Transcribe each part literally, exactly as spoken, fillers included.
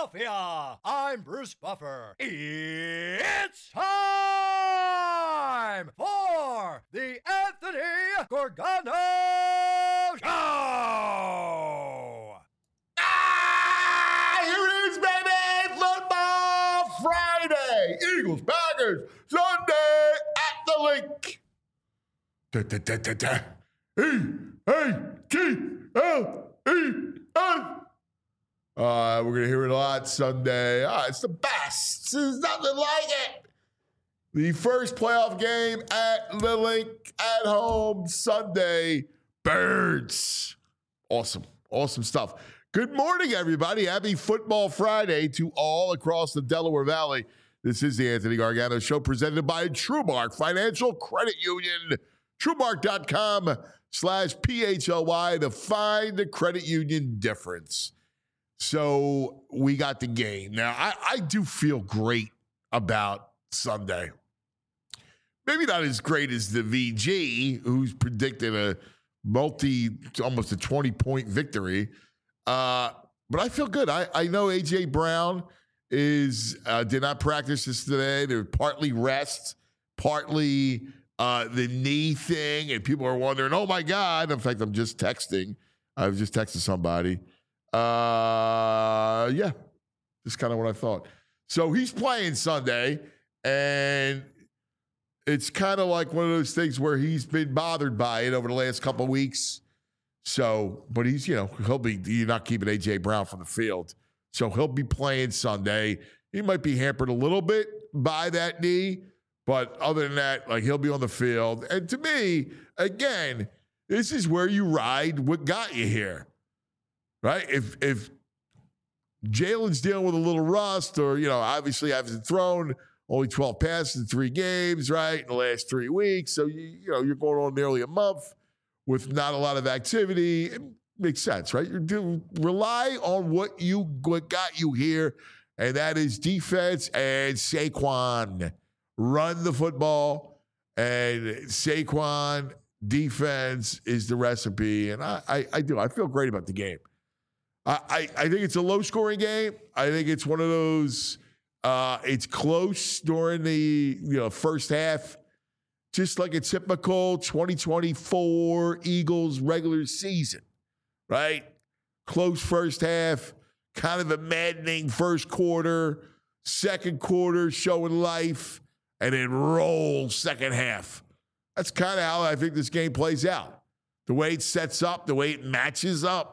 Philadelphia. I'm Bruce Buffer. It's time for the Anthony Gorgano Show. Ah, here it is, baby! Football Friday! Eagles, Packers, Sunday at the link. Da, da, da, da, da. E A G L E S. Uh, we're going to hear it a lot Sunday. Ah, it's the best. There's nothing like it. The first playoff game at the link at home Sunday. Birds. Awesome. Awesome stuff. Good morning, everybody. Happy Football Friday to all across the Delaware Valley. This is the Anthony Gargano Show presented by TrueMark Financial Credit Union. TrueMark.com slash P H L Y to find the credit union difference. So we got the game. Now, I, I do feel great about Sunday. Maybe not as great as the V G, who's predicted a multi, almost a twenty-point victory. Uh, but I feel good. I, I know A J Brown is uh, did not practice this today. They're partly rest, partly uh, the knee thing. And people are wondering, oh, my God. In fact, I'm just texting. I was just texting somebody. Uh, yeah, just kind of what I thought. So he's playing Sunday, and it's kind of like one of those things where he's been bothered by it over the last couple of weeks. So, but he's, you know, he'll be, you're not keeping A J Brown from the field. So he'll be playing Sunday. He might be hampered a little bit by that knee, but other than that, like, he'll be on the field. And to me, again, this is where you ride what got you here. Right? If if Jalen's dealing with a little rust, or, you know, obviously hasn't thrown only twelve passes in three games, right, in the last three weeks. So, you, you know, you're going on nearly a month with not a lot of activity. It makes sense, right? You're doing, rely on what you what got you here, and that is defense and Saquon. Run the football, and Saquon defense is the recipe. And I, I, I do. I feel great about the game. I, I think it's a low-scoring game. I think it's one of those, uh, it's close during the you know first half, just like a typical twenty twenty-four Eagles regular season, right? Close first half, kind of a maddening first quarter, second quarter showing life, and then roll second half. That's kind of how I think this game plays out. The way it sets up, the way it matches up.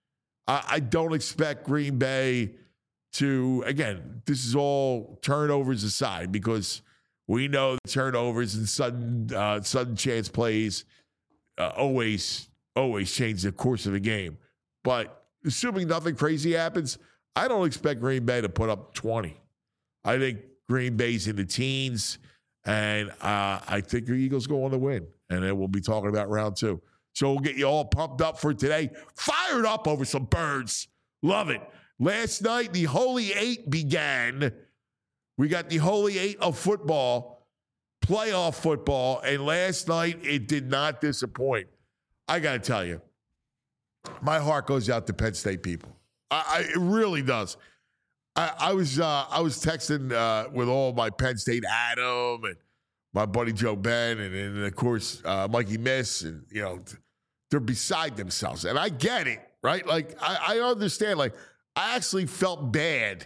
I don't expect Green Bay to, again, this is all turnovers aside, because we know the turnovers and sudden uh, sudden chance plays uh, always, always change the course of the game. But assuming nothing crazy happens, I don't expect Green Bay to put up twenty. I think Green Bay's in the teens, and uh, I think the Eagles go on to win. And then we'll be talking about round two. So we'll get you all pumped up for today. Fired up over some birds. Love it. Last night, the Holy Eight began. We got the Holy Eight of football, playoff football, and last night it did not disappoint. I got to tell you, my heart goes out to Penn State people. I, I, it really does. I, I was uh, I was texting uh, with all my Penn State Adam and my buddy Joe Ben, and, and of course uh, Mikey Miss, and you know. They're beside themselves. And I get it, right? Like, I, I understand. Like, I actually felt bad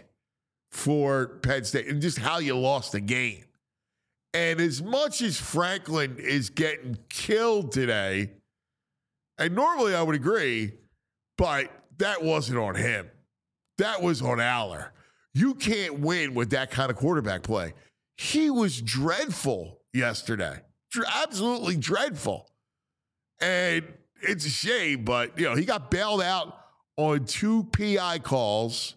for Penn State and just how you lost the game. And as much as Franklin is getting killed today, and normally I would agree, but that wasn't on him. That was on Aller. You can't win with that kind of quarterback play. He was dreadful yesterday. Absolutely dreadful. And it's a shame, but, you know, he got bailed out on two P I calls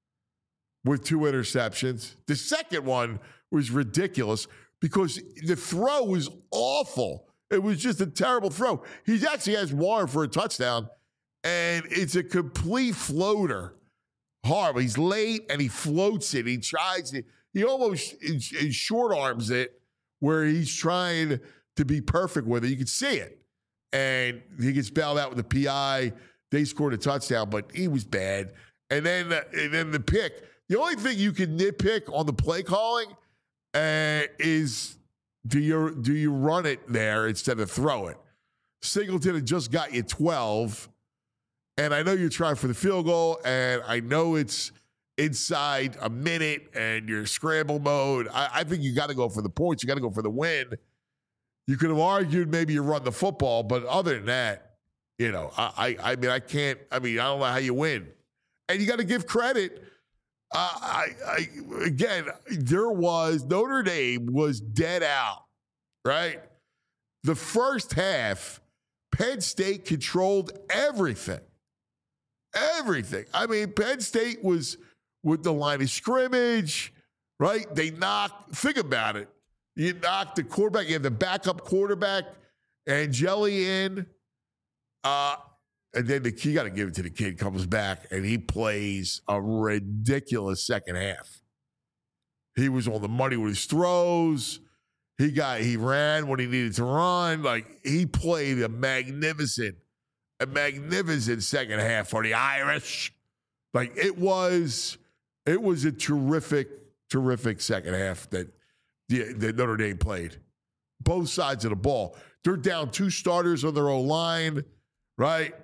with two interceptions. The second one was ridiculous because the throw was awful. It was just a terrible throw. He actually has Warren for a touchdown, and it's a complete floater. Horrible. He's late, and he floats it. He tries it. He almost short arms it where he's trying to be perfect with it. You can see it. And he gets bailed out with the P I. They scored a touchdown, but he was bad. And then, uh, and then the pick. the only thing you can nitpick on the play calling uh, is do you do you run it there instead of throw it? Singleton had just got you twelve, and I know you're trying for the field goal, and I know it's inside a minute and you're scramble mode. I, I think you got to go for the points. You got to go for the win. You could have argued maybe you run the football, but other than that, you know, I, I, I mean, I can't. I mean, I don't know how you win, and you got to give credit. Uh, I, I again, there was Notre Dame was dead out, right? The first half, Penn State controlled everything, everything. I mean, Penn State was with the line of scrimmage, right? They knocked. Think about it. You knock the quarterback. You have the backup quarterback, Angeli in. Uh, and then the you got to give it to the kid, comes back, and he plays a ridiculous second half. He was on the money with his throws. He got he ran when he needed to run. Like, he played a magnificent, a magnificent second half for the Irish. Like, it was, it was a terrific, terrific second half that, the, that Notre Dame played. Both sides of the ball. They're down two starters on their own line. Right,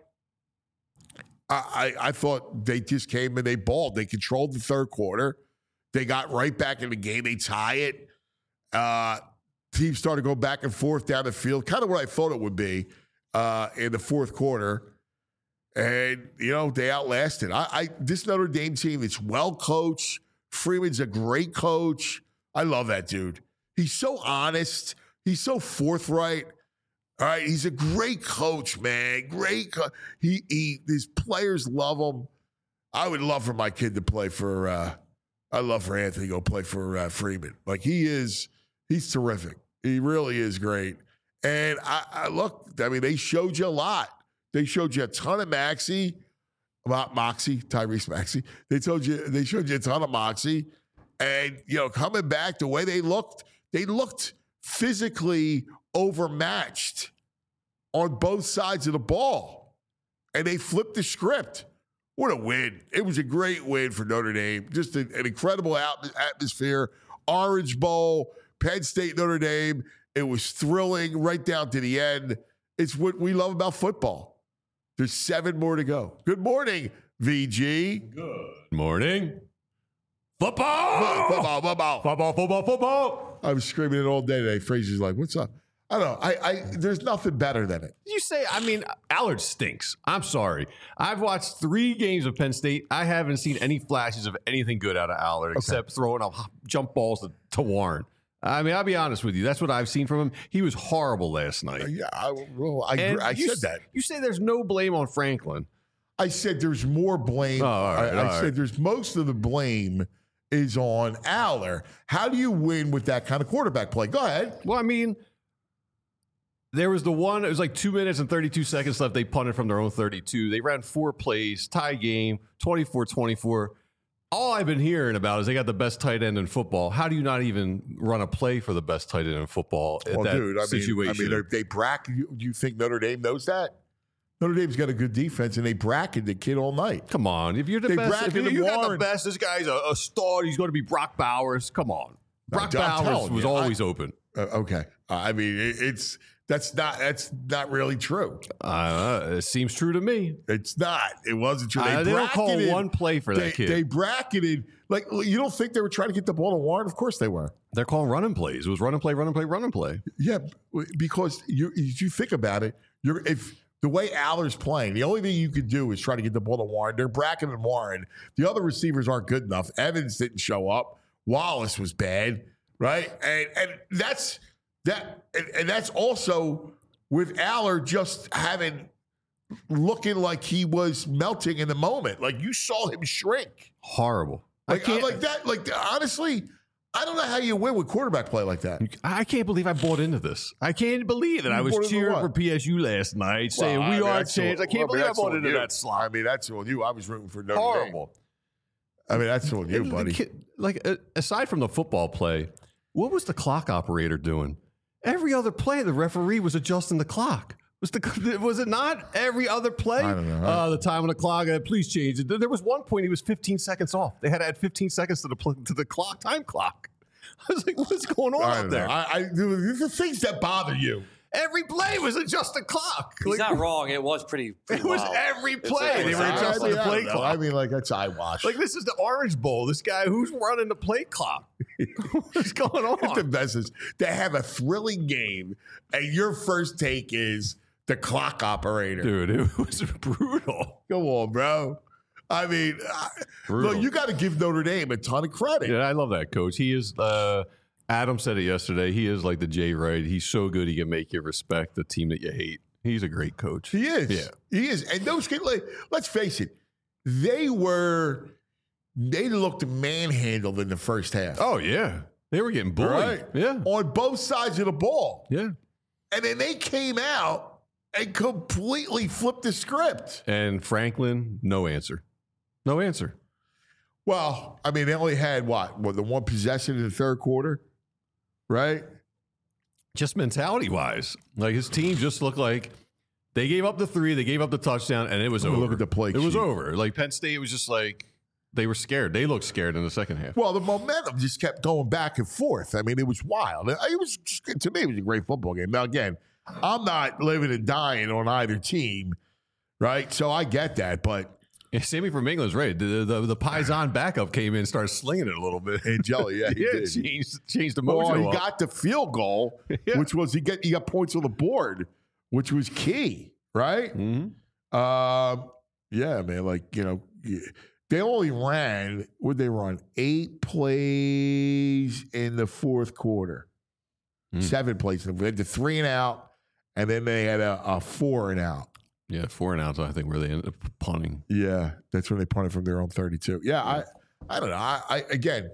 I, I I thought they just came and they balled. They controlled the third quarter. They got right back in the game. They tie it. Uh, teams started to go back and forth down the field, kind of what I thought it would be uh, in the fourth quarter. And you know they outlasted. I, I this Notre Dame team. It's well coached. Freeman's a great coach. I love that dude. He's so honest. He's so forthright. All right, he's a great coach, man. Great. Co- he, he, his players love him. I would love for my kid to play for. Uh, I love for Anthony to go play for uh, Freeman. Like, he is, he's terrific. He really is great. And I, I look. I mean, they showed you a lot. They showed you a ton of Maxey, about Moxie, Tyrese Maxey. They told you. They showed you a ton of Moxie, and you know, coming back the way they looked, they looked physically overmatched on both sides of the ball, and they flipped the script. What a win. It was a great win for Notre Dame. Just a, an incredible atmosphere. Orange Bowl, Penn State, Notre Dame. It was thrilling right down to the end. It's what we love about football. There's seven more to go. Good morning, V G. Good morning. Football! Football, football. Football, football, football. I was screaming it all day today. Fraser's like, what's up? I don't know. I, I there's nothing better than it. You say, I mean, Allard stinks. I'm sorry. I've watched three games of Penn State. I haven't seen any flashes of anything good out of Allard, okay, except throwing up jump balls to, to Warren. I mean, I'll be honest with you. That's what I've seen from him. He was horrible last night. Uh, yeah, I, well, I, I said s- that. You say there's no blame on Franklin. I said there's more blame. Oh, all right, I, all I right. said there's most of the blame is on Allard. How do you win with that kind of quarterback play? Go ahead. Well, I mean, there was the one, it was like two minutes and thirty-two seconds left. They punted from their own thirty-two. They ran four plays, tie game, twenty-four twenty-four. All I've been hearing about is they got the best tight end in football. How do you not even run a play for the best tight end in football at Well, that dude, I situation? mean, I mean, they bracket. You, you think Notre Dame knows that? Notre Dame's got a good defense, and they bracketed the kid all night. Come on. If you're the They best, if you, bracketed you got the Warren. best, this guy's a, a star. He's going to be Brock Bowers. Come on. Brock I'm Bowers telling was you, always I- open. Uh, okay, uh, I mean, it, it's that's not that's not really true. Uh, it seems true to me. It's not. It wasn't true. They, Uh, they don't call bracketed- one play for that they, kid. They bracketed. Like, you don't think they were trying to get the ball to Warren? Of course they were. They're calling running plays. It was running play, running play, running play. Yeah, because you you think about it, you're if the way Allard's playing, the only thing you could do is try to get the ball to Warren. They're bracketing Warren. The other receivers aren't good enough. Evans didn't show up. Wallace was bad, right? And and that's that, and, and that's also with Allard just having looking like he was melting in the moment. Like, you saw him shrink. Horrible. I Like, can't, like that. Like, honestly, I don't know how you win with quarterback play like that. I can't believe I bought into this. I can't believe it. You I was bought into cheering what? for P S U last night, saying Well, I we mean, are that's changed. all- I can't well, I mean, believe I that's bought on into you. that slot. I mean, that's on you. I was rooting for Notre Dame. Horrible. I mean, that's on you, And the buddy. kid- like, uh, aside from the football play, what was the clock operator doing? Every other play, the referee was adjusting the clock. Was the was it not every other play? I don't know. Uh, the time on the clock. Uh, please change it. There was one point he was fifteen seconds off. They had to add fifteen seconds to the pl- to the clock time clock. I was like, what's going on I out don't there? know. I, I, the things that bother you. Every play was adjust the clock. He's Like, not wrong. It was pretty. pretty it was wild. every It's play. like- They were I- adjusting I mean, the I play don't know. clock. I mean, like that's eyewash. Like this is the Orange Bowl. This guy who's running the play clock. What's going It's the on? best is to have a thrilling game, and your first take is the clock operator. Dude, it was brutal. Come on, bro. I mean, I, Brutal. look, you got to give Notre Dame a ton of credit. Yeah, I love that coach. He is. Uh, Adam said it yesterday. He is like the Jay Wright. He's so good. He can make you respect the team that you hate. He's a great coach. He is. Yeah. He is. And those kids, like, let's face it, they were, they looked manhandled in the first half. Oh yeah, they were getting bullied. Right. Yeah. On both sides of the ball. Yeah. And then they came out and completely flipped the script. And Franklin, no answer. No answer. Well, I mean, they only had what? What, the one possession in the third quarter? Right? Just mentality wise, like his team just looked like they gave up the three, they gave up the touchdown, and it was Let me over. look at the play It was sheet. over. Like Penn State was just like they were scared. They looked scared in the second half. Well, the momentum just kept going back and forth. I mean, it was wild. It was just, to me, it was a great football game. Now, again, I'm not living and dying on either team, right? So I get that, but Yeah, Sammy from England's right. The, the the Paisan backup came in and started slinging it a little bit. hey, Jelly, yeah, he yeah, did. changed changed the Well, mojo. he up. got the field goal, Yeah. which was he get he got points on the board, which was key, right? Mhm. Um, yeah, man. Like you know, they only ran. Would they run eight plays in the fourth quarter? Mm. Seven plays. They had the three and out, and then they had a, a four and out. Yeah, four and outs, I think, where they ended up punting. Yeah, that's when they punted from their own thirty-two. Yeah, I, I don't know. I, I again,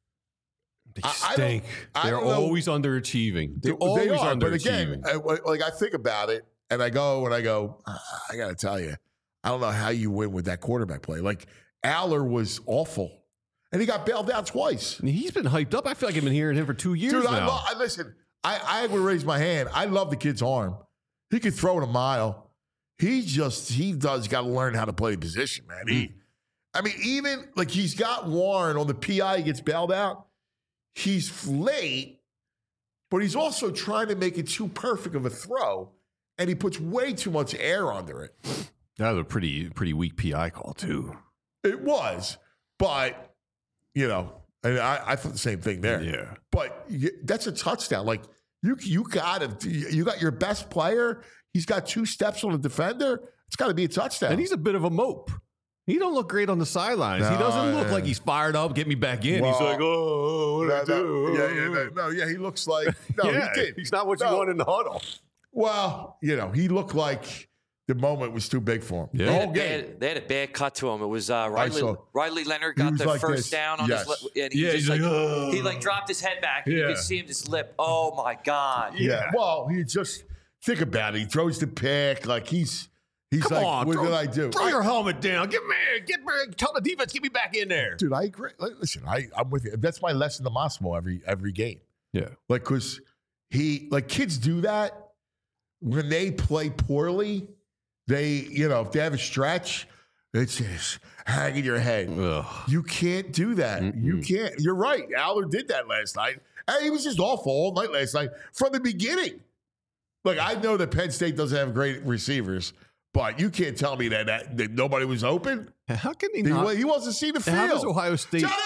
They I- I don't- stink. I They're don't know. always underachieving. They're always they are. underachieving. But again, I, like I think about it, and I go and I go. "Ah, I got to tell you, I don't know how you win with that quarterback play. Like Aller was awful, and he got bailed out twice. I mean, he's been hyped up. I feel like I've been hearing him for two years Dude, now. I, lo- I listen. I, I would raise my hand. I love the kid's arm. He could throw it a mile. He just he does got to learn how to play the position, man. He, I mean, even like he's got Warren on the P I. He gets bailed out. He's late, but he's also trying to make it too perfect of a throw, and he puts way too much air under it. That was a pretty pretty weak P I call too. It was, but you know, and I, I thought the same thing there. Yeah. But you, that's a touchdown. Like you, you got to, you got your best player. He's got two steps on the defender. It's got to be a touchdown. And he's a bit of a mope. He don't look great on the sidelines. he No, doesn't look yeah. like he's fired up. Get me back in. he's Well, like, oh, what do no, I do? no, yeah, yeah, no, no, yeah. He looks like no, yeah, he did. he's not what you No. want in the huddle. Well, you know, he looked like the moment was too big for him. Yeah. The They whole had, they, game. had, they had a bad cut to him. It was uh, Riley, saw. Riley Leonard He got was the like first this. down on Yes. his lip. And he Yeah, just he's like, like, "Oh." he like dropped his head back. And you Yeah. could see him just lip. Oh my God. Yeah. Well, he just think about it. He throws the pick like he's he's Come like, on, what throw, did I do? Throw I- your helmet down. Get me, get me, tell the defense, get me back in there. Dude, I agree. Like, Listen, I, I'm with you. That's my lesson to Massimo every every game. Yeah. Like, because he, like, kids do that when they play poorly. They, you know, if they have a stretch, it's just hanging your head. Ugh. You can't do that. You Mm-mm. can't. You're right. Aller did that last night. And he was just awful all night last night from the beginning. Look, I know that Penn State doesn't have great receivers, but you can't tell me that, that, that nobody was open. How can he He, not? wa- he wasn't seeing the field. How does Ohio State? Johnny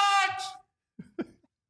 Marks!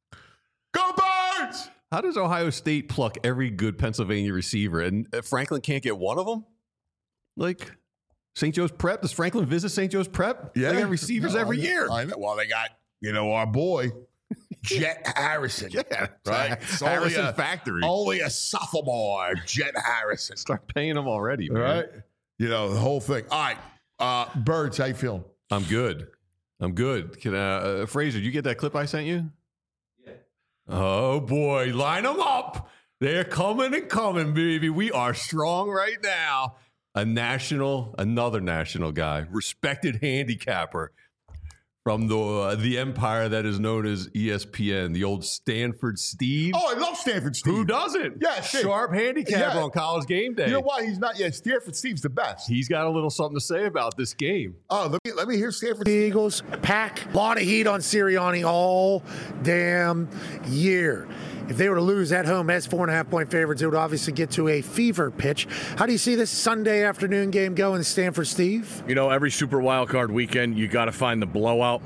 Go Birds! How does Ohio State pluck every good Pennsylvania receiver and uh, Franklin can't get one of them? Like Saint Joe's Prep? Does Franklin visit Saint Joe's Prep? They got receivers No, every I know- year. I know. Well, they got, you know, our boy, Jet Harrison. Yeah, Right? It's only Harrison a- Factory. Only a sophomore, Jet Harrison. Start paying them already, man. Right? You know, the whole thing. All right. Uh, Birds, how you feeling? I'm good. I'm good. Can uh, uh, Fraser, you get that clip I sent you? Yeah. Oh boy, line them up. They're coming and coming, baby. We are strong right now. A national, another national guy, respected handicapper. from the uh, the empire that is known as E S P N, the old Stanford Steve. Oh, I love Stanford Steve. Who doesn't? Yeah, shit. Sharp handicapper Yeah. on College Game Day. You know why he's not? Yeah, Stanford Steve's the best. He's got a little something to say about this game. Oh, let me let me hear Stanford The Steve. Eagles pack a lot of heat on Sirianni all damn year. If they were to lose at home as four and a half point favorites, it would obviously get to a fever pitch. How do you see this Sunday afternoon game going, Stanford Steve? You know, every Super Wildcard weekend, you got to find the blowout.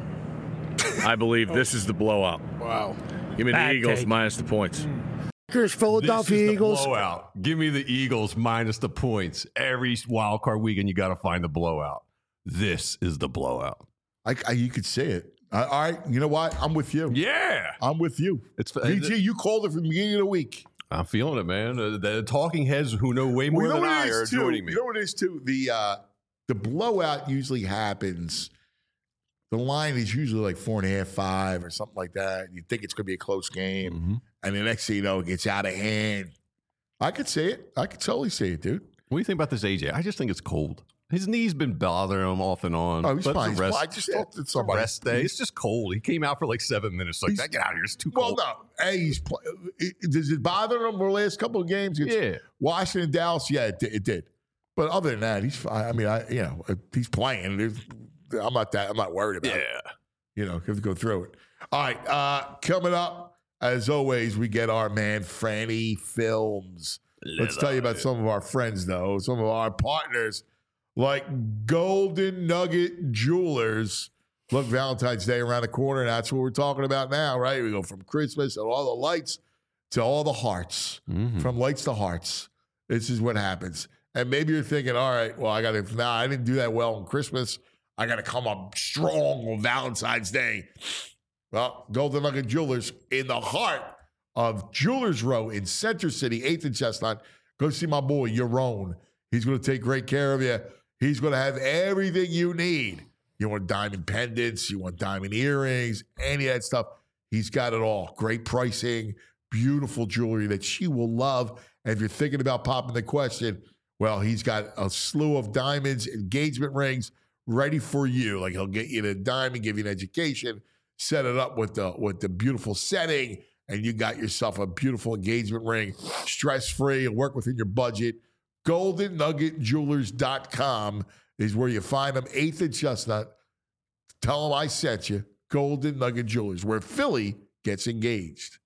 I believe this is the blowout. Wow. Give me Bad the Eagles take. minus the points. Packers, Philadelphia This is the Eagles. blowout. Give me the Eagles minus the points. Every wild card weekend, you got to find the blowout. This is the blowout. I, I, you could say it. Uh, all right, you know what? I'm with you. Yeah, I'm with you. it's. V G, you called it from the beginning of the week. I'm feeling it, man. Uh, the talking heads who know way more Well, you know than what I it are is, too? joining me. You know what it is too? The uh, the blowout usually happens. The line is usually like four and a half, five, or something like that. You think it's going to be a close game, Mm-hmm. and the next thing you know, it gets out of hand. I could say it. I could totally say it, dude. What do you think about this, A J? I just think it's cold. His knee's been bothering him off and on. Oh, he's but fine. it's a He's rest, fine. I just talked to it's a somebody. rest day. It's just cold. He came out for like seven minutes. Like, He's- get out of here. It's too Well, cold. no. Hey, he's play, it, does it bother him the last couple of games? It's Yeah. Washington, Dallas. Yeah, it, did- it did. But other than that, he's fine. I mean, I you know he's playing. There's- I'm not that. I'm not worried about it. Yeah. You know, have to go through it. All right. Uh, coming up, as always, we get our man Franny Films. Let's tell you about some of our friends, though. Some of our partners, like Golden Nugget Jewelers. Look, Valentine's Day around the corner. And that's what we're talking about now, right? We go from Christmas and all the lights to all the hearts. Mhm. From lights to hearts. This is what happens. And maybe you're thinking, all right, well, I got to, nah, I didn't do that well on Christmas. I got to come up strong on Valentine's Day. Well, Golden Nugget Jewelers in the heart of Jewelers Row in Center City, eighth and Chestnut. Go see my boy, Yaron. He's going to take great care of you. He's going to have everything you need. You want diamond pendants, you want diamond earrings, any of that stuff. He's got it all. Great pricing, beautiful jewelry that she will love. And if you're thinking about popping the question, well, he's got a slew of diamonds, engagement rings ready for you. Like he'll get you the diamond, give you an education, set it up with the with the beautiful setting, and you got yourself a beautiful engagement ring, stress-free, and work within your budget. golden nugget jewelers dot com is where you find them, eighth and Chestnut. Tell them I sent you. Golden Nugget Jewelers, where Philly gets engaged.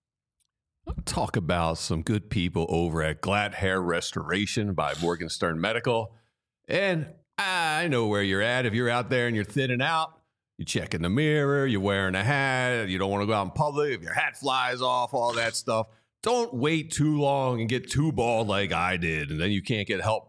Talk about some good people over at Glad Hair Restoration by Morgenstern Medical. And I know where you're at. If you're out there and you're thinning out, you check in the mirror, you're wearing a hat, you don't want to go out in public, if your hat flies off, all that stuff. Don't wait too long and get too bald like I did, and then you can't get help.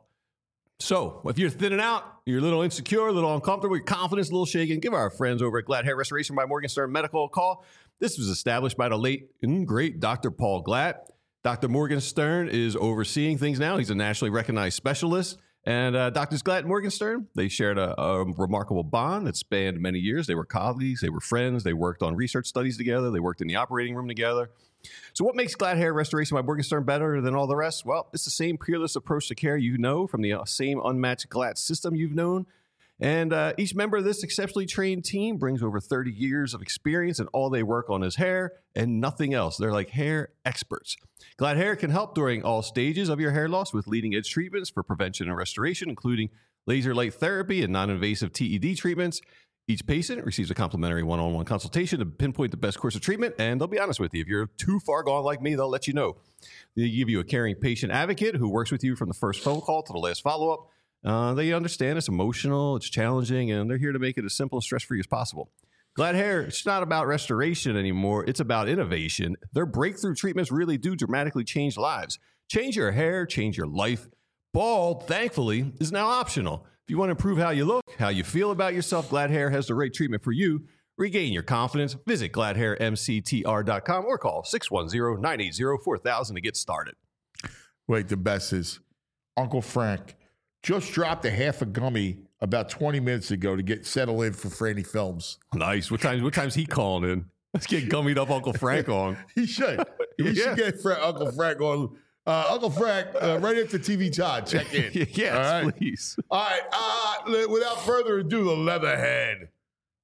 So if you're thinning out, you're a little insecure, a little uncomfortable, your confidence a little shaken, give our friends over at Glad Hair Restoration by Morgenstern Medical a call. This was established by the late and great Doctor Paul Glatt. Doctor Morgenstern is overseeing things now. He's a nationally recognized specialist. And uh, Doctors Glatt and Morgenstern, they shared a, a remarkable bond that spanned many years. They were colleagues. They were friends. They worked on research studies together. They worked in the operating room together. So what makes Glad Hair Restoration by Morgenstern better than all the rest? Well, it's the same peerless approach to care you know from the uh, same unmatched Glatt system you've known. And uh, each member of this exceptionally trained team brings over thirty years of experience, and all they work on is hair and nothing else. They're like hair experts. Glad Hair can help during all stages of your hair loss with leading-edge treatments for prevention and restoration, including laser light therapy and non-invasive T E D treatments. Each patient receives a complimentary one-on-one consultation to pinpoint the best course of treatment, and they'll be honest with you. If you're too far gone like me, they'll let you know. They give you a caring patient advocate who works with you from the first phone call to the last follow-up. Uh, they understand it's emotional, it's challenging, and they're here to make it as simple and stress-free as possible. Glad Hair, it's not about restoration anymore. It's about innovation. Their breakthrough treatments really do dramatically change lives. Change your hair, change your life. Bald, thankfully, is now optional. If you want to improve how you look, how you feel about yourself, Glad Hair has the right treatment for you. Regain your confidence. Visit glad hair m c t r dot com or call six one zero, nine eight zero, four thousand to get started. Wait, the best is Uncle Frank just dropped a half a gummy about twenty minutes ago to get settled in for Franny Films. Nice. What times? What time's he calling in? Let's get gummied up Uncle Frank on. He should. He Yeah. should get Fra- Uncle Frank on. Uh, Uncle Frank, uh, right after T V Todd, check in. yes, All right? please. All right. Uh, li- without further ado, the Leatherhead.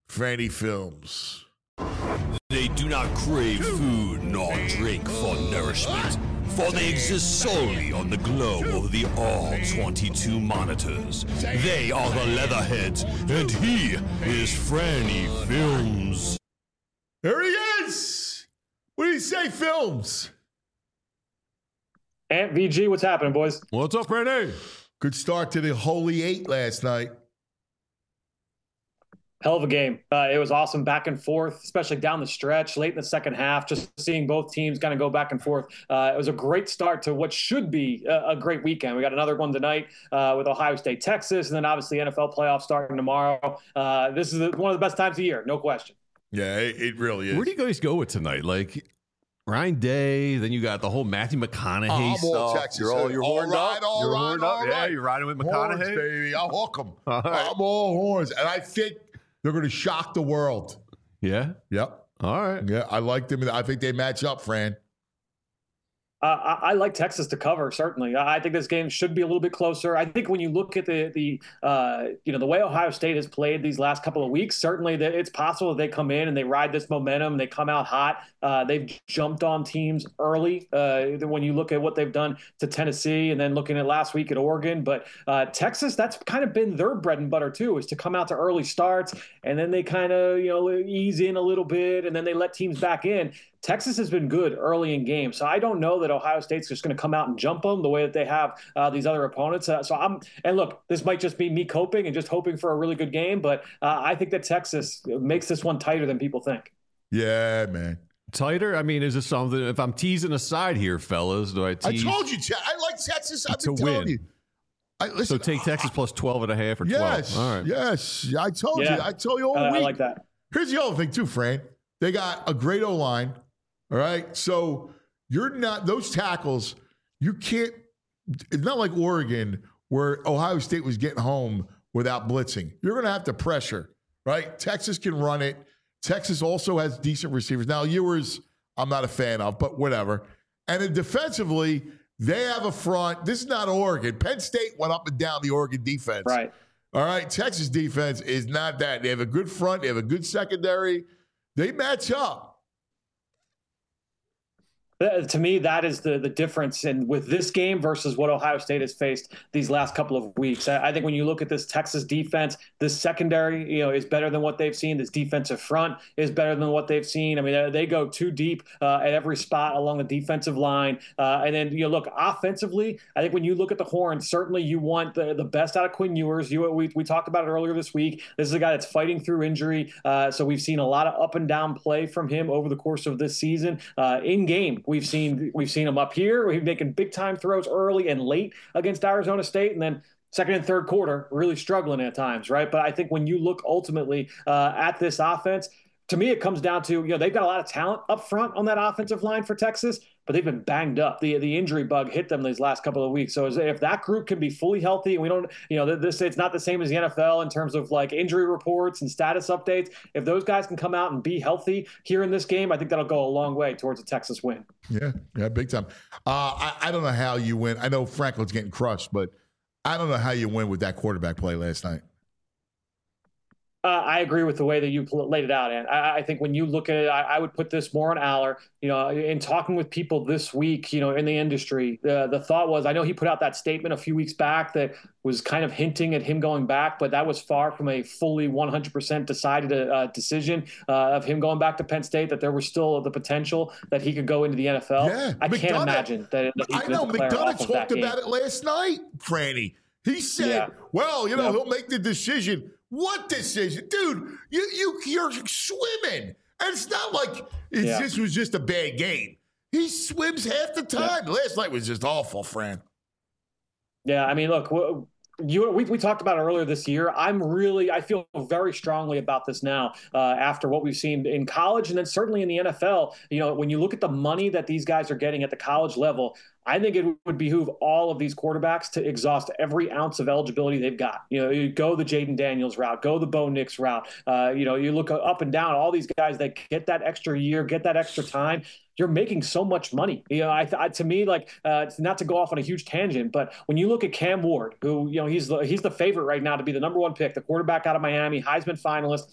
Franny Films. They do not crave food nor drink for nourishment, for they exist solely on the glow of the all twenty-two monitors. They are the Leatherheads, and he is Franny Films. There he is. What do you say, Films? Ant V G, what's happening, boys? What's up, Randy? Good start to the Holy Eight last night. Hell of a game. Uh, it was awesome back and forth, especially down the stretch, late in the second half, just seeing both teams kind of go back and forth. Uh, it was a great start to what should be a, a great weekend. We got another one tonight uh, with Ohio State, Texas, and then obviously N F L playoffs starting tomorrow. Uh, this is one of the best times of year, no question. Yeah, it, it really is. Where do you guys go with tonight? Like Ryan Day, then you got the whole Matthew McConaughey I'm all stuff. Texas. You're all you're All horned right, up. all you're right, horned all up. Yeah, right. you're riding with Horns, McConaughey. baby. I'll hook them. All right. I'm all horns. And I think they're going to shock the world. Yeah. Yep. All right. Yeah, I like them. I think they match up, Fran. Uh, I, I like Texas to cover, certainly. I I think this game should be a little bit closer. I think when you look at the the uh, you know the way Ohio State has played these last couple of weeks, certainly that it's possible that they come in and they ride this momentum. They come out hot. Uh, they've jumped on teams early. Uh, when you look at what they've done to Tennessee, and then looking at last week at Oregon, but uh, Texas, that's kind of been their bread and butter too, is to come out to early starts, and then they kind of you know ease in a little bit, and then they let teams back in. Texas has been good early in games, so I don't know that Ohio State's just going to come out and jump them the way that they have uh, these other opponents. Uh, so I'm, and look, this might just be me coping and just hoping for a really good game, but uh, I think that Texas makes this one tighter than people think. Yeah, man. Tighter? I mean, is this something? If I'm teasing aside here, fellas, do I I tease? told you, Te- I like Texas. I've To been telling win. you. I, listen, So take Texas plus twelve and a half or Yes, twelve. All right. yes. I told Yeah. you. I told you all I, week. I like that. Here's the other thing too, Fran. They got a great O line. All right, so you're not those tackles. You can't. It's not like Oregon where Ohio State was getting home without blitzing. You're going to have to pressure, right? Texas can run it. Texas also has decent receivers. Now Ewers, I'm not a fan of, but whatever. And then defensively, they have a front. This is not Oregon. Penn State went up and down the Oregon defense. Right. All right, Texas defense is not that. They have a good front. They have a good secondary. They match up. Uh, To me, that is the the difference in with this game versus what Ohio State has faced these last couple of weeks. I, I think when you look at this Texas defense, this secondary, you know, is better than what they've seen. This defensive front is better than what they've seen. I mean, they, they go too deep uh, at every spot along the defensive line. Uh, and then you know, look offensively. I think when you look at the Horns, certainly you want the, the best out of Quinn Ewers. You we we talked about it earlier this week. This is a guy that's fighting through injury, uh, so we've seen a lot of up and down play from him over the course of this season. Uh, in game, we've seen we've seen him up here. He's making big time throws early and late against Arizona State, and then second and third quarter really struggling at times, right? But I think when you look ultimately uh, at this offense, to me it comes down to you know they've got a lot of talent up front on that offensive line for Texas, but they've been banged up. The the injury bug hit them these last couple of weeks. So if that group can be fully healthy, and we don't, you know, this it's not the same as the N F L in terms of like injury reports and status updates. If those guys can come out and be healthy here in this game, I think that'll go a long way towards a Texas win. Yeah, yeah, big time. Uh, I, I don't know how you win. I know Franklin's getting crushed, but I don't know how you win with that quarterback play last night. Uh, I agree with the way that you pl- laid it out, and I, I think when you look at it, I, I would put this more on Aller. You know, in talking with people this week, you know, in the industry, the the thought was, I know he put out that statement a few weeks back that was kind of hinting at him going back, but that was far from a fully one hundred percent decided uh, decision uh, of him going back to Penn State. That there was still the potential that he could go into the N F L. Yeah, I can't McDonough- imagine that. that he I could know declare McDonough off of that talked game. about it last night, Franny. He said, Yeah. "Well, you know, Yep. he'll make the decision." What decision, dude? You you you're swimming, and it's not like it's, Yeah. this was just a bad game. He swims half the time. Last night was just awful, Fran. Yeah, I mean, look, w- you we, we talked about it earlier this year. I'm really, I feel very strongly about this now uh, after what we've seen in college and then certainly in the N F L. You know, when you look at the money that these guys are getting at the college level, I think it would behoove all of these quarterbacks to exhaust every ounce of eligibility they've got. You know, you go the Jaden Daniels route, go the Bo Nix route. Uh, you know, you look up and down, all these guys that get that extra year, get that extra time. You're making so much money. You know, I, I to me, like, uh, it's not to go off on a huge tangent, but when you look at Cam Ward, who, you know, he's the, he's the favorite right now to be the number one pick, the quarterback out of Miami, Heisman finalist.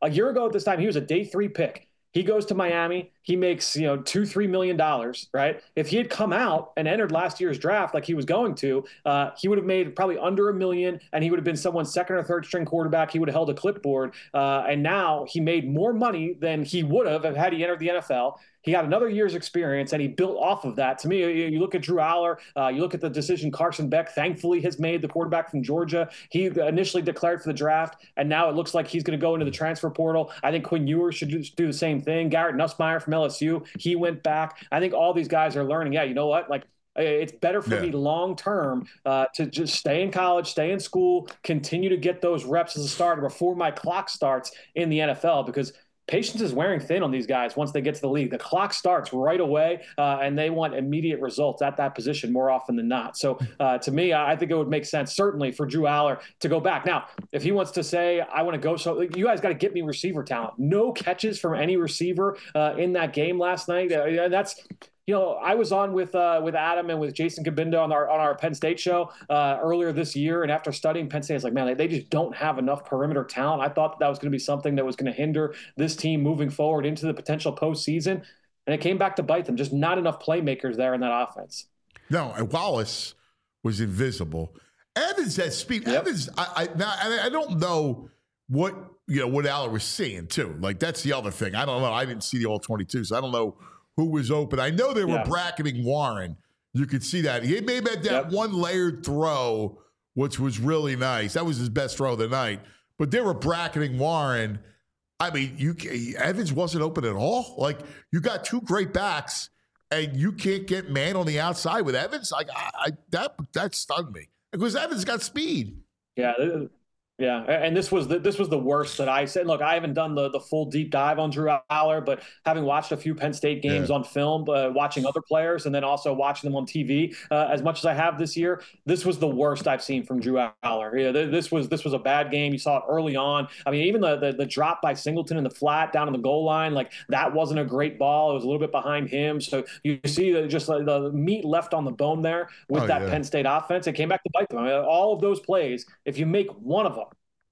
A year ago at this time, he was a day three pick. He goes to Miami. He makes, you know, two, three million dollars, right? If he had come out and entered last year's draft like he was going to, uh, he would have made probably under a million, and he would have been someone's second or third string quarterback. He would have held a clipboard, uh, and now he made more money than he would have had he entered the N F L. He got another year's experience, and he built off of that. To me, you, you look at Drew Aller, uh, you look at the decision Carson Beck thankfully has made, the quarterback from Georgia. He initially declared for the draft, and now it looks like he's going to go into the transfer portal. I think Quinn Ewers should do, do the same thing. Garrett Nussmeier from L S U, he went back. I think all these guys are learning, yeah, you know what, like, it's better for yeah. me long term uh, to just stay in college, stay in school, continue to get those reps as a starter before my clock starts in the N F L, because patience is wearing thin on these guys once they get to the league. The clock starts right away, uh, and they want immediate results at that position more often than not. So uh, to me, I think it would make sense, certainly, for Drew Aller to go back. Now, if he wants to say, I want to go, so you guys got to get me receiver talent. No catches from any receiver uh, in that game last night. Uh, that's You know, I was on with uh, with Adam and with Jason Cabinda on our on our Penn State show uh, earlier this year, and after studying Penn State, I was like, man, they, they just don't have enough perimeter talent. I thought that, that was going to be something that was going to hinder this team moving forward into the potential postseason, and it came back to bite them. Just not enough playmakers there in that offense. No, and Wallace was invisible. Evans has speed. Yep. Evans, I, I, now, I don't know what you know what Aller was seeing too. Like that's the other thing. I don't know. I didn't see the all twenty-two, so I don't know who was open. I know they were yeah. bracketing Warren. You could see that. He may have had that yep. one layered throw, which was really nice. That was his best throw of the night. But they were bracketing Warren. I mean, you Evans wasn't open at all. Like, you got two great backs, and you can't get man on the outside with Evans. Like, I, I that that stunned me. Because Evans got speed. Yeah, Yeah, and this was the, this was the worst that I said. Look, I haven't done the, the full deep dive on Drew Aller, but having watched a few Penn State games yeah. on film, uh, watching other players, and then also watching them on T V uh, as much as I have this year, this was the worst I've seen from Drew Aller. Yeah, this was this was a bad game. You saw it early on. I mean, even the, the the drop by Singleton in the flat down on the goal line, like that wasn't a great ball. It was a little bit behind him. So you see the, just like the meat left on the bone there with oh, that yeah. Penn State offense. It came back to bite them. I mean, all of those plays, if you make one of them,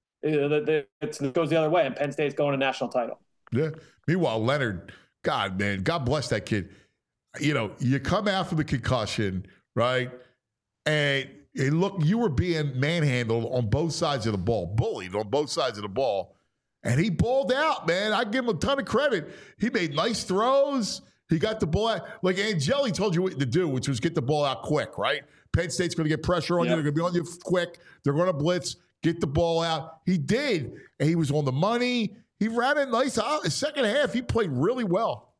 it goes the other way, and Penn State's going to national title. Yeah. Meanwhile, Leonard, God, man, God bless that kid. You know, you come after the concussion, right? And, and look, you were being manhandled on both sides of the ball, bullied on both sides of the ball. And he balled out, man. I give him a ton of credit. He made nice throws. He got the ball out. Like Angeli told you what to do, which was get the ball out quick, right? Penn State's going to get pressure on yep. you. They're going to be on you quick. They're going to blitz. Get the ball out. He did. And he was on the money. He ran it nice. The second half, he played really well.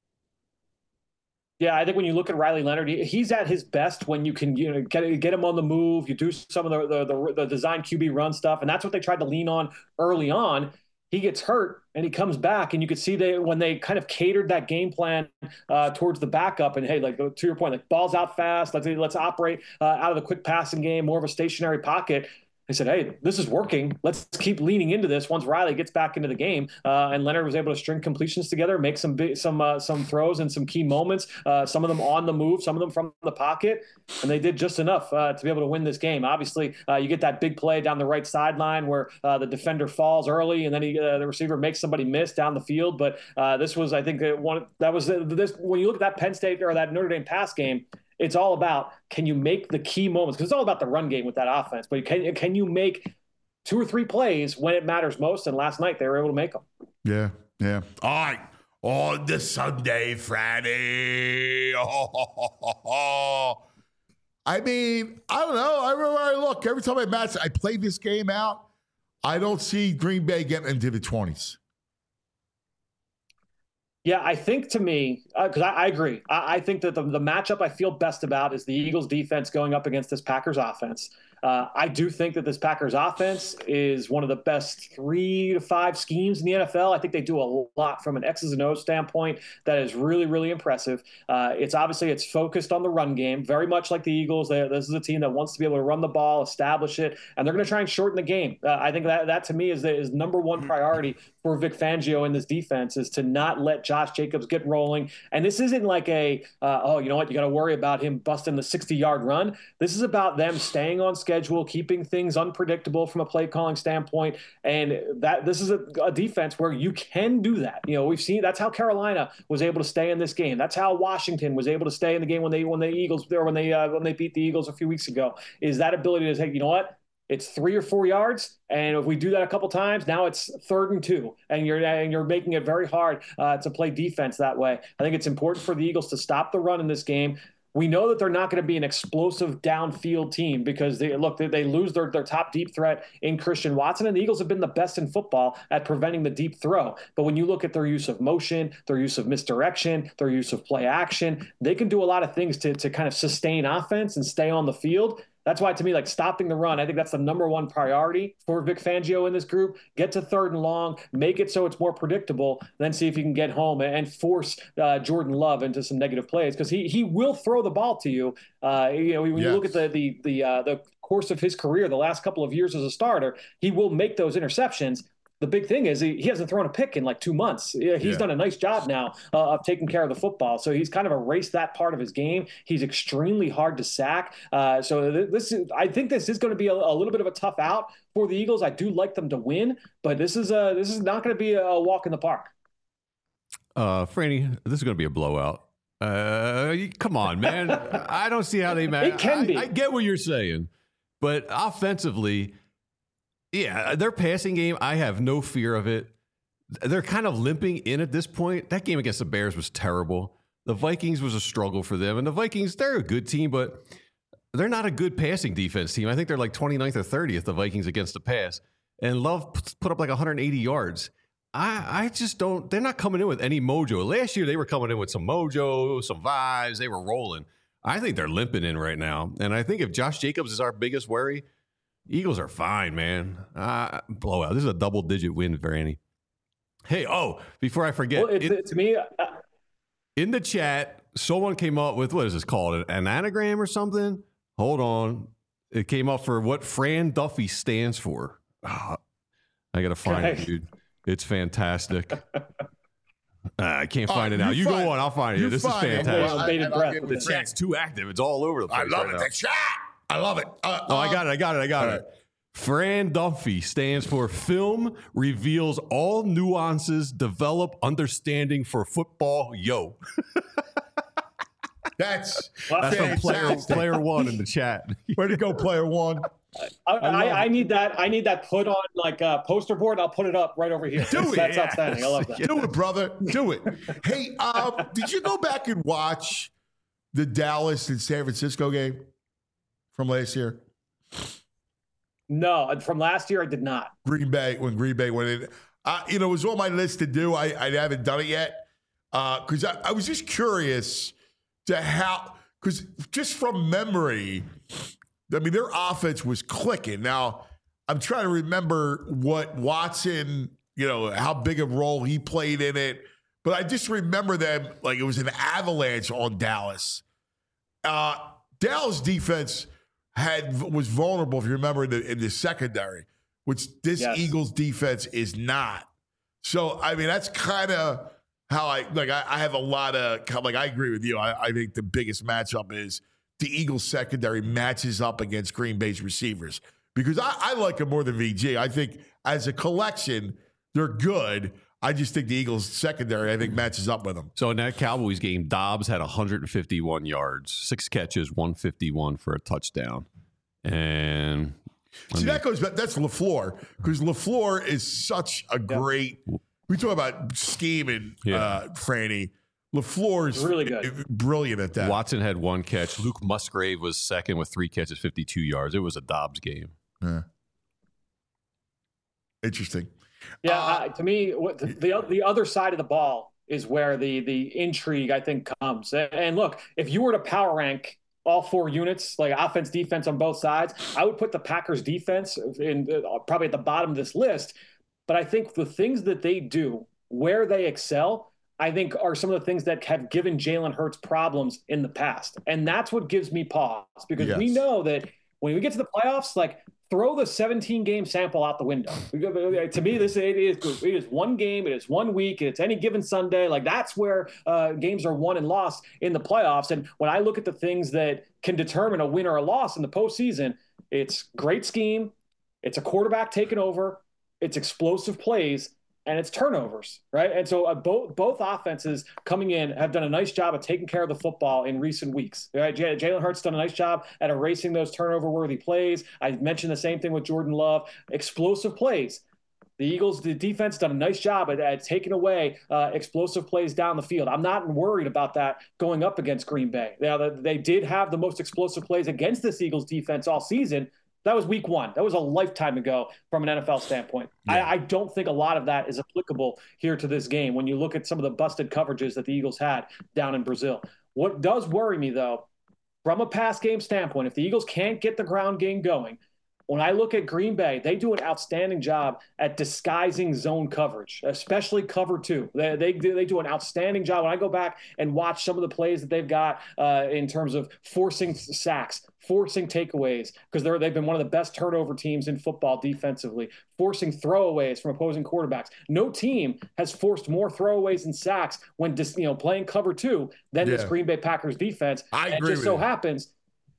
Yeah, I think when you look at Riley Leonard, he's at his best when you can you know, get, get him on the move. You do some of the, the, the, the design Q B run stuff, and that's what they tried to lean on early on. He gets hurt, and he comes back, and you could see they when they kind of catered that game plan uh, towards the backup. And, hey, like to your point, like balls out fast. Let's, let's operate uh, out of the quick passing game, more of a stationary pocket. They said, hey, this is working. Let's keep leaning into this once Riley gets back into the game. Uh, and Leonard was able to string completions together, make some big, some uh, some throws and some key moments, uh, some of them on the move, some of them from the pocket. And they did just enough uh, to be able to win this game. Obviously, uh, you get that big play down the right sideline where uh, the defender falls early, and then he, uh, the receiver makes somebody miss down the field. But uh, this was, I think, one that was uh, this when you look at that Penn State or that Notre Dame pass game, it's all about, can you make the key moments? Because it's all about the run game with that offense. But can, can you make two or three plays when it matters most? And last night, they were able to make them. Yeah, yeah. All right. On the Sunday, Friday. Oh, oh, oh, oh. I mean, I don't know. Everywhere I look, every time I match, I play this game out, I don't see Green Bay getting into the twenties. Yeah, I think to me, because uh, I, I agree. I, I think that the, the matchup I feel best about is the Eagles defense going up against this Packers offense. Uh, I do think that this Packers offense is one of the best three to five schemes in the N F L. I think they do a lot from an X's and O's standpoint that is really, really impressive. Uh, it's obviously it's focused on the run game, very much like the Eagles. They, this is a team that wants to be able to run the ball, establish it, and they're going to try and shorten the game. Uh, I think that that to me is the, is number one priority for Vic Fangio in this defense is to not let Josh Jacobs get rolling. And this isn't like a, uh, oh, you know what, you got to worry about him busting the sixty-yard run. This is about them staying on schedule, schedule, keeping things unpredictable from a play calling standpoint. And that this is a, a defense where you can do that. You know, we've seen that's how Carolina was able to stay in this game. That's how Washington was able to stay in the game when they when the Eagles or when they uh, when they beat the Eagles a few weeks ago. Is that ability to say, you know what? It's three or four yards, and if we do that a couple times, now it's third and two, and you're and you're making it very hard uh, to play defense that way. I think it's important for the Eagles to stop the run in this game. We know that they're not going to be an explosive downfield team because they look they, they lose their, their top deep threat in Christian Watson, and the Eagles have been the best in football at preventing the deep throw. But when you look at their use of motion, their use of misdirection, their use of play action, they can do a lot of things to to kind of sustain offense and stay on the field. That's why, to me, like stopping the run, I think that's the number one priority for Vic Fangio in this group. Get to third and long, make it so it's more predictable, then see if you can get home and force uh, Jordan Love into some negative plays because he he will throw the ball to you. Uh, you know, when you Yes. look at the the the uh, the course of his career, the last couple of years as a starter, he will make those interceptions. The big thing is he, he hasn't thrown a pick in like two months. He's Yeah. done a nice job now uh, of taking care of the football. So he's kind of erased that part of his game. He's extremely hard to sack. Uh, so th- this is, I think this is going to be a, a little bit of a tough out for the Eagles. I do like them to win, but this is a, this is not going to be a walk in the park. Uh, Franny, this is going to be a blowout. Uh, you- come on, man. I don't see how they match. It can I, be. I get what you're saying, but offensively, yeah, their passing game, I have no fear of it. They're kind of limping in at this point. That game against the Bears was terrible. The Vikings was a struggle for them. And the Vikings, they're a good team, but they're not a good passing defense team. I think they're like twenty-ninth or thirtieth, the Vikings against the pass. And Love put up like one hundred eighty yards. I, I just don't, they're not coming in with any mojo. Last year, they were coming in with some mojo, some vibes. They were rolling. I think they're limping in right now. And I think if Josh Jacobs is our biggest worry, Eagles are fine, man. Uh, blowout. This is a double-digit win for Annie. Hey, oh, before I forget, Well, it, in, to me, uh, in the chat, someone came up with, what is this called, an anagram or something? Hold on. It came up for what Fran Duffy stands for. Oh, I got to find Okay. it, dude. It's fantastic. Uh, I can't All find right, it now. you You find- go on. I'll find it. you This find is it. fantastic. Well, bated and I'll breath give with it The a this. chat's too active. It's all over the place. I love right it. now. The chat. I love it. Uh, Oh, I uh, got it. I got it. I got all it. right. Fran Duffy stands for Film Reveals All Nuances, Develop Understanding for Football. Yo. That's That's from player, fantastic. player one in the chat. Way to go, player one. I, I, I need that. I need that put on like a poster board. I'll put it up right over here. Do that's it. that's Yeah. outstanding. I love that. Do it, brother. Do it. Hey, um, did you go back and watch the Dallas and San Francisco game from last year? No, from last year I did not. Green Bay, when Green Bay went in. Uh, you know, it was on my list to do. I, I haven't done it yet because I, I was just curious to how, because just from memory, I mean, their offense was clicking. Now, I'm trying to remember what Watson, you know, how big a role he played in it. But I just remember them like it was an avalanche on Dallas. Uh, Dallas defense had was vulnerable, if you remember, in the, in the secondary, which this Yes. Eagles defense is not. So, I mean, that's kind of how I like. I, I have a lot of like. I agree with you. I, I think the biggest matchup is the Eagles secondary matches up against Green Bay's receivers because I, I like them more than V G. I think as a collection, they're good. I just think the Eagles secondary, I think, matches up with them. So in that Cowboys game, Dobbs had one hundred fifty-one yards, six catches, one fifty-one for a touchdown. And I See, mean, that goes back. That's LaFleur because LaFleur is such a great. We talk about scheming, Yeah. uh, Franny. LaFleur is Really good. brilliant at that. Watson had one catch. Luke Musgrave was second with three catches, fifty-two yards. It was a Dobbs game. Yeah. Interesting. Yeah, Uh, uh, to me, what the, the the other side of the ball is where the the intrigue I think comes. And, and look, if you were to power rank all four units, like offense, defense on both sides, I would put the Packers defense in uh, probably at the bottom of this list. But I think the things that they do, where they excel, I think are some of the things that have given Jalen Hurts problems in the past. And that's what gives me pause because we Yes. know that when we get to the playoffs, like throw the seventeen game sample out the window. To me, this it is it is one game, it is one week, it's any given Sunday. Like that's where uh, games are won and lost in the playoffs. And when I look at the things that can determine a win or a loss in the postseason, It's great scheme. It's a quarterback taking over. It's explosive plays. And it's turnovers, right? And so uh, both both offenses coming in have done a nice job of taking care of the football in recent weeks. Right? J- Jalen Hurts done a nice job at erasing those turnover-worthy plays. I mentioned the same thing with Jordan Love. Explosive plays. The Eagles, the defense, done a nice job at, at taking away uh, explosive plays down the field. I'm not worried about that going up against Green Bay. Now, they did have the most explosive plays against this Eagles defense all season. That was week one. That was a lifetime ago from an N F L standpoint. Yeah. I, I don't think a lot of that is applicable here to this game when you look at some of the busted coverages that the Eagles had down in Brazil. What does worry me, though, from a pass game standpoint, if the Eagles can't get the ground game going, when I look at Green Bay, they do an outstanding job at disguising zone coverage, especially cover two. They, they, they do an outstanding job. When I go back and watch some of the plays that they've got uh, in terms of forcing sacks, forcing takeaways, because they're they've been one of the best turnover teams in football defensively, forcing throwaways from opposing quarterbacks. No team has forced more throwaways and sacks when dis, you know playing cover two than yeah. this Green Bay Packers defense. I and agree it just with so you. happens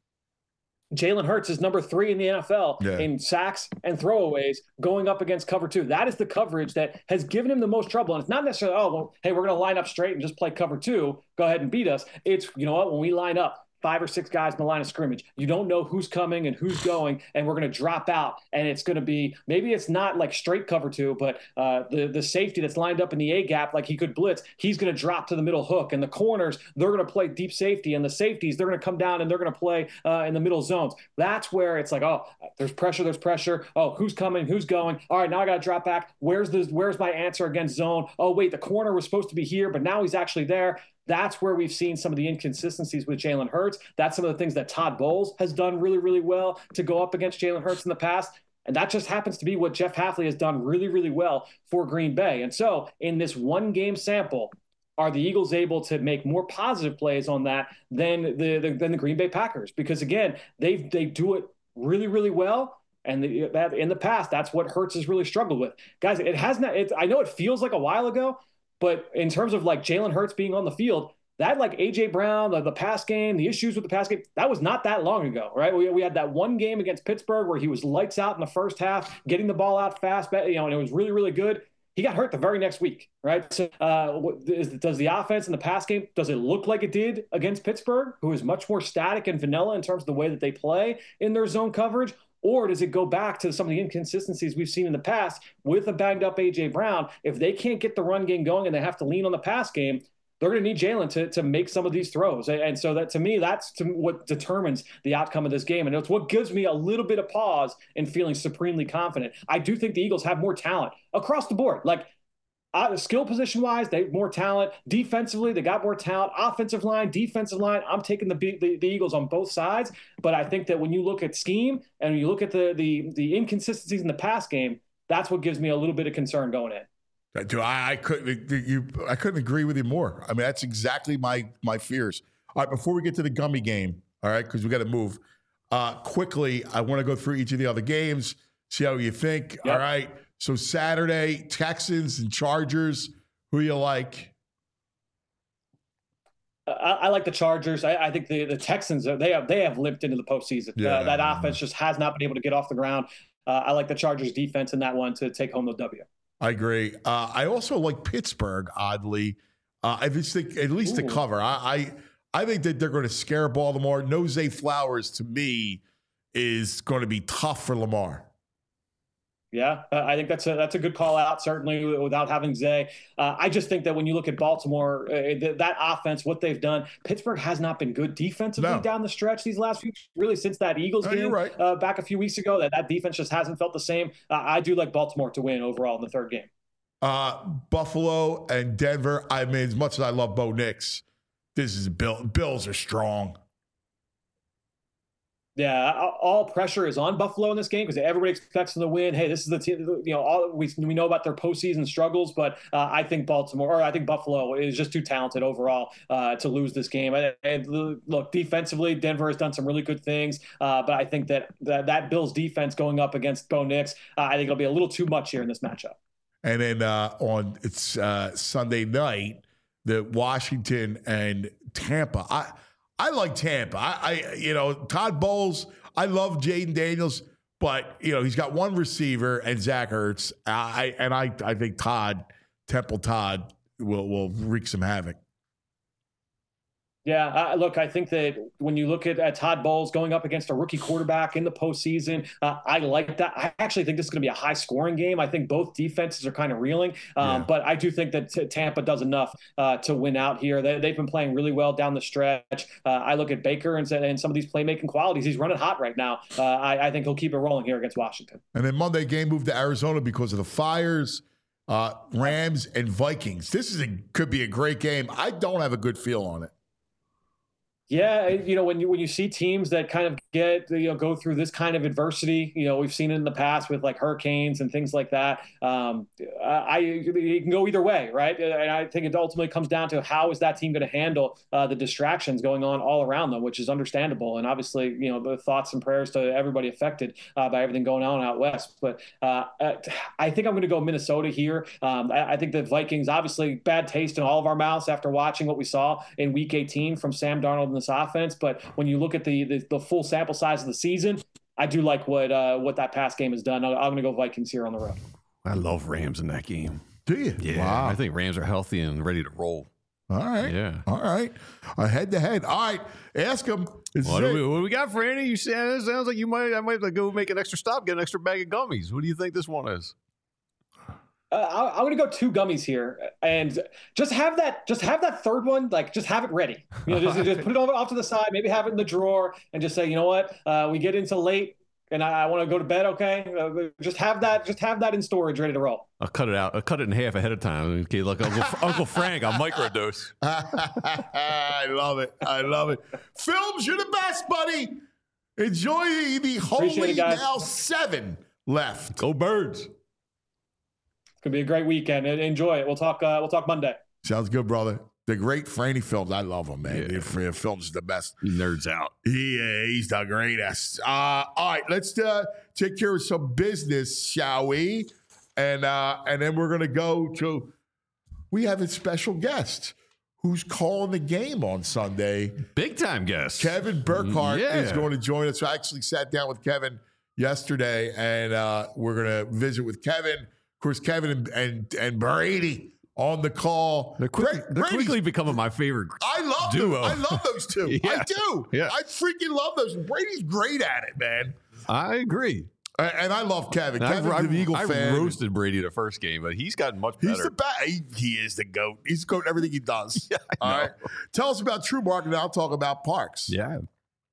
Jalen Hurts is number three in the N F L yeah. in sacks and throwaways going up against cover two. That is the coverage that has given him the most trouble. And it's not necessarily, oh, well, hey, we're going to line up straight and just play cover two. Go ahead and beat us. It's, you know what, when we line up, five or six guys in the line of scrimmage. You don't know who's coming and who's going, and we're going to drop out. And it's going to be, maybe it's not like straight cover two, but uh, the, the safety that's lined up in the A-gap, like he could blitz, he's going to drop to the middle hook. And the corners, they're going to play deep safety. And the safeties, they're going to come down and they're going to play uh, in the middle zones. That's where it's like, oh, there's pressure, there's pressure. Oh, who's coming, who's going? All right, now I got to drop back. Where's the, where's my answer against zone? Oh, wait, the corner was supposed to be here, but now he's actually there. That's where we've seen some of the inconsistencies with Jalen Hurts. That's some of the things that Todd Bowles has done really, really well to go up against Jalen Hurts in the past. And that just happens to be what Jeff Hafley has done really, really well for Green Bay. And so in this one game sample, are the Eagles able to make more positive plays on that than the, the than the Green Bay Packers? Because again, they they do it really, really well. And the, that, in the past, that's what Hurts has really struggled with. Guys, it has not, it, I know it feels like a while ago, but in terms of like Jalen Hurts being on the field, that like A J Brown, the, the pass game, the issues with the pass game, that was not that long ago, right? We, we had that one game against Pittsburgh where he was lights out in the first half, getting the ball out fast, you know, and it was really, really good. He got hurt the very next week, right? So uh, is, does the offense in the pass game, does it look like it did against Pittsburgh, who is much more static and vanilla in terms of the way that they play in their zone coverage? Or does it go back to some of the inconsistencies we've seen in the past with a banged up A J Brown? If they can't get the run game going and they have to lean on the pass game, they're going to need Jalen to, to make some of these throws. And so that, to me, that's to what determines the outcome of this game. And it's what gives me a little bit of pause in feeling supremely confident. I do think the Eagles have more talent across the board. Like, Uh, skill position wise, they have more talent. Defensively, they got more talent. Offensive line, defensive line. I'm taking the, the the Eagles on both sides. But I think that when you look at scheme and you look at the the the inconsistencies in the pass game, that's what gives me a little bit of concern going in. Do I, I couldn't you I couldn't agree with you more. I mean, that's exactly my my fears. All right, before we get to the gummy game, all right, because we got to move uh, quickly. I want to go through each of the other games, see how you think. Yep. All right. So Saturday, Texans and Chargers. Who you like? I, I like the Chargers. I, I think the, the Texans, they have they have limped into the postseason. Yeah. Uh, that offense just has not been able to get off the ground. Uh, I like the Chargers defense in that one to take home the W. I agree. Uh, I also like Pittsburgh, oddly. Uh, I just think at least Ooh. to cover. I, I I think that they're going to scare Baltimore. No Zay Flowers, to me, is going to be tough for Lamar. Yeah, uh, I think that's a that's a good call out, certainly without having Zay. Uh, I just think that when you look at Baltimore, uh, th- that offense, what they've done, Pittsburgh has not been good defensively no. down the stretch these last few, really since that Eagles no, game you're right. uh, back a few weeks ago, that, that defense just hasn't felt the same. Uh, I do like Baltimore to win overall in the third game. Uh, Buffalo and Denver, I mean, as much as I love Bo Nix, this is Bill. Bills are strong. Yeah, all pressure is on Buffalo in this game because everybody expects them to win. Hey, this is the team. You know, all we we know about their postseason struggles, but uh, I think Baltimore or I think Buffalo is just too talented overall uh, to lose this game. And, and look, defensively, Denver has done some really good things, uh, but I think that, that that Bills defense going up against Bo Nix, uh, I think it'll be a little too much here in this matchup. And then uh, on it's uh, Sunday night, the Washington and Tampa. I. I like Tampa. I, I, you know, Todd Bowles, I love Jaden Daniels, but you know he's got one receiver and Zach Ertz. I and I I think Todd Temple Todd will will wreak some havoc. Yeah, uh, look, I think that when you look at, at Todd Bowles going up against a rookie quarterback in the postseason, uh, I like that. I actually think this is going to be a high-scoring game. I think both defenses are kind of reeling, um, yeah. but I do think that t- Tampa does enough uh, to win out here. They, they've been playing really well down the stretch. Uh, I look at Baker and, and some of these playmaking qualities. He's running hot right now. Uh, I, I think he'll keep it rolling here against Washington. And then Monday game moved to Arizona because of the fires. Uh, Rams and Vikings. This is a, could be a great game. I don't have a good feel on it. Yeah, you know, when you when you see teams that kind of get, you know, go through this kind of adversity, you know, we've seen it in the past with like hurricanes and things like that. Um, I it can go either way, right? And I think it ultimately comes down to how is that team going to handle uh, the distractions going on all around them, which is understandable. And obviously, you know, the thoughts and prayers to everybody affected uh, by everything going on out west. But uh, I think I'm going to go Minnesota here. Um, I, I think the Vikings, obviously, bad taste in all of our mouths after watching what we saw in Week eighteen from Sam Darnold and this offense, but when you look at the, the the full sample size of the season, I do like what uh, what that pass game has done. I'm going to go Vikings here on the road. I love Rams in that game. Do you? Yeah, wow. I think Rams are healthy and ready to roll. All right. Yeah. All right. Uh, head to head. All right. Ask him. What do, we, what do we got for Andy? You said it sounds like you might. I might have to go make an extra stop, get an extra bag of gummies. What do you think this one is? Uh, I'm going to go two gummies here, and just have that, just have that third one, like just have it ready. You know, just, just put it off to the side, maybe have it in the drawer, and just say, you know what, uh, we get into late, and I, I want to go to bed. Okay, uh, just have that, just have that in storage, ready to roll. I'll cut it out. I'll cut it in half ahead of time. Okay, like Uncle, Uncle Frank, I'll microdose. I love it. I love it. Films, you're the best, buddy. Enjoy the, the holy now seven left. Go Birds. Could be a great weekend. Enjoy it. We'll talk. Uh, we'll talk Monday. Sounds good, brother. The great Franny Films. I love him, man. Yeah. The Films is the best. He nerds out. Yeah, he's the greatest. Uh, all right, let's uh, take care of some business, shall we? And uh, and then we're gonna go to. We have a special guest who's calling the game on Sunday. Big time guest. Kevin Burkhardt yeah. is going to join us. I actually sat down with Kevin yesterday, and uh, we're gonna visit with Kevin. Of course, Kevin and, and and Brady on the call. They're, quick, they're quickly becoming my favorite I love duo. Them. I love those two. yeah. I do. Yeah. I freaking love those. Brady's great at it, man. I agree. And, and I love Kevin. And Kevin's I've, an Eagle I fan. roasted Brady the first game, but he's gotten much better. He's the best. He, he is the GOAT. He's the GOAT in everything he does. yeah, I All know. right. Tell us about TrueMark, and I'll talk about Parks. Yeah.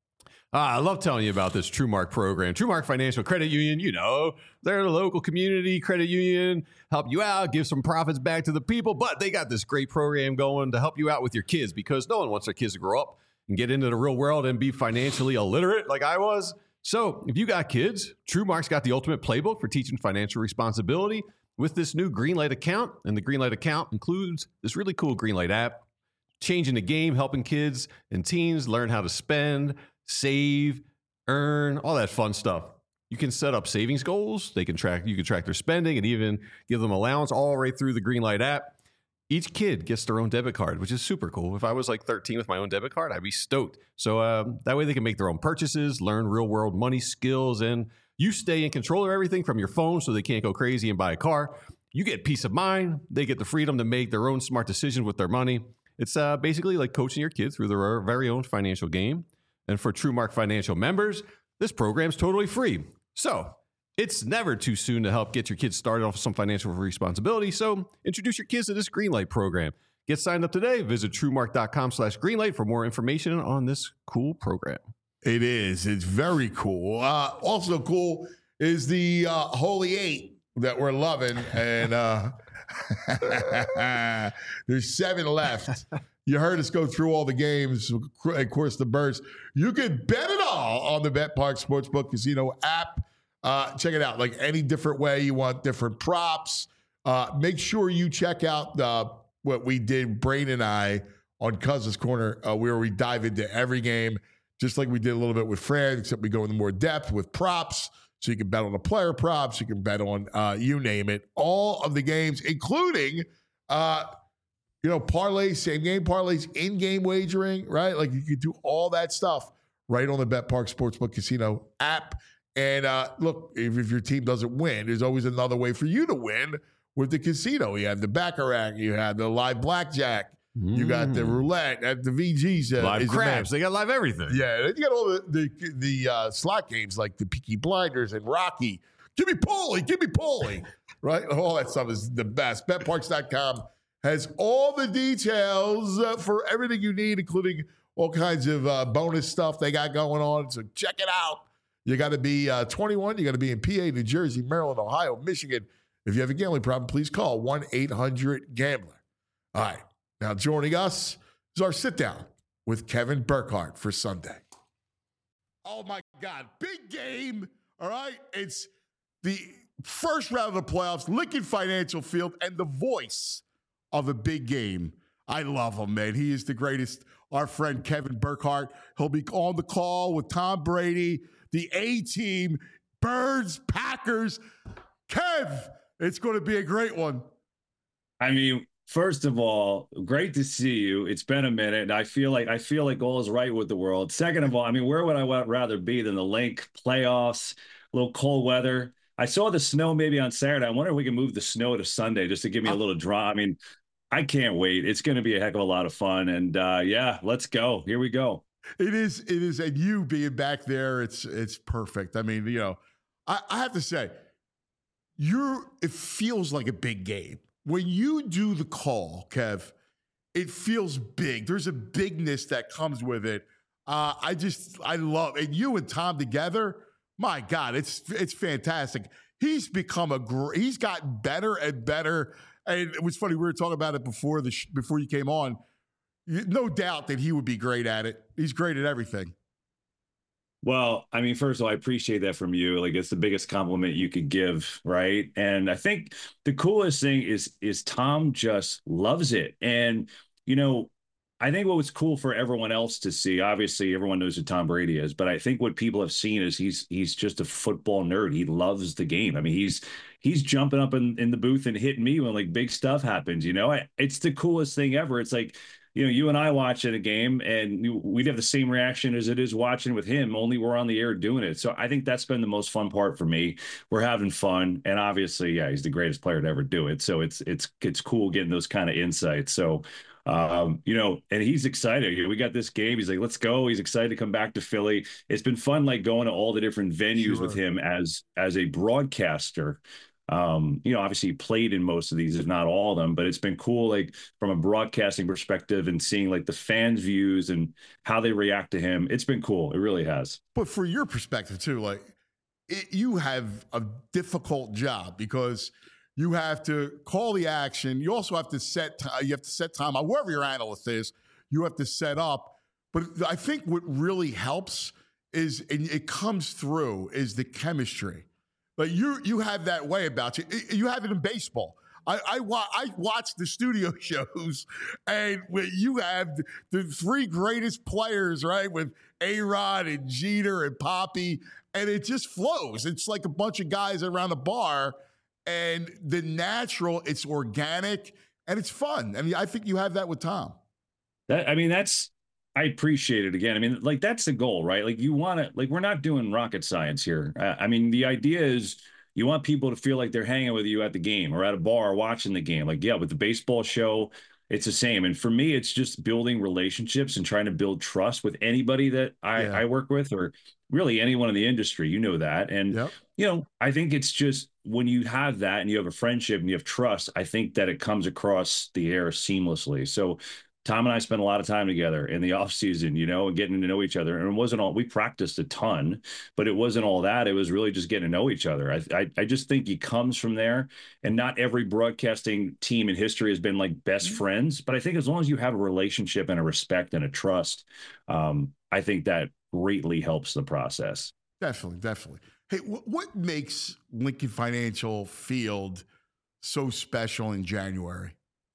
Uh, I love telling you about this TrueMark program. TrueMark Financial Credit Union, you know, they're a local community credit union, help you out, give some profits back to the people, but they got this great program going to help you out with your kids because no one wants their kids to grow up and get into the real world and be financially illiterate like I was. So if you got kids, TrueMark's got the ultimate playbook for teaching financial responsibility with this new Greenlight account. And the Greenlight account includes this really cool Greenlight app, changing the game, helping kids and teens learn how to spend, save, earn, all that fun stuff. You can set up savings goals. They can track, you can track their spending and even give them allowance all right through the Greenlight app. Each kid gets their own debit card, which is super cool. If I was like thirteen with my own debit card, I'd be stoked. So um, that way they can make their own purchases, learn real world money skills, and you stay in control of everything from your phone so they can't go crazy and buy a car. You get peace of mind. They get the freedom to make their own smart decisions with their money. It's uh, basically like coaching your kids through their very own financial game. And for TrueMark Financial members, this program's totally free. So it's never too soon to help get your kids started off with some financial responsibility. So introduce your kids to this Greenlight program. Get signed up today. Visit TrueMark.com slash Greenlight for more information on this cool program. It is. It's very cool. Uh, also cool is the uh, Holy Eight that we're loving. And uh, there's seven left. You heard us go through all the games, of course, the Birds. You can bet it all on the BetPark Sportsbook Casino app. Uh, check it out. Like any different way you want different props. Uh, make sure you check out uh, what we did, Brain and I, on Cousins Corner, uh, where we dive into every game, just like we did a little bit with Fred, except we go into more depth with props. So you can bet on the player props. You can bet on, uh, you name it, all of the games, including, uh, you know, parlays, same game parlays, in-game wagering, right? Like you can do all that stuff right on the BetPark Sportsbook Casino app. And uh, look, if, if your team doesn't win, there's always another way for you to win with the casino. You have the Baccarat, you have the live blackjack, mm. you got the roulette at the V Gs. Uh, live craps. They got live everything. Yeah, you got all the the, the uh, slot games like the Peaky Blinders and Rocky. Give me Paulie, give me Paulie. Right? All that stuff is the best. Bet Parks dot com has all the details uh, for everything you need, including all kinds of uh, bonus stuff they got going on. So check it out. You got to be uh, twenty-one. You got to be in P A, New Jersey, Maryland, Ohio, Michigan. If you have a gambling problem, please call one eight hundred gambler. All right. Now joining us is our sit down with Kevin Burkhardt for Sunday. Oh my God. Big game. All right. It's the first round of the playoffs, Lincoln Financial Field, and the voice of a big game. I love him, man. He is the greatest. Our friend Kevin Burkhardt. He'll be on the call with Tom Brady, the A-Team, Birds, Packers. Kev, it's going to be a great one. I mean, first of all, great to see you. It's been a minute. I feel like I feel like all is right with the world. Second of all, I mean, where would I rather be than the Link playoffs, a little cold weather? I saw the snow maybe on Saturday. I wonder if we can move the snow to Sunday just to give me a little draw. I mean, I can't wait. It's going to be a heck of a lot of fun. And uh, yeah, let's go. Here we go. It is. It is. And you being back there, it's it's perfect. I mean, you know, I, I have to say, you're. It feels like a big game when you do the call, Kev. It feels big. There's a bigness that comes with it. Uh, I just, I love, and you and Tom together. My God, it's it's fantastic. He's become a great. He's gotten better and better. And it was funny, we were talking about it before the sh- before you came on. No doubt that he would be great at it. He's great at everything. Well, I mean, first of all, I appreciate that from you. Like, it's the biggest compliment you could give, right? And I think the coolest thing is is Tom just loves it. And, you know, I think what was cool for everyone else to see, obviously everyone knows who Tom Brady is, but I think what people have seen is he's he's just a football nerd. He loves the game. I mean, he's he's jumping up in, in the booth and hitting me when like big stuff happens, you know? I, it's the coolest thing ever. It's like, you know, you and I watch at a game and we'd have the same reaction as it is watching with him, only we're on the air doing it. So I think that's been the most fun part for me. We're having fun. And obviously, yeah, he's the greatest player to ever do it. So it's, it's, it's cool getting those kind of insights. So, um, you know, and he's excited. We got this game. He's like, let's go. He's excited to come back to Philly. It's been fun, like going to all the different venues sure. with him as, as a broadcaster. Um, you know, obviously he played in most of these, if not all of them, but it's been cool, like from a broadcasting perspective and seeing like the fans' views and how they react to him. It's been cool. It really has. But for your perspective too, like it, you have a difficult job because you have to call the action. You also have to set, t- you have to set time on wherever your analyst is, you have to set up. But I think what really helps is, and it comes through, is the chemistry. But you you have that way about you. You have it in baseball. I I, wa- I watch the studio shows, and when you have the three greatest players, right, with A-Rod and Jeter and Poppy, and it just flows. It's like a bunch of guys around a bar, and the natural, it's organic, and it's fun. I mean, I think you have that with Tom. That I mean, that's. I appreciate it again. I mean, like that's the goal, right? Like you want to, like we're not doing rocket science here. Uh, I mean, the idea is you want people to feel like they're hanging with you at the game or at a bar watching the game. Like, yeah, with the baseball show, it's the same. And for me, it's just building relationships and trying to build trust with anybody that I, yeah. I work with or really anyone in the industry, you know that. And, yep. you know, I think it's just when you have that and you have a friendship and you have trust, I think that it comes across the air seamlessly. So Tom and I spent a lot of time together in the off season, you know, and getting to know each other. And it wasn't all, we practiced a ton, but it wasn't all that. It was really just getting to know each other. I, I, I just think he comes from there, and not every broadcasting team in history has been like best mm-hmm. friends. But I think as long as you have a relationship and a respect and a trust, um, I think that greatly helps the process. Definitely. Definitely. Hey, w- what makes Lincoln Financial Field so special in January?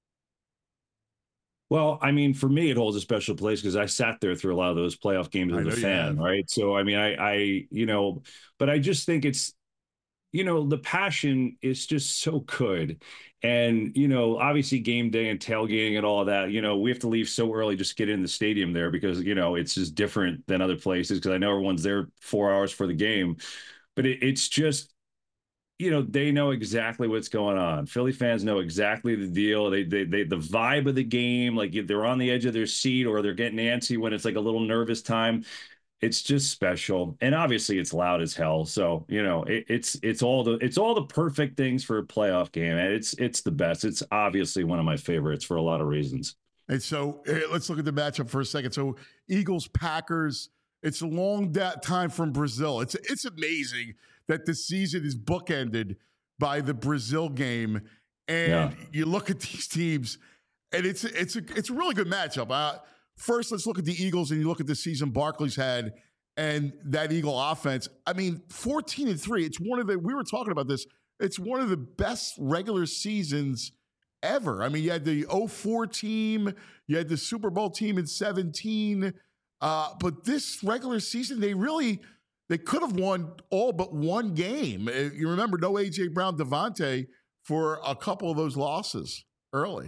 Well, I mean, for me, it holds a special place because I sat there through a lot of those playoff games as a fan, right? So, I mean, I, I, you know, but I just think it's you know, the passion is just so good. And, you know, obviously game day and tailgating and all that, you know, we have to leave so early just to get in the stadium there because, you know, it's just different than other places because I know everyone's there four hours for the game. But it, it's just, you know, they know exactly what's going on. Philly fans know exactly the deal. They, they, they, the vibe of the game, like if they're on the edge of their seat or they're getting antsy when it's like a little nervous time. It's just special, and obviously it's loud as hell. So you know, it, it's it's all the it's all the perfect things for a playoff game, and it's it's the best. It's obviously one of my favorites for a lot of reasons. And so eh, let's look at the matchup for a second. So Eagles Packers. It's a long da- time from Brazil. It's it's amazing that the season is bookended by the Brazil game, and yeah. you look at these teams, and it's it's a it's a really good matchup. Uh, First, let's look at the Eagles and you look at the season Barkley's had and that Eagle offense. I mean, fourteen and three. It's one of the, we were talking about this, it's one of the best regular seasons ever. I mean, you had the oh four team, you had the Super Bowl team in seventeen. Uh, but this regular season, they really, they could have won all but one game. You remember, no A J Brown, Devontae for a couple of those losses early.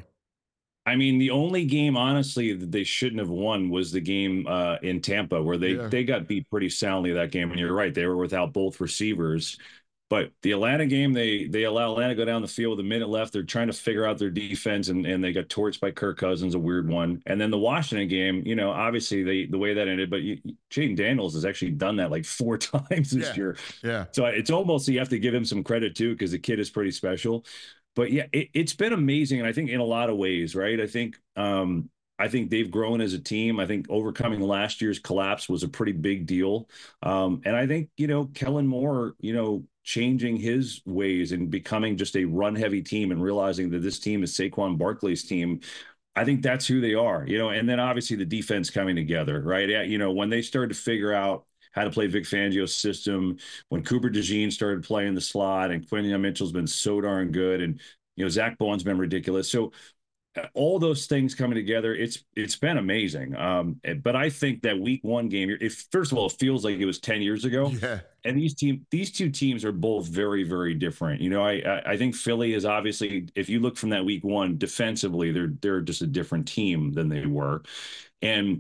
I mean, the only game, honestly, that they shouldn't have won was the game uh, in Tampa, where they yeah. they got beat pretty soundly that game. And you're right, they were without both receivers. But the Atlanta game, they they allow Atlanta to go down the field with a minute left. They're trying to figure out their defense, and, and they got torched by Kirk Cousins, a weird one. And then the Washington game, you know, obviously they the way that ended, but you, Jaden Daniels has actually done that like four times this yeah. year. Yeah. So it's almost, you have to give him some credit too, because the kid is pretty special. But yeah, it, it's been amazing. And I think in a lot of ways, right? I think, um, I think they've grown as a team. I think overcoming last year's collapse was a pretty big deal. Um, and I think, you know, Kellen Moore, you know, changing his ways and becoming just a run heavy team and realizing that this team is Saquon Barkley's team. I think that's who they are, you know, and then obviously the defense coming together, right? Yeah, you know, when they started to figure out how to play Vic Fangio's system, when Cooper DeJean started playing the slot, and Quinyon Mitchell's been so darn good, and you know Zach Bowen's been ridiculous. So uh, all those things coming together, it's it's been amazing. Um, but I think that week one game, if first of all, it feels like it was ten years ago. Yeah. And these team, these two teams are both very, very different. You know, I I, I think Philly is obviously, if you look from that week one defensively, they're they're just a different team than they were, and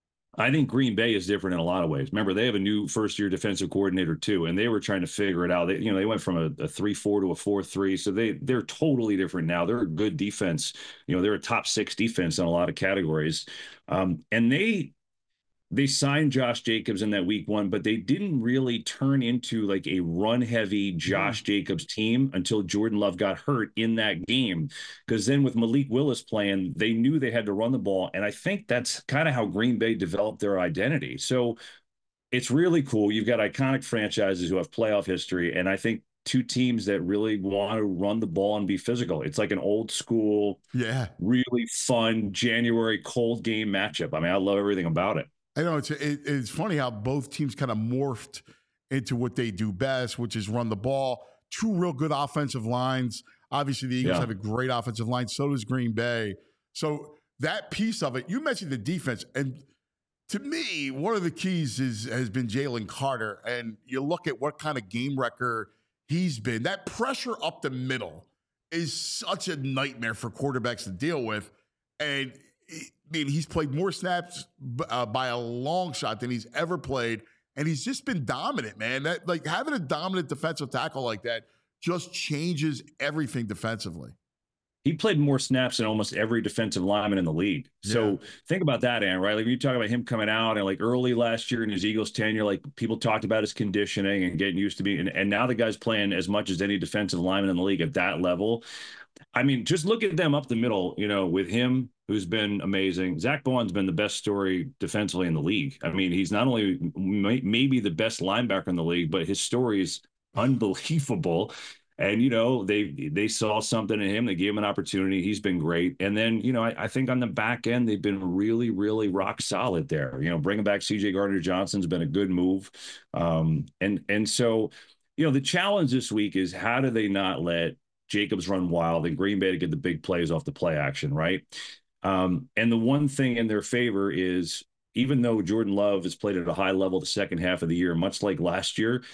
I think Green Bay is different in a lot of ways. Remember, they have a new first-year defensive coordinator too, and they were trying to figure it out. They, you know, they went from a, a three four to a four three, so they they're totally different now. They're a good defense. You know, they're a top six defense in a lot of categories, um, and they they signed Josh Jacobs in that week one, but they didn't really turn into like a run-heavy Josh mm. Jacobs team until Jordan Love got hurt in that game. Because then with Malik Willis playing, they knew they had to run the ball. And I think that's kind of how Green Bay developed their identity. So it's really cool. You've got iconic franchises who have playoff history. And I think two teams that really want to run the ball and be physical. It's like an old school, yeah, really fun January cold game matchup. I mean, I love everything about it. I know it's it, it's funny how both teams kind of morphed into what they do best, which is run the ball. Two real good offensive lines. Obviously, the Eagles yeah. have a great offensive line. So does Green Bay. So that piece of it, you mentioned the defense, and to me, one of the keys is has been Jalen Carter. And you look at what kind of game wrecker he's been. That pressure up the middle is such a nightmare for quarterbacks to deal with, and I mean, he's played more snaps uh, by a long shot than he's ever played, and he's just been dominant, man. That like having a dominant defensive tackle like that just changes everything defensively. He played more snaps than almost every defensive lineman in the league. So yeah. think about that, Aaron, right? Like when you talk about him coming out and like early last year in his Eagles tenure, like people talked about his conditioning and getting used to being, and, and now the guy's playing as much as any defensive lineman in the league at that level. I mean, just look at them up the middle, you know, with him, who's been amazing. Zach Bowen's been the best story defensively in the league. I mean, he's not only may, maybe the best linebacker in the league, but his story is unbelievable. And, you know, they they saw something in him. They gave him an opportunity. He's been great. And then, you know, I, I think on the back end, they've been really, really rock solid there. You know, bringing back C J Gardner-Johnson's been a good move. Um, and, and so, you know, the challenge this week is how do they not let Jacobs run wild and Green Bay to get the big plays off the play action, right? Um, and the one thing in their favor is even though Jordan Love has played at a high level the second half of the year, much like last year,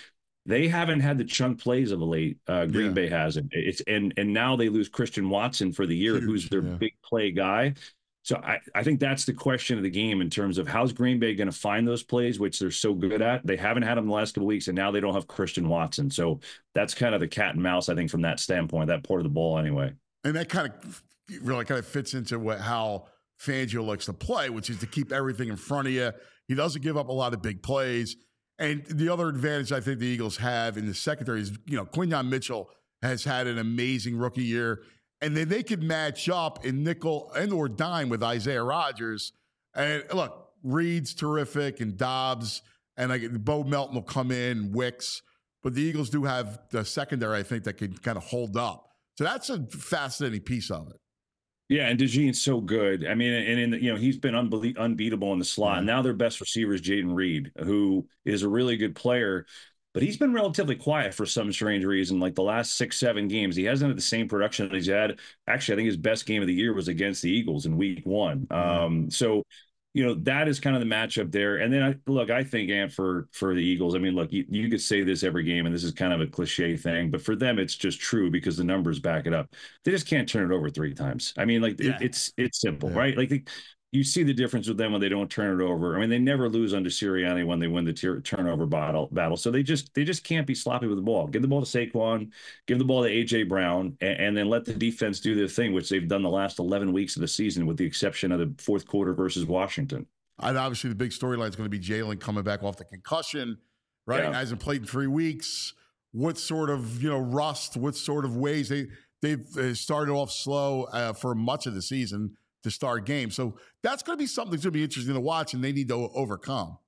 they haven't had the chunk plays of late. Uh, Green Yeah. Bay hasn't. It's and and now they lose Christian Watson for the year, Huge, who's their yeah. big play guy. So I, I think that's the question of the game in terms of how's Green Bay going to find those plays, which they're so good at. They haven't had them the last couple of weeks, and now they don't have Christian Watson. So that's kind of the cat and mouse, I think, from that standpoint, that part of the ball anyway. And that kind of really kind of fits into what how Fangio likes to play, which is to keep everything in front of you. He doesn't give up a lot of big plays. And the other advantage I think the Eagles have in the secondary is, you know, Quinyon Mitchell has had an amazing rookie year. And then they could match up in nickel and or dime with Isaiah Rodgers. And look, Reed's terrific and Dobbs and like Bo Melton will come in, Wicks. But the Eagles do have the secondary, I think, that can kind of hold up. So that's a fascinating piece of it. Yeah, and DeJean's so good. I mean, and in the, you know, he's been unbelie- unbeatable in the slot. Yeah. And now their best receiver is Jaden Reed, who is a really good player, but he's been relatively quiet for some strange reason. Like the last six, seven games, he hasn't had the same production that he's had. Actually, I think his best game of the year was against the Eagles in week one. Yeah. Um, so, you know, that is kind of the matchup there. And then, I, look, I think, Ant, for, for the Eagles, I mean, look, you, you could say this every game, and this is kind of a cliche thing, but for them, it's just true because the numbers back it up. They just can't turn it over three times. I mean, like, Yeah. it, it's it's simple, Yeah. right? Like, they, you see the difference with them when they don't turn it over. I mean, they never lose under Sirianni when they win the tier, turnover battle. Battle, so they just they just can't be sloppy with the ball. Give the ball to Saquon, give the ball to A J Brown, and, and then let the defense do their thing, which they've done the last eleven weeks of the season, with the exception of the fourth quarter versus Washington. And obviously, the big storyline is going to be Jalen coming back off the concussion, right? Yeah. Hasn't played in three weeks. What sort of, you know, rust? What sort of ways they they've uh, started off slow uh, for much of the season to start games. So that's going to be something that's going to be interesting to watch, and they need to o- overcome.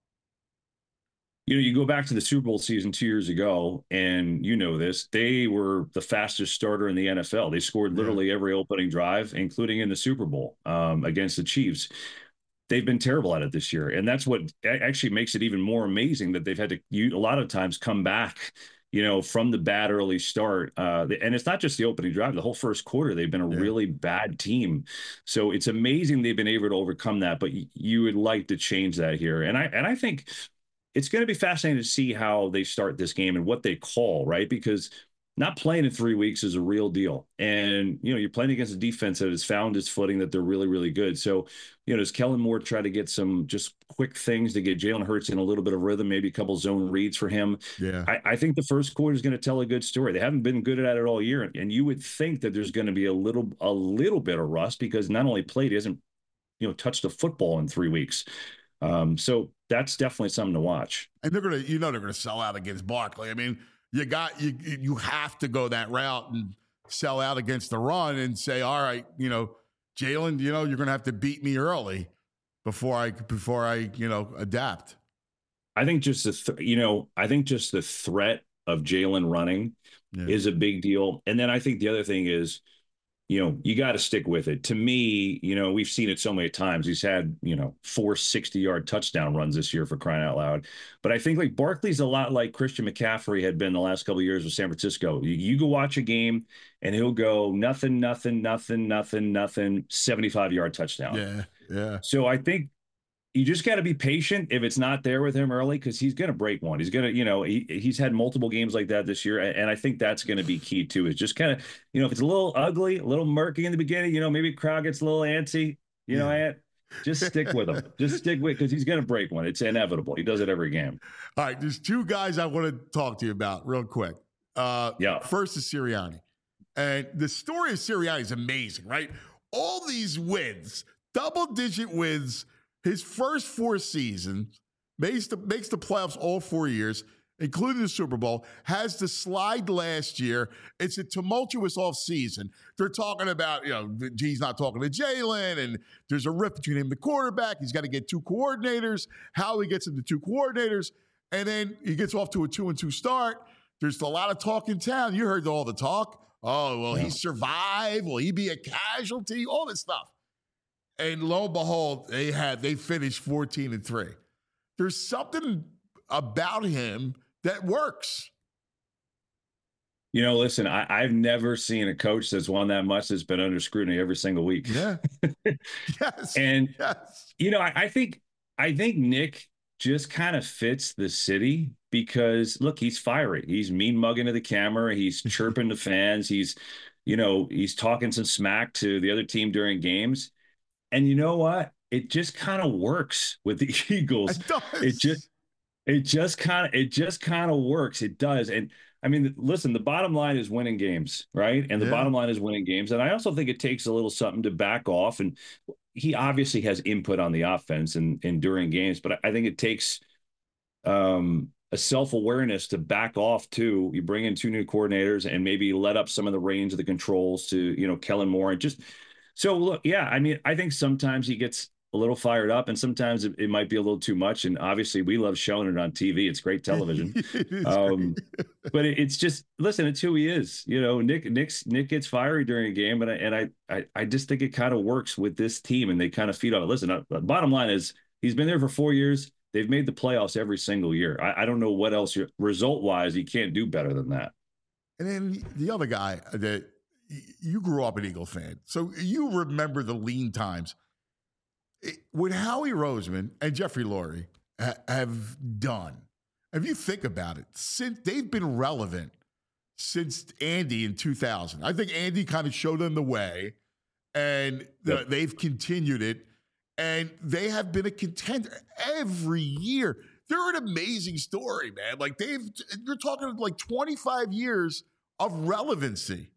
You know, you go back to the Super Bowl season two years ago, and you know this, they were the fastest starter in the N F L. They scored literally every opening drive, including in the Super Bowl um, against the Chiefs. They've been terrible at it this year. And that's what actually makes it even more amazing that they've had to, you, a lot of times, come back, you know, from the bad early start. Uh, and it's not just the opening drive. The whole first quarter, they've been a Yeah. really bad team. So it's amazing they've been able to overcome that. But you would like to change that here. And I and I think it's going to be fascinating to see how they start this game and what they call, right? Because not playing in three weeks is a real deal. And, you know, you're playing against a defense that has found its footing, that they're really, really good. So, you know, does Kellen Moore try to get some just quick things to get Jalen Hurts in a little bit of rhythm, maybe a couple zone reads for him? Yeah. I, I think the first quarter is going to tell a good story. They haven't been good at it all year. And you would think that there's going to be a little, a little bit of rust because not only played, he hasn't, you know, touched the football in three weeks. Um, so that's definitely something to watch. And they're going to, you know, they're going to sell out against Barkley. I mean, you got, you, you have to go that route and sell out against the run and say, all right, you know, Jalen, you know, you're going to have to beat me early before I, before I, you know, adapt. I think just the, th- you know, I think just the threat of Jalen running Yeah. is a big deal. And then I think the other thing is, you know, you got to stick with it. To me, you know, we've seen it so many times. He's had, you know, four sixty-yard touchdown runs this year, for crying out loud. But I think like Barkley's a lot like Christian McCaffrey had been the last couple of years with San Francisco. You, you go watch a game and he'll go nothing, nothing, nothing, nothing, nothing, seventy-five-yard touchdown. Yeah. Yeah. So I think you just got to be patient if it's not there with him early, because he's going to break one. He's going to, you know, he, he's had multiple games like that this year. And I think that's going to be key too, is just kind of, you know, if it's a little ugly, a little murky in the beginning, you know, maybe crowd gets a little antsy, you know, Ant, just stick with him. Just stick with, because he's going to break one. It's inevitable. He does it every game. All right. There's two guys I want to talk to you about real quick. Uh, Yeah. First is Sirianni. And the story of Sirianni is amazing, right? All these wins, double digit wins, his first four seasons, makes the, makes the playoffs all four years, including the Super Bowl, has the slide last year. It's a tumultuous offseason. They're talking about, you know, he's not talking to Jalen, and there's a rift between him and the quarterback. He's got to get two coordinators, how he gets him to two coordinators, and then he gets off to a two and two start. There's a lot of talk in town. You heard all the talk. Oh, will Yeah. he survive? Will he be a casualty? All this stuff. And lo and behold, they had they finished fourteen and three. There's something about him that works. You know, listen, I, I've never seen a coach that's won that much that's been under scrutiny every single week. Yeah. Yes. And yes. you know, I, I think I think Nick just kind of fits the city. because look, he's fiery. He's mean mugging to the camera. He's chirping the fans. He's, you know, he's talking some smack to the other team during games. And you know what? It just kind of works with the Eagles. It does. It just, it just kind of, it just kind of works. It does. And I mean, listen, the bottom line is winning games, right? And the Yeah. bottom line is winning games. And I also think it takes a little something to back off. And he obviously has input on the offense and, and during games, but I think it takes um, a self-awareness to back off too. You bring in two new coordinators and maybe let up some of the reins of the controls to, you know, Kellen Moore and just, so look, yeah, I mean, I think sometimes he gets a little fired up and sometimes it, it might be a little too much. And obviously we love showing it on T V. It's great television. um, but it, it's just, listen, it's who he is. You know, Nick, Nick's, Nick gets fiery during a game. And I, and I, I, I just think it kind of works with this team and they kind of feed on it. Listen, uh, the bottom line is he's been there for four years. They've made the playoffs every single year. I, I don't know what else result wise, you can't do better than that. And then the other guy that you grew up an Eagle fan, so you remember the lean times. What Howie Roseman and Jeffrey Lurie ha- have done, if you think about it, since they've been relevant since Andy in two thousand. I think Andy kind of showed them the way, and the, Yep. they've continued it, and they have been a contender every year. They're an amazing story, man. Like they've, you're talking like twenty-five years of relevancy.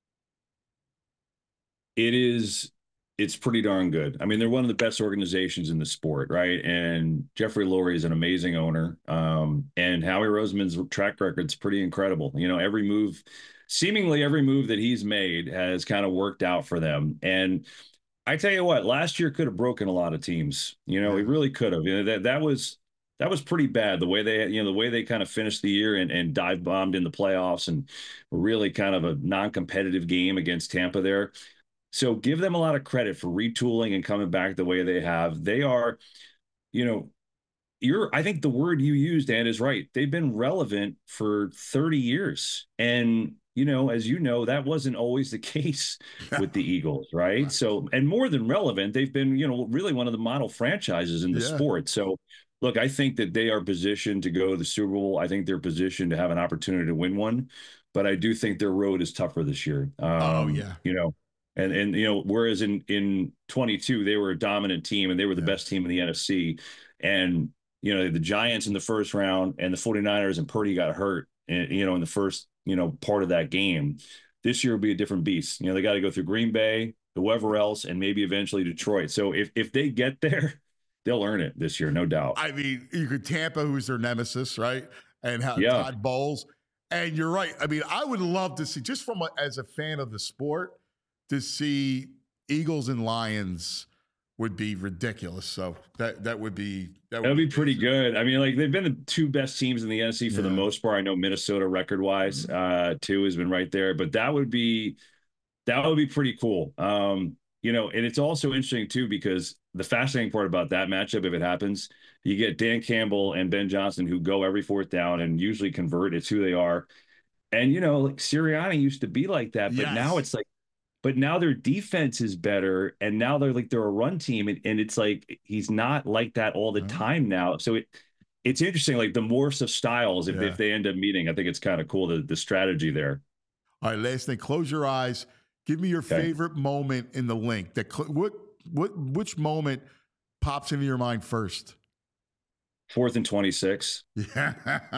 It is, it's pretty darn good. I mean, they're one of the best organizations in the sport, right? And Jeffrey Lurie is an amazing owner. Um, and Howie Roseman's track record's pretty incredible. You know, every move, seemingly every move that he's made has kind of worked out for them. And I tell you what, last year could have broken a lot of teams. You know, he really could have. You know, that that was that was pretty bad. The way they, you know, the way they kind of finished the year and, and dive bombed in the playoffs and really kind of a non-competitive game against Tampa there. So give them a lot of credit for retooling and coming back the way they have. They are, you know, you're, I think the word you used, Dan, is right. They've been relevant for thirty years. And, you know, as you know, that wasn't always the case with the Eagles, right? right? So, and more than relevant, they've been, you know, really one of the model franchises in the yeah. sport. So, look, I think that they are positioned to go to the Super Bowl. I think they're positioned to have an opportunity to win one. But I do think their road is tougher this year. Um, oh, yeah. You know, And, and you know, whereas in, in twenty-two, they were a dominant team and they were the yeah. best team in the N F C. And, you know, the Giants in the first round and the 49ers and Purdy got hurt, and, you know, in the first, you know, part of that game. This year will be a different beast. You know, they got to go through Green Bay, whoever else, and maybe eventually Detroit. So if, if they get there, they'll earn it this year, no doubt. I mean, you could Tampa, who's their nemesis, right? And how yeah. Todd Bowles. And you're right. I mean, I would love to see, just from a, as a fan of the sport, to see Eagles and Lions would be ridiculous. So that that would be that would That'd be, be pretty good. I mean, like they've been the two best teams in the N F C for yeah. the most part. I know Minnesota record wise, mm-hmm. uh, too, has been right there, but that would be that would be pretty cool. Um, you know, and it's also interesting too because the fascinating part about that matchup, if it happens, you get Dan Campbell and Ben Johnson who go every fourth down and usually convert. It's who they are. And you know, like Sirianni used to be like that, but yes. now it's like. But now their defense is better, and now they're like they're a run team, and, and it's like he's not like that all the mm-hmm. time now. So it it's interesting, like the morphs of styles. If, yeah. if they end up meeting, I think it's kind of cool the the strategy there. All right, last thing, close your eyes. Give me your okay. favorite moment in the link. That cl- what what which moment pops into your mind first? Fourth and twenty-six. Yeah.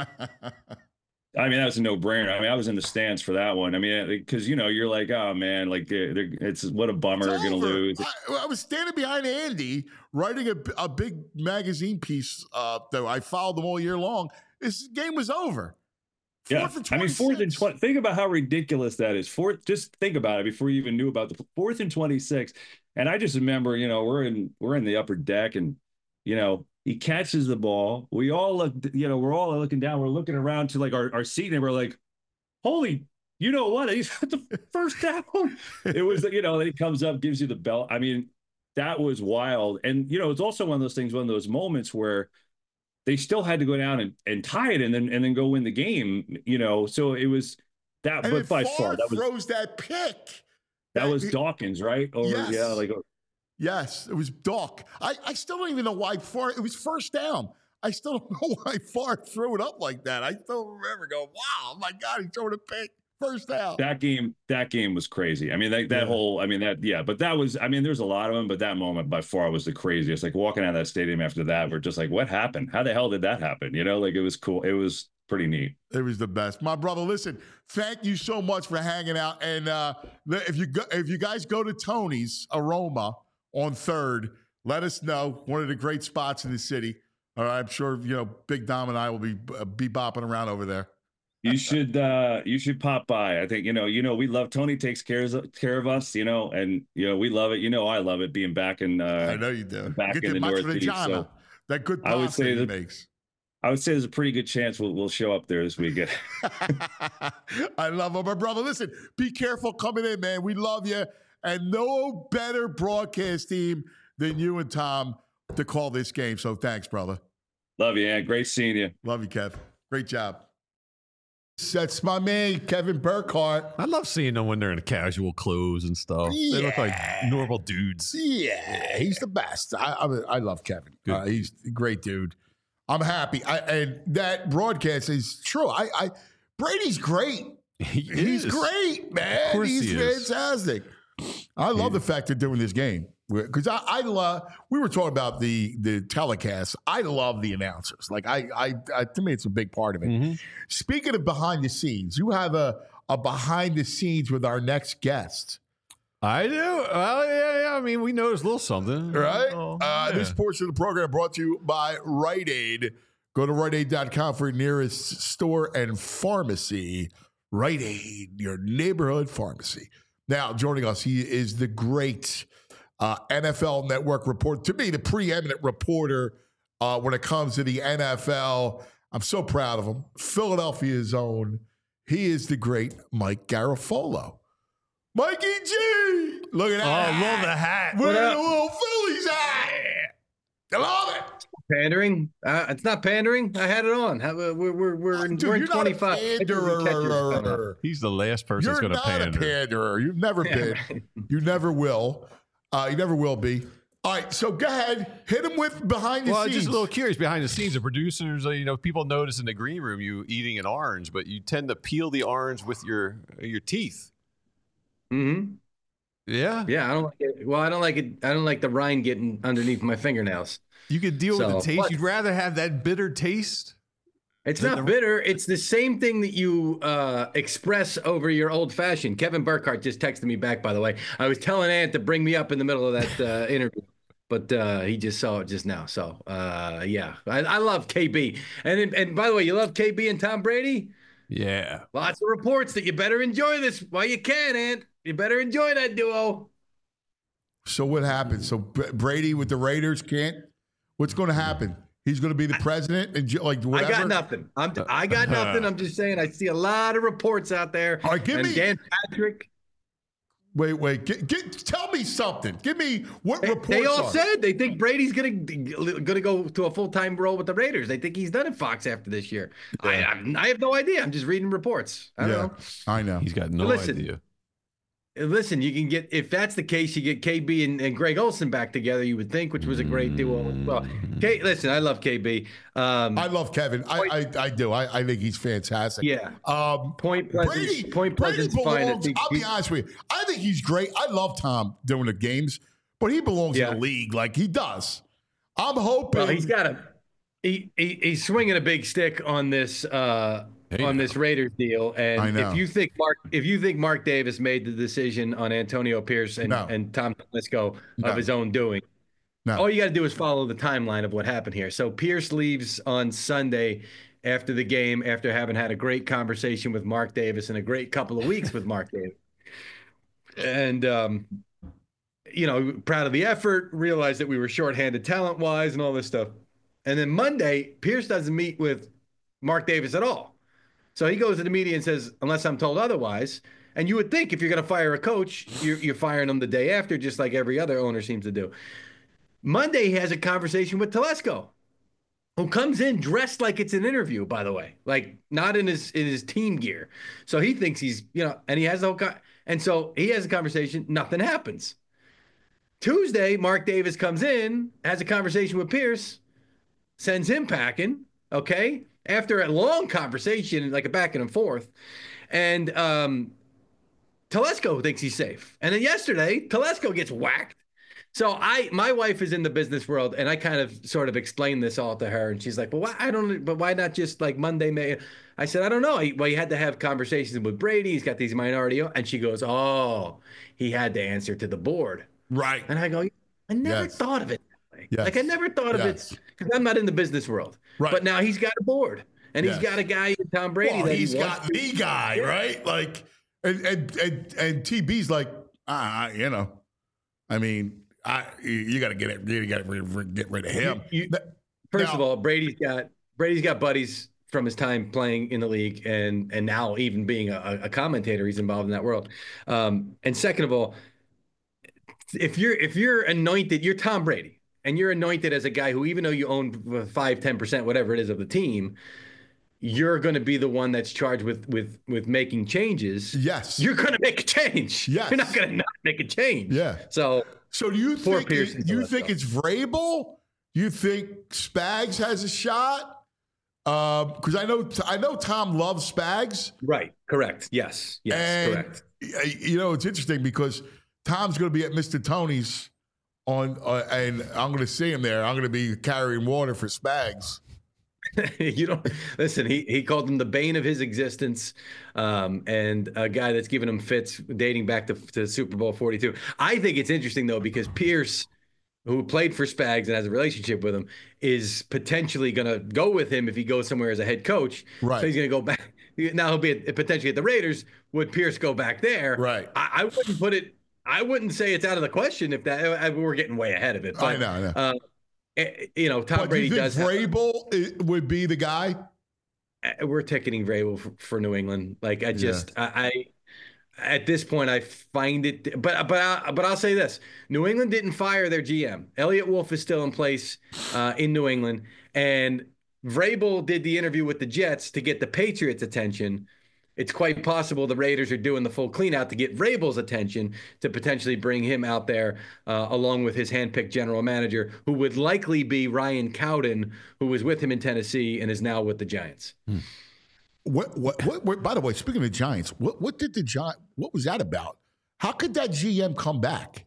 I mean, that was a no-brainer. I mean, I was in the stands for that one. I mean, because, you know, you're like, oh, man, like, they're, they're, it's what a bummer they're going to lose. I, I was standing behind Andy writing a, a big magazine piece uh, that I followed them all year long. This game was over. Fourth yeah. and I mean, fourth and twenty. Think about how ridiculous that is. Fourth, just think about it before you even knew about the fourth and twenty-six. And I just remember, you know, we're in we're in the upper deck and, you know, he catches the ball. We all look, you know, we're all looking down. We're looking around to like our, our seat and we're like, holy, you know what? He's at the first down. It was, you know, then he comes up, gives you the belt. I mean, that was wild. And, you know, it's also one of those things, one of those moments where they still had to go down and, and tie it and then and then go win the game, you know. So it was that, and but by Favre far that was throws that pick. That, that was Dawkins, right? Or yes. yeah, like Yes, it was Doc. I, I still don't even know why. For it was first down. I still don't know why Favre threw it up like that. I still remember going, wow, oh my God, he's throwing a pick. First out. That game, that game was crazy. I mean, that, that yeah. whole, I mean, that, yeah, but that was, I mean, there's a lot of them, but that moment by far was the craziest. Like walking out of that stadium after that, we're just like, what happened? How the hell did that happen? You know, like it was cool. It was pretty neat. It was the best. My brother, listen, thank you so much for hanging out. And uh, if you go, if you guys go to Tony's Aroma on third, let us know. One of the great spots in the city. All right, I'm sure, you know, Big Dom and I will be uh, be bopping around over there. You should uh you should pop by. I think, you know, you know, we love Tony takes care of care of us, you know, and you know, we love it. You know, I love it being back in uh I know you do. Back Get in the Northeast. So that good I would say he that, makes. I would say there's a pretty good chance we'll we'll show up there this weekend. I love him. My brother, listen, be careful coming in, man. We love you. And no better broadcast team than you and Tom to call this game. So thanks, brother. Love you, man. Great seeing you. Love you, Kev. Great job. That's my man, Kevin Burkhardt. I love seeing them when they're in casual clothes and stuff. Yeah. They look like normal dudes. Yeah, he's the best. I I, I love Kevin. Uh, he's a great dude. I'm happy. I, and that broadcast is true. I, I Brady's great. He he's is. great, man. He's he fantastic. I love yeah. the fact they're doing this game. Because I, I love, we were talking about the the telecast. I love the announcers. Like I, I, I to me, it's a big part of it. Mm-hmm. Speaking of behind the scenes, you have a a behind the scenes with our next guest. I do. Well, yeah, yeah. I mean, we noticed a little something, right? Oh, uh, yeah. This portion of the program brought to you by Rite Aid. Go to rite aid dot com for your nearest store and pharmacy. Rite Aid, your neighborhood pharmacy. Now, joining us, he is the great. Uh, N F L Network reporter, to me, the preeminent reporter uh, when it comes to the N F L. I'm so proud of him. Philadelphia's own. He is the great Mike Garafolo. Mikey G! Look at that. Oh, I love the hat. We're in a little Phillies hat. I love it. Pandering? Uh, it's not pandering. I had it on. How, uh, we're we're we're, Dude, we're in you're twenty-five. Not He's the last person you're that's going to pander. You're not a panderer. You've never yeah, been. right. You never will. Uh, you never will be. All right, so go ahead. Hit him with behind the well, scenes. Just a little curious behind the scenes. The producers, uh, you know, people notice in the green room you eating an orange, but you tend to peel the orange with your your teeth. Mm-hmm. Yeah. Yeah, I don't like it. Well, I don't like it. I don't like the rind getting underneath my fingernails. You could deal so, with the taste. but, You'd rather have that bitter taste. It's not the, bitter. It's the same thing that you uh, express over your old fashioned. Kevin Burkhardt just texted me back, by the way. I was telling Ant to bring me up in the middle of that uh, interview, but uh, he just saw it just now. So, uh, yeah, I, I love K B. And and by the way, you love K B and Tom Brady? Yeah. Lots of reports that you better enjoy this while you can, Ant. You better enjoy that duo. So what happened? So Brady with the Raiders can't? What's going to happen? He's going to be the president and like whatever. I got nothing. I'm. I got nothing. I'm just saying. I see a lot of reports out there. All right, give and me Dan Patrick. Wait, wait. Get, get, tell me something. Give me what they, reports. They all are. said they think Brady's going to going to go to a full time role with the Raiders. They think he's done at Fox after this year. Yeah. I, I I have no idea. I'm just reading reports. I don't yeah, know. I know. He's got no listen, idea. Listen, you can get, if that's the case, you get K B and, and Greg Olsen back together, you would think, which was a great duo as well. K, listen, I love K B. Um, I love Kevin. I, I I do. I, I think he's fantastic. Yeah. Um, Point Pleasant. Brady, Point Brady Pleasant's fine. belongs, I'll be honest with you. I think he's great. I love Tom doing the games, but he belongs yeah. in the league like he does. I'm hoping. Well, he's got a, he, he he's swinging a big stick on this uh, on this Raiders deal, and if you think Mark, if you think Mark Davis made the decision on Antonio Pierce and, no. and Tom Telesco no. of his own doing, no. all you got to do is follow the timeline of what happened here. So Pierce leaves on Sunday after the game, after having had a great conversation with Mark Davis and a great couple of weeks with Mark Davis, and um, you know, proud of the effort, realized that we were shorthanded talent wise and all this stuff, and then Monday Pierce doesn't meet with Mark Davis at all. So he goes to the media and says, unless I'm told otherwise. And you would think if you're going to fire a coach, you're, you're firing him the day after, just like every other owner seems to do. Monday, he has a conversation with Telesco, who comes in dressed like it's an interview, by the way, like not in his in his team gear. So he thinks he's, you know, and he has the whole co- and so he has a conversation. Nothing happens. Tuesday, Mark Davis comes in, has a conversation with Pierce. sends him packing, okay, after a long conversation, like a back and forth. And um, Telesco thinks he's safe. And then yesterday, Telesco gets whacked. So I, my wife is in the business world, and I kind of sort of explained this all to her, and she's like, "Well, why, I don't, but why not just like Monday, May?" I said, "I don't know. He, well, he had to have conversations with Brady. He's got these minority," and she goes, "Oh, he had to answer to the board." Right. And I go, "I never Yes. thought of it that way. Yes. Like I never thought of Yes. it because I'm not in the business world. Right. But now he's got a board, and Yes. he's got a guy in Tom Brady Well, that he's he got wants the guy, right? Like, and and and, and T B's like, ah, you know, I mean. I, you got to get it. You got to get rid of him. You, you, first now, of all, Brady's got Brady's got buddies from his time playing in the league, and and now even being a, a commentator, he's involved in that world. Um, and second of all, if you're if you're anointed, you're Tom Brady, and you're anointed as a guy who, even though you own five, ten percent, whatever it is of the team, you're going to be the one that's charged with with with making changes. Yes, you're going to make a change. Yes, you're not going to not make a change. Yeah. So. So do you think it, you think it's Vrabel? You think Spags has a shot? Because um, I know I know Tom loves Spags. Right. Correct. Yes. Yes. And, correct. You know, it's interesting because Tom's going to be at Mister Tony's on, uh, and I'm going to see him there. I'm going to be carrying water for Spags. You don't listen. He he called him the bane of his existence, um, and a guy that's given him fits dating back to, to Super Bowl forty-two. I think it's interesting though because Pierce, who played for Spags and has a relationship with him, is potentially going to go with him if he goes somewhere as a head coach. Right. So he's going to go back. Now he'll be at, potentially at the Raiders. Would Pierce go back there? Right. I, I wouldn't put it. I wouldn't say it's out of the question if that I, we're getting way ahead of it. But, I know. I know. Uh, You know, Tom but Brady do you does. think Vrabel have, would be the guy? We're ticketing Vrabel for, for New England. Like I just, yeah. I, I, at this point, I find it. But but I, but I'll say this: New England didn't fire their G M. Elliot Wolf is still in place uh, in New England, and Vrabel did the interview with the Jets to get the Patriots' attention. It's quite possible the Raiders are doing the full clean out to get Vrabel's attention to potentially bring him out there uh, along with his handpicked general manager, who would likely be Ryan Cowden, who was with him in Tennessee and is now with the Giants. Hmm. What, what, what, what, by the way, speaking of Giants, what, what did the Giants, what was that about? How could that G M come back?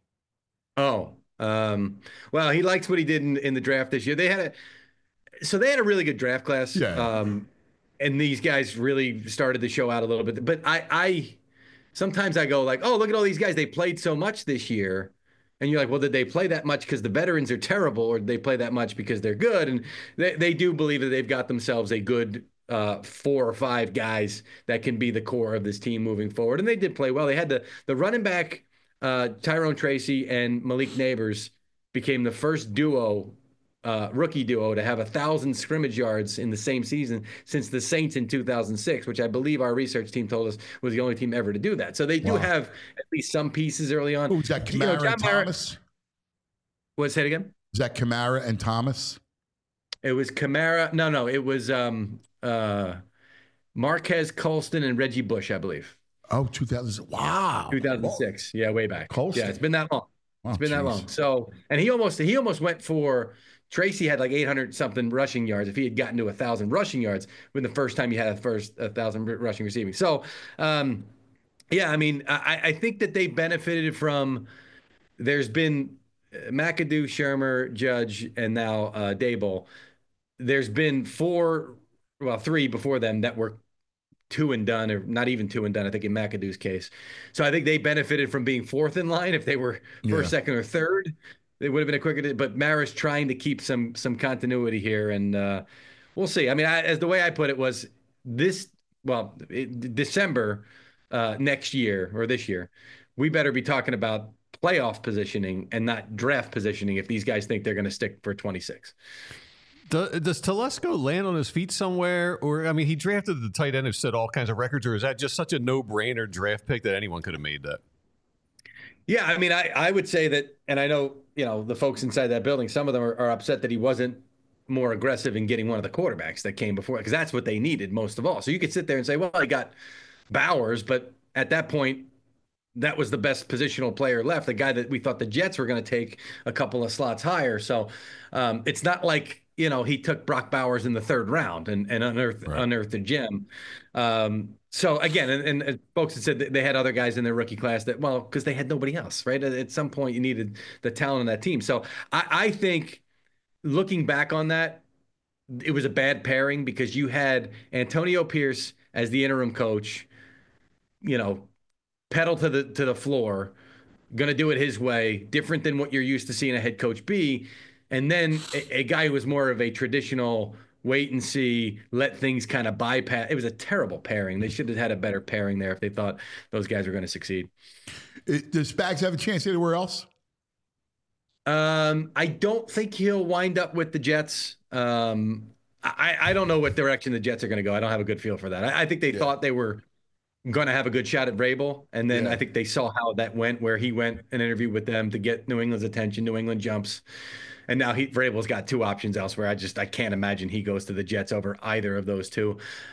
Oh, um, well, he likes what he did in, in the draft this year. They had a, so they had a really good draft class. Yeah. Um, And these guys really started the show out a little bit. But I, I sometimes I go like, oh, look at all these guys. They played so much this year. And you're like, well, did they play that much because the veterans are terrible, or did they play that much because they're good? And they, they do believe that they've got themselves a good uh, four or five guys that can be the core of this team moving forward. And they did play well. They had the, the running back, uh, Tyrone Tracy and Malik Neighbors became the first duo Uh, rookie duo to have a thousand scrimmage yards in the same season since the Saints in two thousand six, which I believe our research team told us was the only team ever to do that. So they do wow. have at least some pieces early on. Who was that, Kamara you know, and Thomas? What's that again? Was that Kamara and Thomas? It was Kamara. No, no, it was um, uh, Marquez Colston and Reggie Bush, I believe. Oh, two thousand. Wow. two thousand six. Yeah, way back. Colston. Yeah, it's been that long. Oh, it's been geez. that long. So, and he almost he almost went for. Tracy had like eight hundred something rushing yards. If he had gotten to a thousand rushing yards when the first time he had a first a thousand rushing receiving. So, um, yeah, I mean, I, I think that they benefited from. There's been McAdoo, Shermer, Judge, and now uh, Dable. There's been four, well, three before them that were two and done, or not even two and done. I think in McAdoo's case. So I think they benefited from being fourth in line. If they were first, yeah. second, or third. It would have been a quicker, but Mara's trying to keep some some continuity here, and uh, we'll see. I mean, I, as the way I put it was this, well, it, December uh, next year or this year, we better be talking about playoff positioning and not draft positioning if these guys think they're going to stick for twenty-six. Does Telesco land on his feet somewhere? Or, I mean, he drafted the tight end who set all kinds of records, or is that just such a no-brainer draft pick that anyone could have made that? Yeah, I mean, I, I would say that, and I know, you know, the folks inside that building, some of them are, are upset that he wasn't more aggressive in getting one of the quarterbacks that came before, because that's what they needed most of all. So you could sit there and say, well, he got Bowers, but at that point, that was the best positional player left, the guy that we thought the Jets were going to take a couple of slots higher. So um, it's not like you know, he took Brock Bowers in the third round and, and unearthed, right. unearthed a gem. Um, so again, and, and folks had said that they had other guys in their rookie class that, well, because they had nobody else, right? At, at some point you needed the talent on that team. So I, I think looking back on that, it was a bad pairing because you had Antonio Pierce as the interim coach, you know, pedal to the, to the floor, going to do it his way, different than what you're used to seeing a head coach be. And then a, a guy who was more of a traditional wait and see, let things kind of bypass. It was a terrible pairing. They should have had a better pairing there if they thought those guys were going to succeed. It, does Spags have a chance anywhere else? Um, I don't think he'll wind up with the Jets. Um, I, I don't know what direction the Jets are going to go. I don't have a good feel for that. I, I think they yeah. thought they were going to have a good shot at Vrabel, and then yeah. I think they saw how that went, where he went an interview with them to get New England's attention. New England jumps. And now he Vrabel's got two options elsewhere. I just I can't imagine he goes to the Jets over either of those two.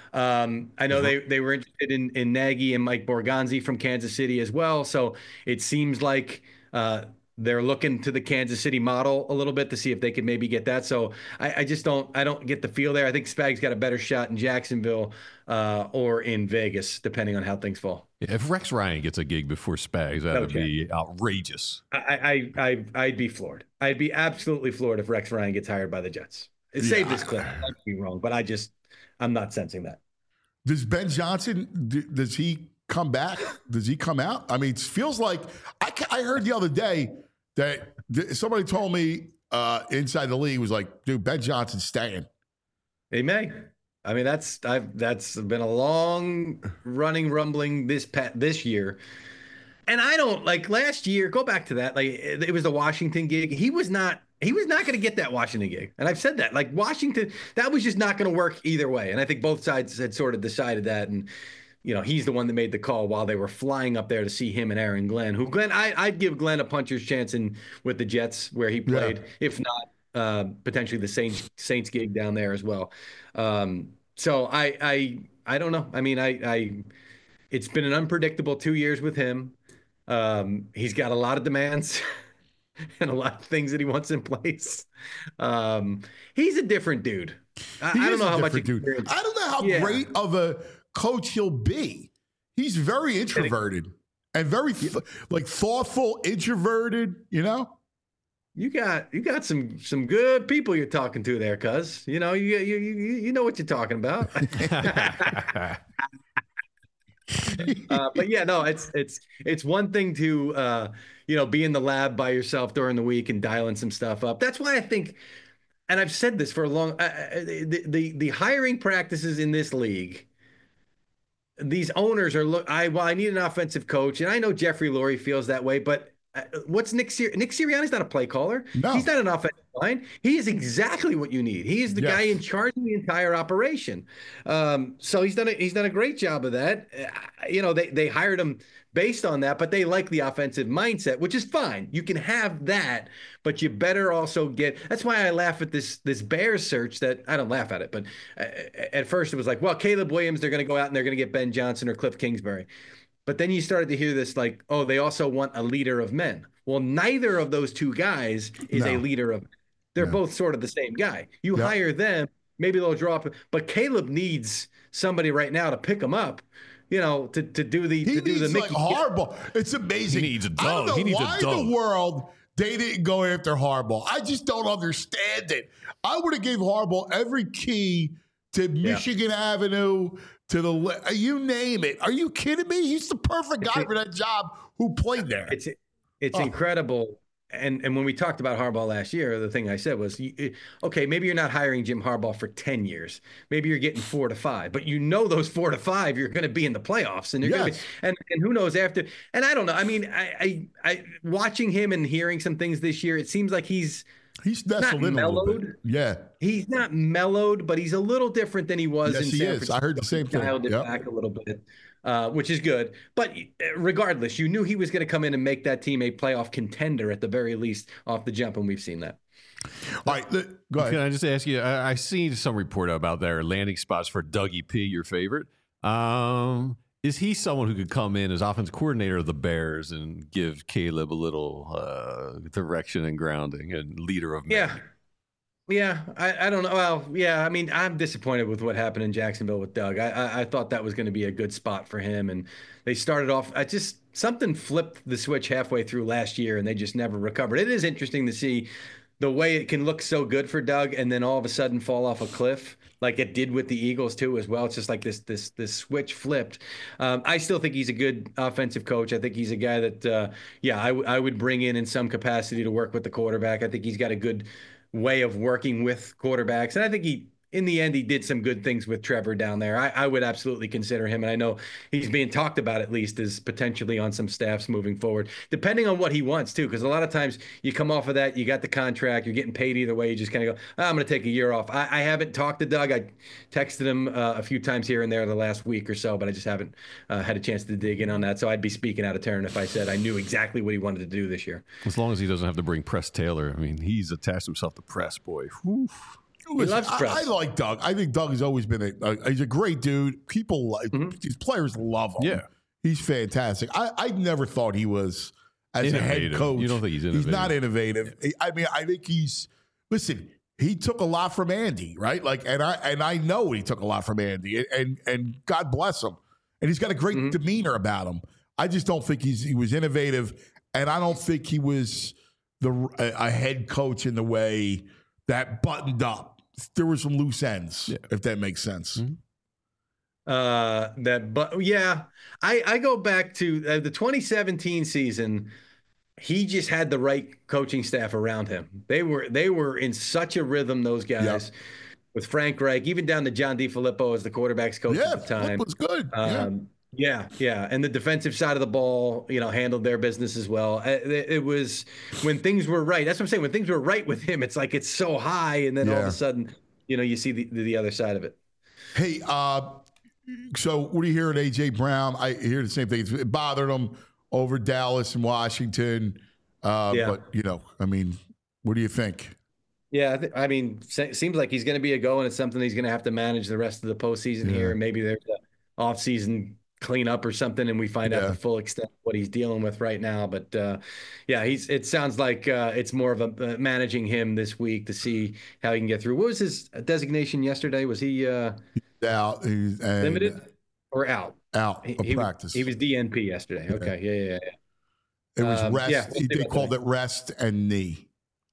Um, I know they they were interested in in Nagy and Mike Borgonzi from Kansas City as well. So it seems like uh, they're looking to the Kansas City model a little bit to see if they could maybe get that. So I, I just don't I don't get the feel there. I think Spags got a better shot in Jacksonville uh, or in Vegas, depending on how things fall. Yeah, if Rex Ryan gets a gig before Spags, that would be outrageous. I, I, I, I'd be floored. I'd be absolutely floored if Rex Ryan gets hired by the Jets. It yeah. saved this clip. I might be wrong, but I just, I'm not sensing that. Does Ben Johnson, does he come back? Does he come out? I mean, it feels like, I, I heard the other day that somebody told me uh, inside the league was like, dude, Ben Johnson's staying. He may. I mean, that's I've that's been a long running rumbling this pet this year. And I don't like last year, go back to that. Like it, it was the Washington gig. He was not he was not going to get that Washington gig. And I've said that. Like Washington, that was just not going to work either way. And I think both sides had sort of decided that. And, you know, he's the one that made the call while they were flying up there to see him and Aaron Glenn, who Glenn, I, I'd give Glenn a puncher's chance in with the Jets where he played, yeah. if not uh, potentially the Saints Saints gig down there as well. Um, so I, I, I don't know. I mean, I, I, it's been an unpredictable two years with him. Um, he's got a lot of demands and a lot of things that he wants in place. Um, he's a different dude. I, I don't know how much. Dude. I don't know how yeah. great of a coach he'll be. He's very introverted and very th- like thoughtful, introverted, you know? You got you got some some good people you're talking to there, cuz. You know, you you you you know what you're talking about. uh, but yeah, no, it's it's it's one thing to uh, you know, be in the lab by yourself during the week and dialing some stuff up. That's why I think, and I've said this for a long, uh, the, the the hiring practices in this league. These owners are look. I well, I need an offensive coach, and I know Jeffrey Lurie feels that way, but. Uh, what's Nick Sir- Nick Sirianni's not a play caller. No. He's not an offensive line. He is exactly what you need. He is the yes. guy in charge of the entire operation. Um, so he's done a, he's done a great job of that. Uh, you know, they they hired him based on that, but they like the offensive mindset, which is fine. You can have that, but you better also get. That's why I laugh at this this Bears search. That I don't laugh at it, but uh, at first it was like, well, Caleb Williams, they're going to go out and they're going to get Ben Johnson or Cliff Kingsbury. But then you started to hear this like, oh, they also want a leader of men. Well, neither of those two guys is no. a leader of men. They're no. both sort of the same guy. You yep. hire them, maybe they'll drop it. But Caleb needs somebody right now to pick him up, you know, to, to do the he to do the Mickey. Like Harbaugh. It's amazing. He needs a dog. I don't know he needs why a dog. in the world they didn't go after Harbaugh. I just don't understand it. I would have gave Harbaugh every key to Michigan yeah. Avenue, to the you name it. Are you kidding me? He's the perfect guy for that job who played there. It's it's oh. incredible. And and when we talked about Harbaugh last year, the thing I said was, okay, maybe you're not hiring Jim Harbaugh for ten years. Maybe you're getting four to five. But you know those four to five, you're going to be in the playoffs. And you're yes. going to be, and, and who knows after. And I don't know. I mean, I, I, I watching him and hearing some things this year, it seems like he's He's nestled in a little bit. Yeah. He's not mellowed, but he's a little different than he was yes, in he San is. Francisco. I heard the same he thing. Dialed it yep. back a little bit, uh, which is good. But regardless, you knew he was going to come in and make that team a playoff contender at the very least off the jump, and we've seen that. All right, go ahead. Can I just ask you, I, I seen some report about their landing spots for Dougie P, your favorite. Um, is he someone who could come in as offense coordinator of the Bears and give Caleb a little uh, direction and grounding and leader of men? Yeah. Yeah, I, I don't know. Well, yeah, I mean, I'm disappointed with what happened in Jacksonville with Doug. I I, I thought that was going to be a good spot for him, and they started off. I just something flipped the switch halfway through last year, and they just never recovered. It is interesting to see the way it can look so good for Doug, and then all of a sudden fall off a cliff, like it did with the Eagles too, as well. It's just like this this this switch flipped. Um, I still think he's a good offensive coach. I think he's a guy that, uh, yeah, I, w- I would bring in in some capacity to work with the quarterback. I think he's got a good way of working with quarterbacks. And I think he, in the end, he did some good things with Trevor down there. I, I would absolutely consider him. And I know he's being talked about at least as potentially on some staffs moving forward, depending on what he wants too. Because a lot of times you come off of that, you got the contract, you're getting paid either way. You just kind of go, oh, I'm going to take a year off. I, I haven't talked to Doug. I texted him uh, a few times here and there the last week or so, but I just haven't uh, had a chance to dig in on that. So I'd be speaking out of turn if I said I knew exactly what he wanted to do this year. As long as he doesn't have to bring Press Taylor. I mean, he's attached himself to Press, boy. Whew. Listen, I, I like Doug. I think Doug has always been a, a he's a great dude. People like mm-hmm. these players love him. Yeah, he's fantastic. I, I never thought he was as innovative. A head coach. You don't think he's innovative? He's not innovative. I mean, I think he's listen. He took a lot from Andy, right? Like, and I and I know he took a lot from Andy, and and, and God bless him. And he's got a great mm-hmm. demeanor about him. I just don't think he's he was innovative, and I don't think he was the a, a head coach in the way that buttoned up. There were some loose ends, yeah. if that makes sense. Mm-hmm. Uh, that, but yeah, I, I go back to uh, the twenty seventeen season. He just had the right coaching staff around him. They were they were in such a rhythm, those guys, yep. with Frank Reich, even down to John DeFilippo as the quarterback's coach yeah, at the time. Was good. Um, yeah. yeah, yeah, and the defensive side of the ball, you know, handled their business as well. It, it was when things were right. That's what I'm saying. When things were right with him, it's like it's so high, and then yeah. all of a sudden, you know, you see the the other side of it. Hey, uh, so what do you hear at A J Brown? I hear the same thing. It bothered him over Dallas and Washington. Uh, yeah. But, you know, I mean, what do you think? Yeah, I, th- I mean, it seems like he's going to be a go, and it's something he's going to have to manage the rest of the postseason yeah. here. And maybe there's an off-season cleanup or something, and we find yeah. out the full extent of what he's dealing with right now. But, uh, yeah, he's. It sounds like uh, it's more of a uh, managing him this week to see how he can get through. What was his designation yesterday? Was he uh, out? He's, and limited or out? Out he, of he practice. Was, he was D N P yesterday. Yeah. Okay, yeah, yeah, yeah. It was um, rest. Yeah, he, they called that. it rest and knee.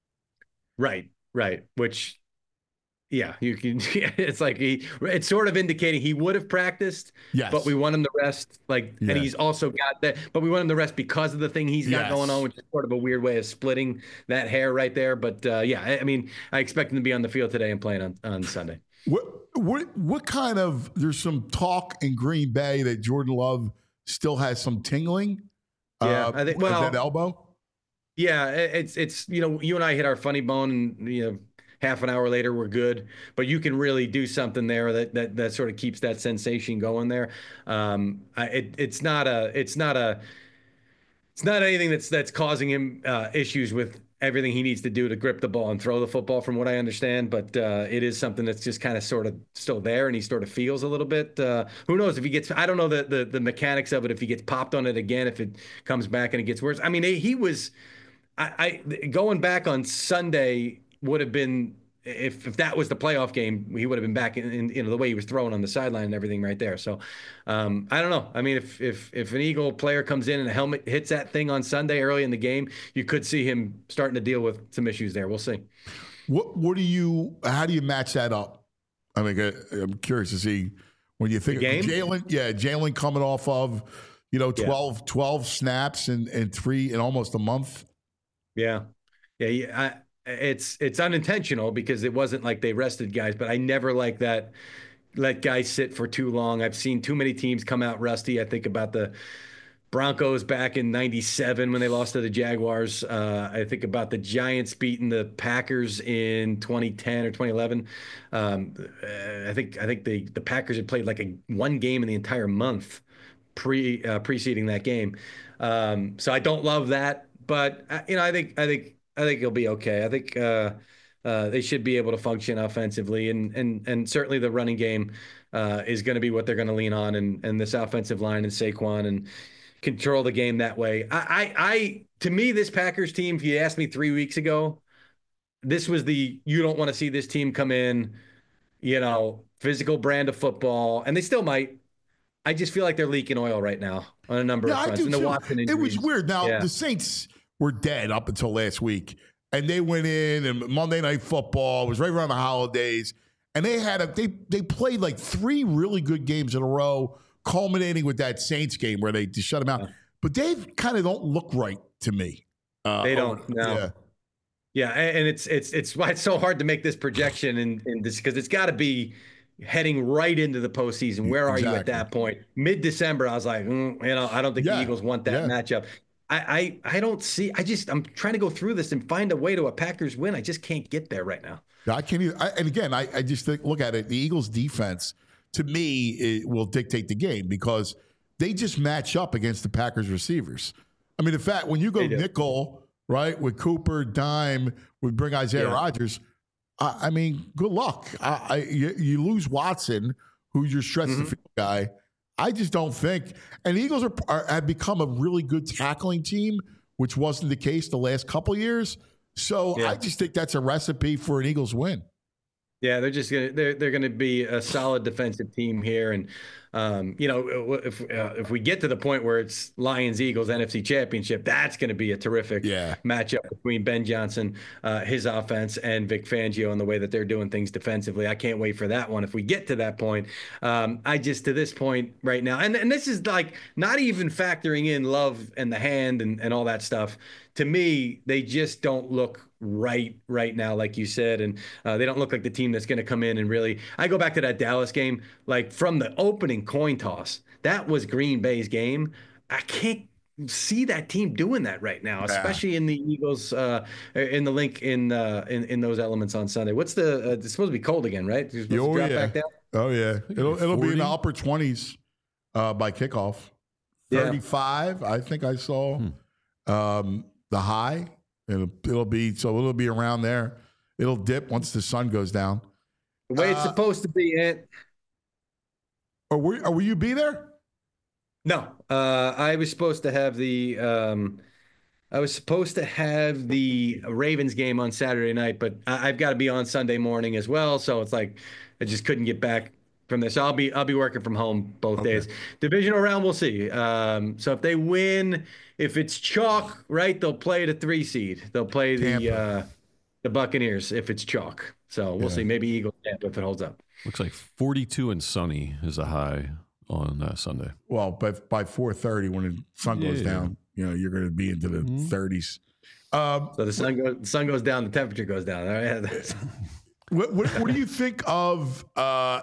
Right, right. Which, yeah, you can. It's like he. It's sort of indicating he would have practiced. Yes. But we want him to rest. Like, yeah. and he's also got that. But we want him to rest because of the thing he's got yes. going on, which is sort of a weird way of splitting that hair right there. But uh, yeah, I, I mean, I expect him to be on the field today and playing on, on Sunday. What what what kind of? There's some talk in Green Bay that Jordan Love still has some tingling. Yeah, uh, I think. Well, that elbow. Yeah, it's it's you know you and I hit our funny bone, and you know half an hour later we're good. But you can really do something there that that that sort of keeps that sensation going there. Um, it it's not a it's not a it's not anything that's that's causing him uh, issues with everything he needs to do to grip the ball and throw the football, from what I understand. But uh, it is something that's just kind of sort of still there, and he sort of feels a little bit. Uh, who knows if he gets? I don't know the, the the mechanics of it. If he gets popped on it again, if it comes back and it gets worse. I mean, he was. I, I going back on Sunday would have been if if that was the playoff game, he would have been back in, in you know the way he was throwing on the sideline and everything right there. So um, I don't know. I mean, if if if an Eagle player comes in and a helmet hits that thing on Sunday early in the game, you could see him starting to deal with some issues there. We'll see. What what do you? How do you match that up? I mean, I'm curious to see when you think of Jalen. Yeah, Jalen coming off of you know twelve, yeah. twelve snaps in, in three in almost a month. Yeah, yeah, yeah. I, it's it's unintentional because it wasn't like they rested guys, but I never like that. Let guys sit for too long. I've seen too many teams come out rusty. I think about the Broncos back in ninety-seven when they lost to the Jaguars. Uh, I think about the Giants beating the Packers in twenty ten or twenty eleven. Um, I think I think the the Packers had played like a one game in the entire month pre uh, preceding that game. Um, so I don't love that. But you know, I think I think I think he'll be okay. I think uh, uh, they should be able to function offensively, and and and certainly the running game uh, is going to be what they're going to lean on, and and this offensive line and Saquon and control the game that way. I, I I to me, this Packers team, if you asked me three weeks ago, this was the you don't want to see this team come in, you know, physical brand of football, and they still might. I just feel like they're leaking oil right now on a number yeah, of fronts. I do and the too. Watson It injuries. was weird. Now yeah. the Saints were dead up until last week, and they went in and Monday Night Football was right around the holidays, and they had a they they played like three really good games in a row, culminating with that Saints game where they just shut them out. Yeah. But they kind of don't look right to me. Uh, they don't. No. Yeah. Yeah, and it's it's it's why it's so hard to make this projection in, in this because it's got to be heading right into the postseason. Where are exactly. you at that point? Mid-December, I was like, mm, you know, I don't think yeah. the Eagles want that yeah. matchup. I, I I don't see. I just I'm trying to go through this and find a way to a Packers win. I just can't get there right now. I can't either. I, and again, I, I just think, look at it. The Eagles' defense, to me, it will dictate the game because they just match up against the Packers receivers. I mean, in fact, when you go nickel. Right, with Cooper, dime, with bring Isaiah yeah. Rodgers. I, I mean, good luck. I, I you, you lose Watson, who's your stretch mm-hmm. the field guy. I just don't think. And the Eagles are, are have become a really good tackling team, which wasn't the case the last couple of years. So yeah. I just think that's a recipe for an Eagles win. Yeah, they're just gonna they're they're gonna be a solid defensive team here, and um, you know if uh, if we get to the point where it's Lions Eagles N F C Championship, that's going to be a terrific yeah. matchup between Ben Johnson, uh, his offense, and Vic Fangio and the way that they're doing things defensively. I can't wait for that one. If we get to that point, um, I just to this point right now, and and this is like not even factoring in Love and the hand and and all that stuff. To me, they just don't look right right now, like you said, and uh, they don't look like the team that's going to come in and really. I go back to that Dallas game, like from the opening coin toss, that was Green Bay's game. I can't see that team doing that right now, especially yeah. in the Eagles, uh, in the link in uh, in in those elements on Sunday. What's the? Uh, it's supposed to be cold again, right? It's supposed oh to drop yeah. back down? Oh yeah, it'll it'll be in the upper twenties uh, by kickoff. thirty-five, yeah. I think I saw. Hmm. Um, The high, it'll, it'll be so it'll be around there. It'll dip once the sun goes down. The way uh, it's supposed to be, Ant. Or were, or will you be there? No, uh, I was supposed to have the. Um, I was supposed to have the Ravens game on Saturday night, but I, I've got to be on Sunday morning as well. So it's like I just couldn't get back from this. I'll be I'll be working from home both okay. days. Divisional round, we'll see. Um, so if they win. If it's chalk, right, they'll play the three seed. They'll play the uh, the Buccaneers if it's chalk. So we'll yeah. see. Maybe Eagles Tampa if it holds up. Looks like forty-two and sunny is a high on uh, Sunday. Well, but by four thirty when the sun goes yeah. down, you know, you're going to be into the mm-hmm. thirties. Um, so the sun goes, the sun goes down, the temperature goes down. All right? what, what, what do you think of? Uh,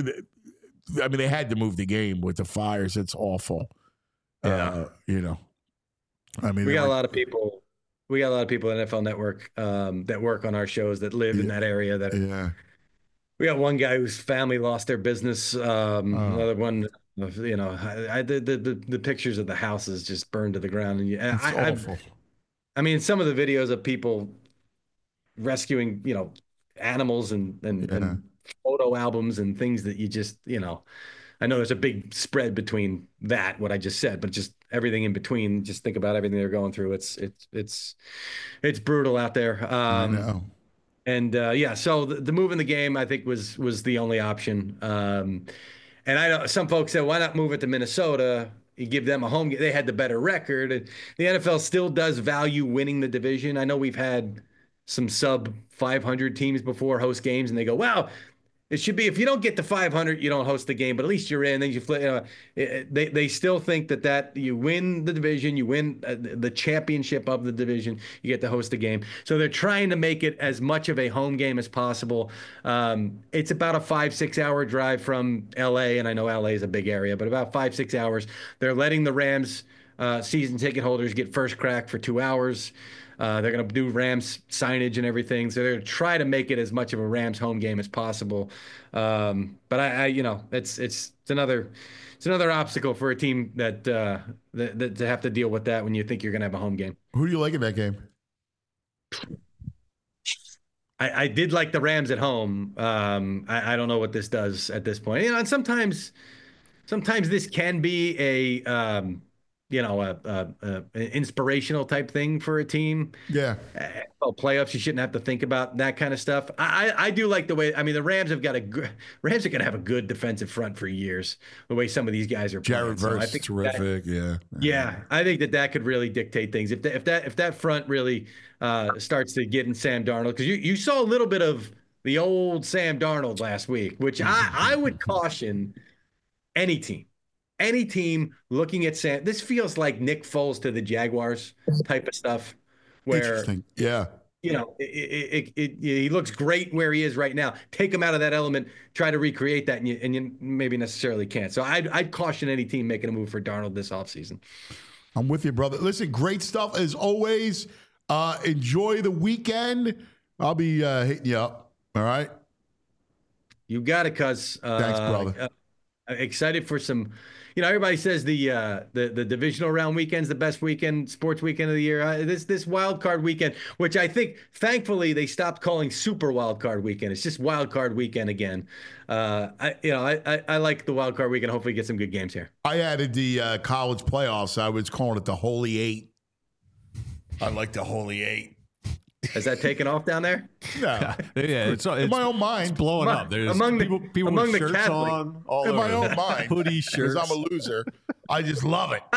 I mean, they had to move the game with the fires. It's awful. Yeah. Uh, you know. I mean, we got like, a lot of people. We got a lot of people at N F L Network um, that work on our shows that live yeah, in that area. That yeah. We got one guy whose family lost their business. Um, oh. Another one, you know, I, I the, the the pictures of the houses just burned to the ground. And it's I, awful. I've, I mean, some of the videos of people rescuing, you know, animals and and, yeah. and photo albums and things that you just, you know. I know there's a big spread between that, what I just said, but just everything in between. Just think about everything they're going through. It's it's it's it's brutal out there. Um, I know. And uh, yeah, so the, the move in the game I think was was the only option. Um, and I know some folks said, why not move it to Minnesota? You give them a home game. They had the better record. And the N F L still does value winning the division. I know we've had some sub five hundred teams before host games, and they go, wow. It should be if you don't get to five hundred, you don't host the game, but at least you're in. Then you flip. You know, it, they they still think that that you win the division, you win uh, the championship of the division, you get to host the game. So they're trying to make it as much of a home game as possible. Um, it's about a five six hour drive from L A, and I know L A is a big area, but about five six hours. They're letting the Rams uh, season ticket holders get first crack for two hours. Uh, they're going to do Rams signage and everything. So they're going to try to make it as much of a Rams home game as possible. Um, but I, I, you know, it's, it's, it's another, it's another obstacle for a team that, uh, that, that to have to deal with that when you think you're going to have a home game. Who do you like in that game? I, I did like the Rams at home. Um, I, I don't know what this does at this point. You know, and sometimes, sometimes this can be a, um, you know, a, a, a an inspirational type thing for a team. Yeah. Well, playoffs, you shouldn't have to think about that kind of stuff. I, I do like the way. I mean, the Rams have got a good. Rams are going to have a good defensive front for years. The way some of these guys are playing. Jared Verse, so I think terrific. That, yeah. Yeah, I think that that could really dictate things. If that if that if that front really uh, starts to get in Sam Darnold, because you you saw a little bit of the old Sam Darnold last week, which I I would caution any team. Any team looking at Sam, this feels like Nick Foles to the Jaguars type of stuff. Where, Interesting. Yeah. You know, it, it, it, it, he looks great where he is right now. Take him out of that element, try to recreate that, and you, and you maybe necessarily can't. So I'd, I'd caution any team making a move for Darnold this offseason. I'm with you, brother. Listen, great stuff as always. Uh, enjoy the weekend. I'll be uh, hitting you up. All right. You got it, cuz. Uh, Thanks, brother. Uh, excited for some. You know, everybody says the uh, the the divisional round weekend's the best weekend, sports weekend of the year. Uh, this this wild card weekend, which I think, thankfully, they stopped calling Super Wild Card Weekend. It's just Wild Card Weekend again. Uh, I you know I, I I like the Wild Card Weekend. Hopefully, get some good games here. I added the uh, college playoffs. I was calling it the Holy Eight. I like the Holy Eight. Has that taken off down there? No. yeah, it's, it's in my own mind. It's blowing among, up. There's among people, the, people among with the shirts Catholic. on. All in over. my own mind. Hoodie shirts. Because I'm a loser. I just love it.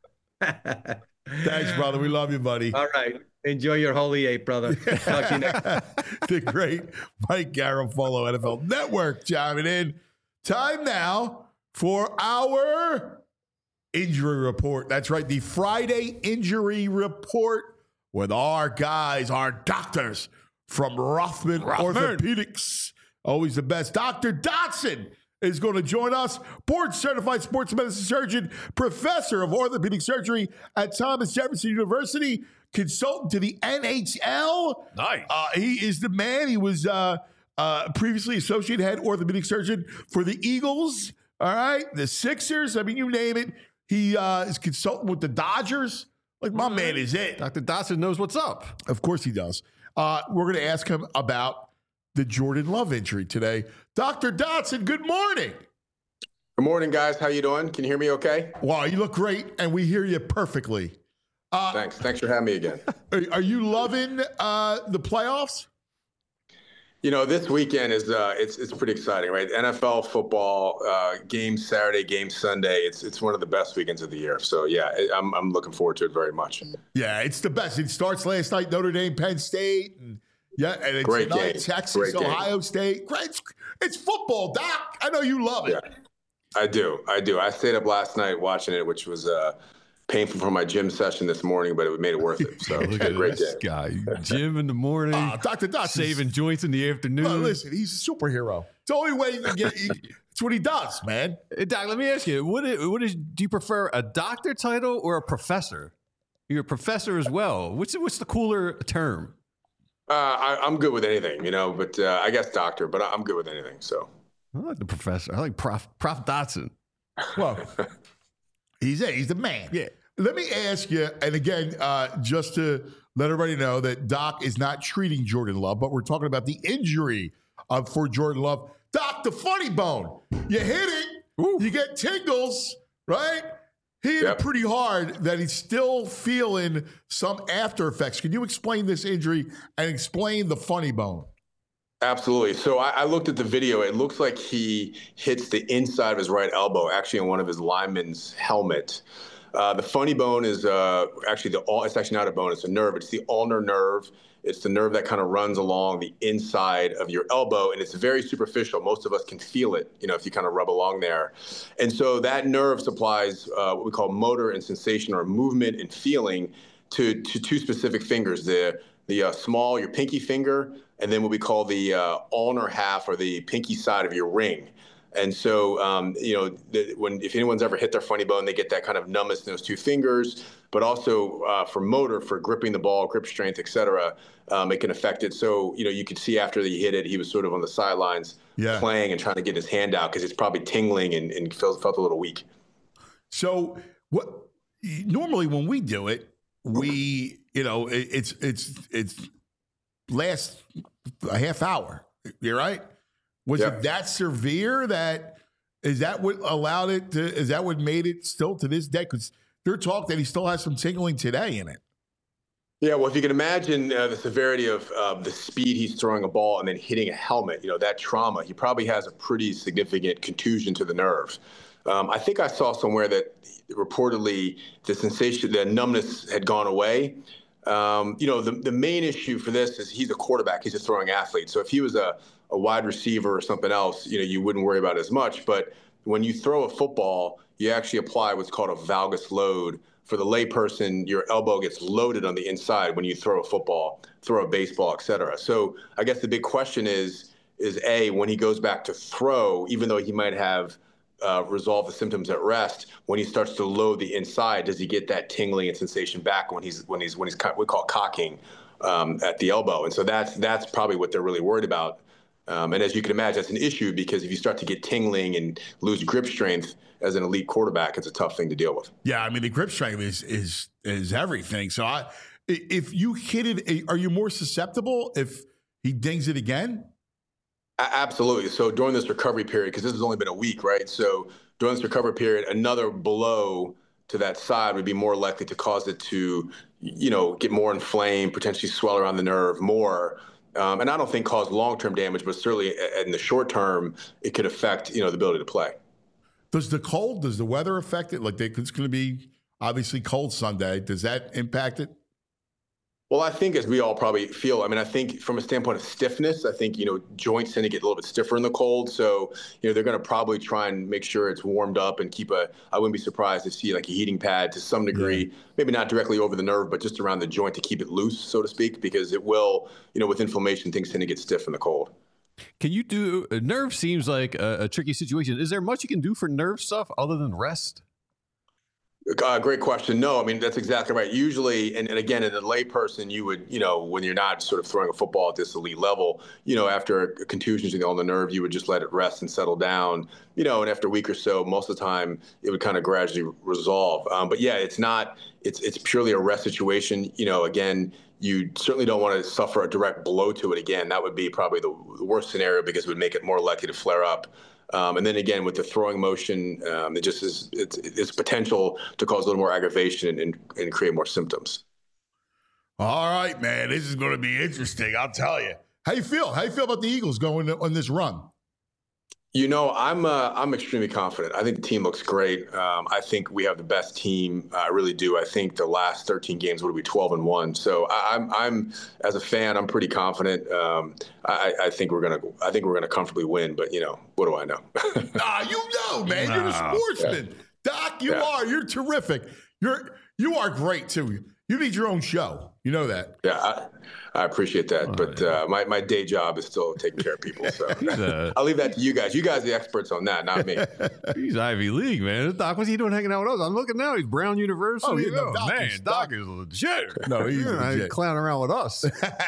Thanks, brother. We love you, buddy. All right. Enjoy your Holy Eight, brother. Talk to you next time. The great Mike Garafolo, N F L Network, chiming in. Time now for our injury report. That's right, the Friday injury report with our guys, our doctors from Rothman, Rothman. Orthopedics. Always the best. Doctor Dotson is going to join us, board-certified sports medicine surgeon, professor of orthopedic surgery at Thomas Jefferson University, consultant to the N H L. Nice. Uh, he is the man. He was uh, uh, previously associate head orthopedic surgeon for the Eagles, all right, the Sixers. I mean, you name it. He uh, is consultant with the Dodgers. Like, my man is it. Doctor Dotson knows what's up. Of course he does. Uh, we're going to ask him about the Jordan Love injury today. Doctor Dotson, good morning. Good morning, guys. How you doing? Can you hear me okay? Wow, you look great, and we hear you perfectly. Uh, Thanks. Thanks for having me again. Are, are you loving uh, the playoffs? You know, this weekend is uh, it's it's pretty exciting, right? N F L football, uh, game Saturday, game Sunday. It's it's one of the best weekends of the year. So yeah, I'm I'm looking forward to it very much. Yeah, it's the best. It starts last night, Notre Dame, Penn State, and yeah, and it's Great tonight, game. Texas, Great game. Ohio State. Great, it's, it's football, Doc. I know you love it. Yeah, I do. I do. I stayed up last night watching it, which was uh, painful for my gym session this morning, but it made it worth it. So Look a at great this game. guy. Gym in the morning. Uh, Doctor Dotson. Saving joints in the afternoon. Well, listen, he's a superhero. It's the only way you can get. It's what he does, man. Hey, Doc, let me ask you: What is, what is? Do you prefer a doctor title or a professor? You're a professor as well. What's what's the cooler term? Uh, I, I'm good with anything, you know, but uh, I guess doctor, but I'm good with anything. So I like the professor. I like Prof Prof Dotson. Well, he's it. He's the man. Yeah. Let me ask you, and again, uh, just to let everybody know that Doc is not treating Jordan Love, but we're talking about the injury uh, for Jordan Love. Doc, the funny bone. You hit it, Ooh. You get tingles, right? He hit Yep. it pretty hard that he's still feeling some after effects. Can you explain this injury and explain the funny bone? Absolutely. So I, I looked at the video. It looks like he hits the inside of his right elbow, actually on one of his linemen's helmet. Uh, the funny bone is uh, actually the all. It's actually not a bone; it's a nerve. It's the ulnar nerve. It's the nerve that kind of runs along the inside of your elbow, and it's very superficial. Most of us can feel it, you know, if you kind of rub along there. And so that nerve supplies uh, what we call motor and sensation, or movement and feeling, to to two specific fingers: the the uh, small, your pinky finger, and then what we call the uh, ulnar half, or the pinky side of your ring. And so, um, you know, the, when if anyone's ever hit their funny bone, they get that kind of numbness in those two fingers. But also uh, for motor, for gripping the ball, grip strength, et cetera, um, it can affect it. So, you know, you could see after he hit it, he was sort of on the sidelines yeah. playing and trying to get his hand out because it's probably tingling and, and felt, felt a little weak. So what? Normally when we do it, we, you know, it, it's it's it's lasts a half hour. You're right. Was yeah. it that severe that is that what allowed it to? Is that what made it still to this day? Because there's talk that he still has some tingling today in it. Yeah, well, if you can imagine uh, the severity of uh, the speed he's throwing a ball and then hitting a helmet, you know, that trauma, he probably has a pretty significant contusion to the nerve. Um, I think I saw somewhere that reportedly the sensation, the numbness had gone away. Um, you know, the, the main issue for this is he's a quarterback. He's a throwing athlete. So if he was a, a wide receiver or something else, you know, you wouldn't worry about it as much. But when you throw a football, you actually apply what's called a valgus load. For the layperson, your elbow gets loaded on the inside when you throw a football, throw a baseball, et cetera. So I guess the big question is, is A, when he goes back to throw, even though he might have uh, resolved the symptoms at rest, when he starts to load the inside, does he get that tingling and sensation back when he's when he's when he's we call it cocking um, at the elbow? And so that's that's probably what they're really worried about. Um, and as you can imagine, that's an issue because if you start to get tingling and lose grip strength as an elite quarterback, it's a tough thing to deal with. Yeah, I mean, the grip strength is is is everything. So I, if you hit it, are you more susceptible if he dings it again? A- absolutely. So during this recovery period, because this has only been a week, right? So during this recovery period, another blow to that side would be more likely to cause it to, you know, get more inflamed, potentially swell around the nerve more. Um, and I don't think cause long-term damage, but certainly in the short term, it could affect, you know, the ability to play. Does the cold, does the weather affect it? Like they, it's going to be obviously cold Sunday. Does that impact it? Well, I think as we all probably feel, I mean, I think from a standpoint of stiffness, I think, you know, joints tend to get a little bit stiffer in the cold. So, you know, they're going to probably try and make sure it's warmed up and keep a, I wouldn't be surprised to see like a heating pad to some degree, yeah. maybe not directly over the nerve, but just around the joint to keep it loose, so to speak, because it will, you know, with inflammation, things tend to get stiff in the cold. Can you do, uh, nerve seems like a, a tricky situation. Is there much you can do for nerve stuff other than rest? Uh, great question. No, I mean, that's exactly right. Usually, and, and again, in a layperson, you would, you know, when you're not sort of throwing a football at this elite level, you know, after a contusion on the nerve, you would just let it rest and settle down, you know, and after a week or so, most of the time, it would kind of gradually resolve. Um, but yeah, it's not, it's it's purely a rest situation. You know, again, you certainly don't want to suffer a direct blow to it again. That would be probably the, the worst scenario because it would make it more likely to flare up. Um, and then again, with the throwing motion, um, it just is it's, it's potential to cause a little more aggravation and, and create more symptoms. All right, man, this is going to be interesting. I'll tell you. How you feel? How you feel about the Eagles going on this run? You know, I'm uh, I'm extremely confident. I think the team looks great. Um, I think we have the best team. I really do. I think the last thirteen games would be twelve and one. So I, I'm I'm as a fan, I'm pretty confident. Um, I, I think we're gonna I think we're gonna comfortably win. But you know, what do I know? Ah, you know, man. You're a sportsman, yeah. Doc. You yeah. are. You're terrific. You're you are great too. You need your own show. You know that. Yeah, I, I appreciate that. Oh, but yeah. uh, my, my day job is still taking care of people. So a, I'll leave that to you guys. You guys are the experts on that, not me. He's Ivy League, man. Doc, what's he doing hanging out with us? I'm looking now. He's Brown University. Oh, yeah, no, oh man, is, Doc, Doc is legit. No, he's yeah, legit. He's clowning around with us.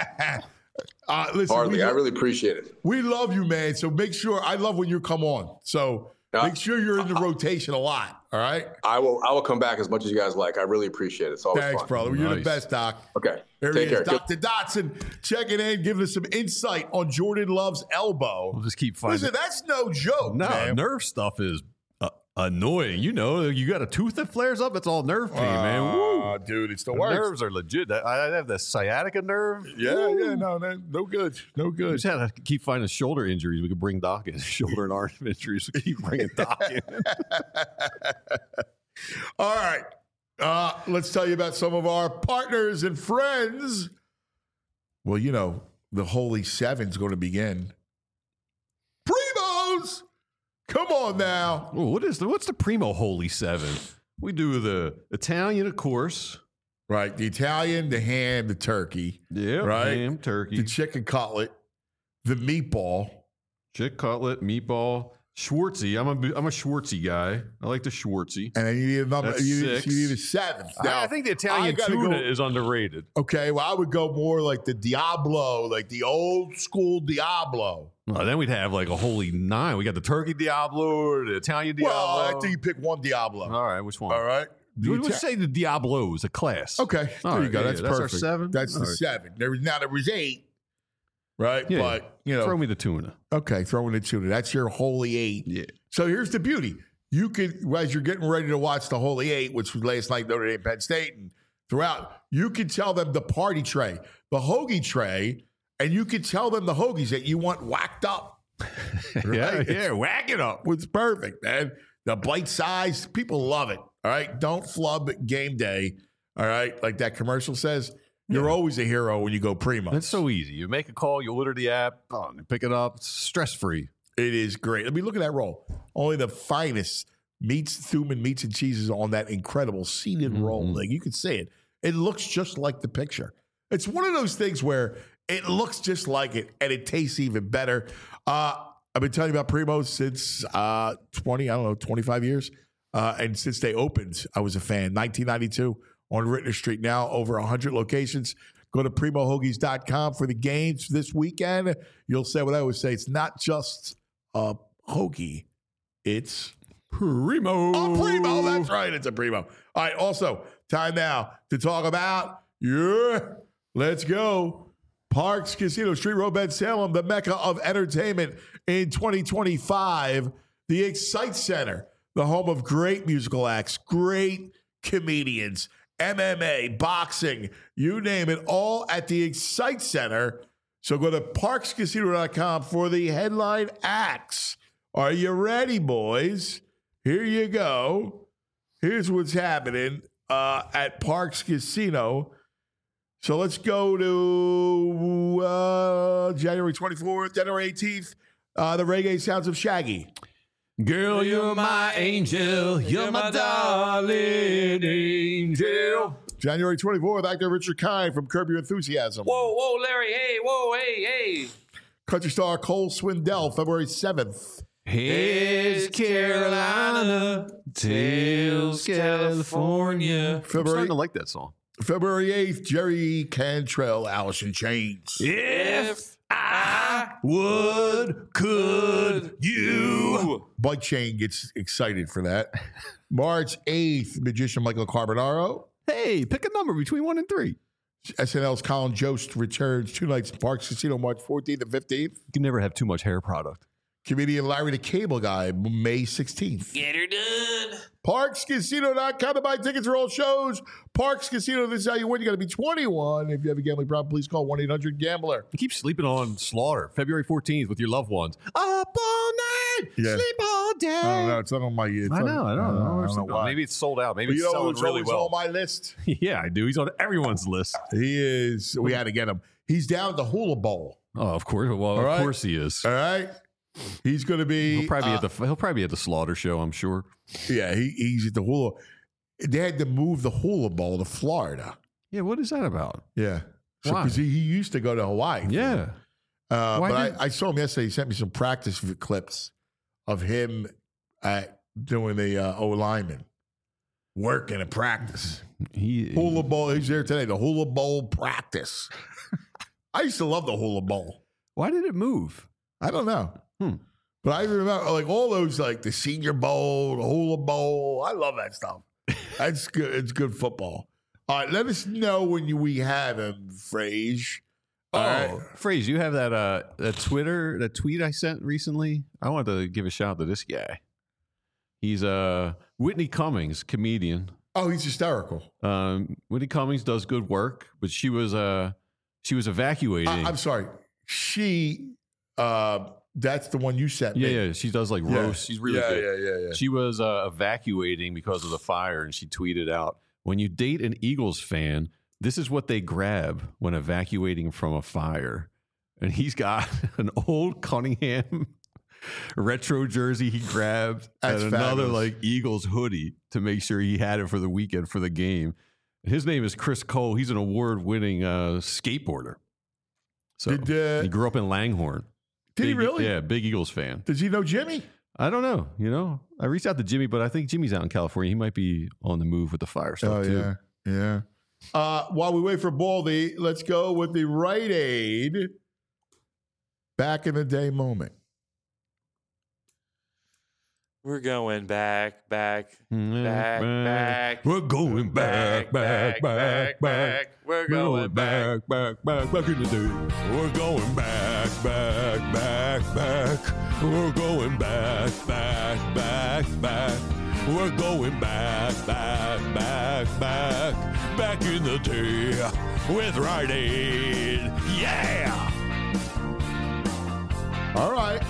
uh, listen, Hardly. We, I really appreciate it. We love you, man. So make sure. I love when you come on. So uh, make sure you're in the rotation a lot. All right. I will. I will come back as much as you guys like. I really appreciate it. It's always Thanks, fun. brother. You're nice. the best, Doc. Okay. There Take he is, care. Doctor Dotson, checking in, giving us some insight on Jordan Love's elbow. We'll just keep finding. Listen, that's no joke. No, man. nerve stuff is uh, annoying. You know, you got a tooth that flares up. It's all nerve pain, uh, man. Woo. Dude, it's the, the worst. Nerves are legit. I have the sciatica nerve. Yeah, Woo. yeah, no, no, no good, no good. We just had to keep finding shoulder injuries. We could bring Doc in. Shoulder and arm injuries. We keep bringing Doc in. All right. Uh, let's tell you about some of our partners and friends. Well, you know, the Holy Seven's going to begin. Primos! Come on now. Ooh, what is the, what's the Primo Holy Seven? We do the Italian, of course. Right. The Italian, the ham, the turkey. Yeah, right? ham, turkey. The chicken cutlet, the meatball. Chicken cutlet, meatball. Schwartzy. I'm a I'm a Schwartzy guy. I like the Schwartzy. And then you need a number. That's you, need, six. you need a seventh. Now, I think the Italian tuna go, is underrated. Okay, well, I would go more like the Diablo, like the old school Diablo. Well, then we'd have like a holy nine. We got the turkey Diablo or the Italian Diablo. Well, I think you pick one Diablo. All right, which one? All right. Let's Ita- say the Diablo is a class. Okay, All there right, you go. Yeah, that's yeah, perfect. That's our seven. That's All the right. seven. There was now there was eight. Right, Yeah, but you know, throw me the tuna. Okay, throw in the tuna. That's your holy eight. Yeah. So here's the beauty. you could, as you're getting ready to watch the Holy Eight, which was last night, Notre Dame, Penn State, and throughout, you can tell them the party tray, the hoagie tray, and you can tell them the hoagies that you want whacked up. Right? yeah, yeah, whack it up. It's perfect, man. The bite size, people love it. All right, don't flub game day. All right, like that commercial says, you're yeah. always a hero when you go Primo. It's so easy. You make a call, you order the app, oh, you pick it up. It's stress free. It is great. I mean, look at that roll. Only the finest meats, Thuman meats and cheeses on that incredible seeded mm-hmm. roll. Like you can see it. It looks just like the picture. It's one of those things where it looks just like it and it tastes even better. Uh, I've been telling you about Primo since uh, twenty, I don't know, twenty-five years. Uh, and since they opened, I was a fan. nineteen ninety-two on Rittner Street, now over one hundred locations. Go to primo hoagies dot com for the games this weekend. You'll say what I always say. It's not just a hoagie. It's Primo. A Primo. That's right. It's a Primo. All right. Also, time now to talk about, yeah, let's go. Parks Casino, Street Road, Bend, Salem, the mecca of entertainment in twenty twenty-five. The Excite Center, the home of great musical acts, great comedians, M M A, boxing, you name it, all at the Excite Center. So go to parks casino dot com for the headline acts. Are you ready, boys? Here you go. Here's what's happening uh, at Parks Casino. So let's go to uh, January twenty-fourth, January eighteenth, uh, the Reggae Sounds of Shaggy. Girl, you're my angel. You're my darling angel. January twenty-fourth, actor Richard Kind from Curb Your Enthusiasm. Whoa, whoa, Larry, hey, whoa, hey, hey. Country star Cole Swindell, February seventh. Here's Carolina, tails California. February, I'm starting to like that song. February eighth, Jerry Cantrell, Alice in Chains. If I would, could you? Bike Chain gets excited for that. March eighth, magician Michael Carbonaro. Hey, pick a number between one and three. S N L's Colin Jost returns two nights in Parks Casino, March fourteenth and fifteenth. You can never have too much hair product. Comedian Larry the Cable Guy, May sixteenth. Get her done. parks casino dot com to buy tickets for all shows. Parks Casino, this is how you win. You got to be twenty-one. If you have a gambling problem, please call one eight hundred gambler. You keep sleeping on Slaughter, February fourteenth with your loved ones. Up all night, yeah. Sleep all day. I don't know. It's not on my... It's I know, on, I don't know. I don't know why. Maybe it's sold out. Maybe but it's you know, selling it's really well. on my list. Yeah, I do. He's on everyone's list. He is. We had to get him. He's down at the Hula Bowl. Oh, of course. Well, all of right? course he is. All right. He's going to be. He'll probably uh, be at the. He'll probably be at the Slaughter show. I'm sure. Yeah, he, he's at the Hula. They had to move the Hula Bowl to Florida. Yeah, what is that about? Yeah, why? Because so, he, he used to go to Hawaii. Yeah, uh, why but did... I, I saw him yesterday. He sent me some practice clips of him at doing the uh, O lineman working at practice. He Hula Bowl. He's there today. The Hula Bowl practice. I used to love the Hula Bowl. Why did it move? I don't know. Hmm. But I remember like all those, like the Senior Bowl, the Hula Bowl. I love that stuff. That's good. It's good football. All right, let us know when you, we have him, Frage. Oh, right. Frage, you have that uh that Twitter that tweet I sent recently. I wanted to give a shout out to this guy. He's uh Whitney Cummings, comedian. Oh, he's hysterical. Um, Whitney Cummings does good work, but she was uh she was evacuating. I, I'm sorry, she. Uh, That's the one you sent yeah, me. Yeah, she does like yeah. roast. She's really yeah, good. Yeah, yeah, yeah. She was uh, evacuating because of the fire, and she tweeted out, when you date an Eagles fan, this is what they grab when evacuating from a fire. And he's got an old Cunningham retro jersey he grabbed That's and another fabulous. like Eagles hoodie to make sure he had it for the weekend for the game. His name is Chris Cole. He's an award-winning uh, skateboarder. So Did, uh, he grew up in Langhorne. Did big, he really? Yeah, big Eagles fan. Does he know Jimmy? I don't know. You know, I reached out to Jimmy, but I think Jimmy's out in California. He might be on the move with the fire stuff oh, too. yeah, yeah. Uh, while we wait for Baldy, let's go with the Rite Aid back in the day moment. We're going back, back, Mm, back, back. We're going back, back, back, back. We're going back. back, back, back, back in the day. We're going back, back, back, back. We're going back, back, back, back. We're going back, back, back, back. Back in the day with Rite Aid. Yeah! All right.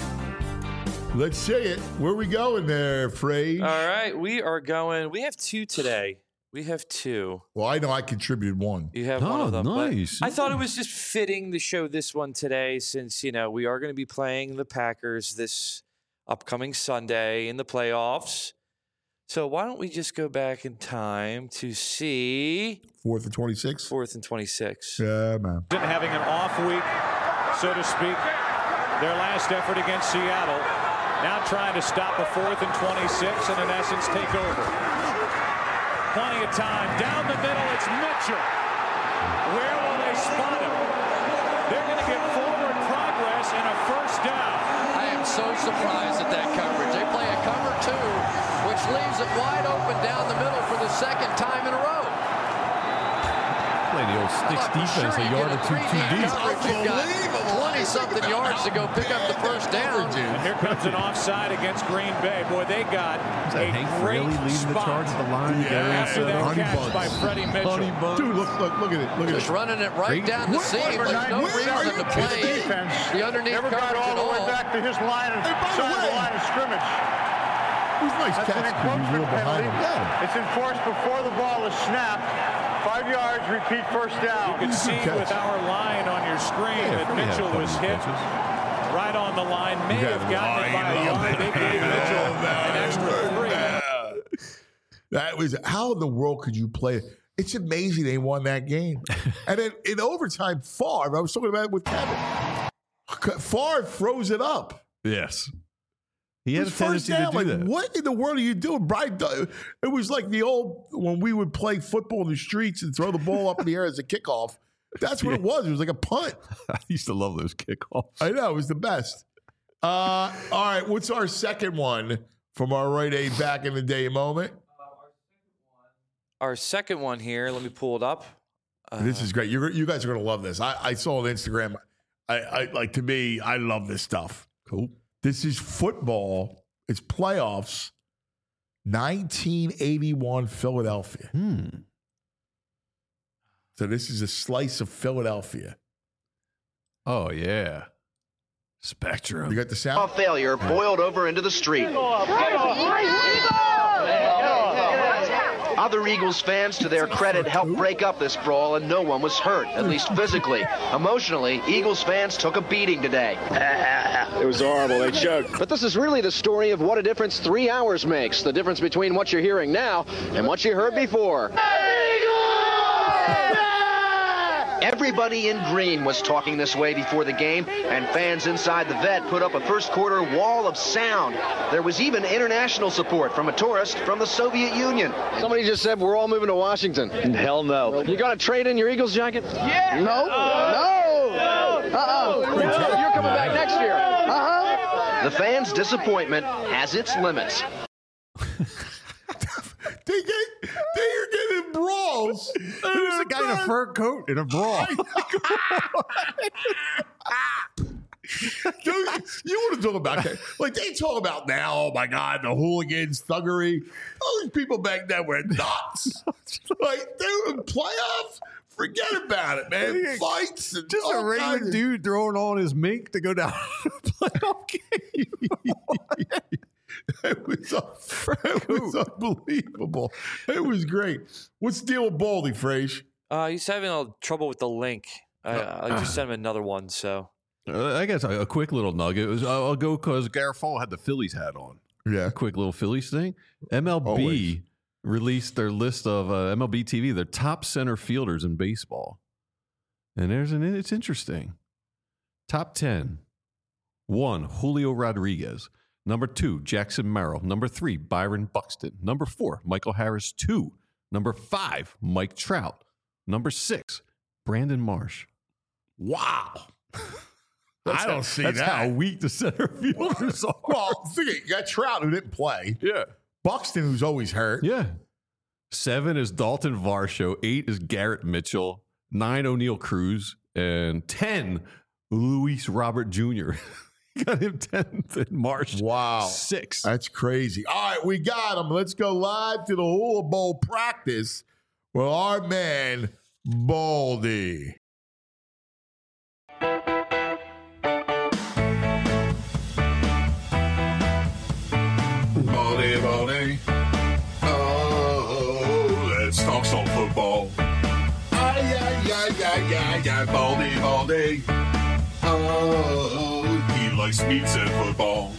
Let's see it. Where we going there, Frage? All right, we are going. We have two today. We have two. Well, I know I contributed one. You have oh, one of them. Nice. I thought it was just fitting to show this one today since, you know, we are going to be playing the Packers this upcoming Sunday in the playoffs. So why don't we just go back in time to see... Fourth and twenty-six? Fourth and twenty-six. Yeah, man. Having an off week, so to speak. Their last effort against Seattle. Now trying to stop a fourth and twenty-six and in essence take over. Plenty of time. Down the middle, it's Mitchell. Where will they spot him? They're going to get forward progress and a first down. I am so surprised at that coverage. They play a cover two, which leaves it wide open down the middle for the second time in a row. Play the old sticks defense, sure a yard or two too deep. twenty-something yards to go pick up the first down. And here comes an offside against Green Bay. Boy, they got a Hank great Fraley leading the charge at the line. Yeah, after that Honey catch buns. by Freddie Mitchell. Dude, look, look, look at it. Look at Just it. running it right Great. down the What- seam. what- There's no where are reason you to play kidding? the underneath Never coverage got all at the way all. back to his line and Hey, by the side of the way- line of scrimmage. It was a nice That's catch an because he was a encroachment little behind penalty. him. Yeah. It's enforced before the ball is snapped. Five yards, repeat first down. You can see with our line on your screen Yeah, that Freddie had a Mitchell couple was of hit catches. right on the line. May You have got gotten it by a lying yard. on They that. gave Mitchell Oh, man. an extra three. Yeah. That was how in the world could you play it? It's amazing they won that game. And then in overtime, Favre, I was talking about it with Kevin. Favre froze it up. Yes. He had It a was first tendency to down. do Like, that. what in the world are you doing, Brian? It was like the old when we would play football in the streets and throw the ball up in the air as a kickoff. That's what it was. It was like a punt. I used to love those kickoffs. I know. It was the best. Uh, all right. What's our second one from our Rite Aid back in the day moment? Our second one here, let me pull it up. Uh, This is great. You're, you guys are going to love this. I, I saw on Instagram. I, I like to me, I love this stuff. Cool. This is football. It's playoffs. nineteen eighty-one Philadelphia. Hmm. So this is a slice of Philadelphia. Oh, yeah. Spectrum. You got the sound? Failure boiled over into the street. Other Eagles fans, to their credit, helped break up this brawl, and no one was hurt, at least physically. Emotionally, Eagles fans took a beating today. It was horrible. They choked. But this is really the story of what a difference three hours makes. The difference between what you're hearing now and what you heard before. Everybody in green was talking this way before the game, and fans inside the vet put up a first quarter wall of sound. There was even international support from a tourist from the Soviet Union. Somebody just said we're all moving to Washington. Hell no. You got to trade in your Eagles jacket? Yeah. No. No. No. Uh-uh. No. You're coming back next year. Uh-huh. The fans' disappointment has its limits. They get, they are getting brawls. Who's the guy in a fur coat in a brawl? Dude, you want to talk about that? Like they talk about now, oh my God, the hooligans, thuggery. All these people back then were nuts. Like they were in playoffs. Forget about it, man. Fights and Just a all regular kinds of- dude throwing on his mink to go down to the playoff game. It was, it was unbelievable. It was great. What's the deal with Baldy, Frage? Uh, he's having a trouble with the link. I, I just sent him another one, so. Uh, I guess a, a quick little nugget was I'll, I'll go because Garafolo had the Phillies hat on. Yeah. A quick little Phillies thing. M L B Always. released their list of uh, M L B T V, their top center fielders in baseball. And there's an, it's interesting. Top ten. One, Julio Rodriguez. Number two, Jackson Merrill. Number three, Byron Buxton. Number four, Michael Harris two. Number five, Mike Trout. Number six, Brandon Marsh. Wow. That's I don't how, see that's that. how weak the center fielders are. Well, think it, you got Trout who didn't play. Yeah. Buxton who's always hurt. Yeah. Seven is Dalton Varsho. Eight is Garrett Mitchell. Nine, O'Neal Cruz. And ten, Luis Robert Junior Got him tenth in March. Wow. sixth. That's crazy. All right, we got him. Let's go live to the Hula Bowl practice with our man, Baldy. Baldy, Baldy. Oh, let's talk some football. Ay, ay, ay, ay, ay, ay, Baldy, Baldy. Oh, he likes meats and football.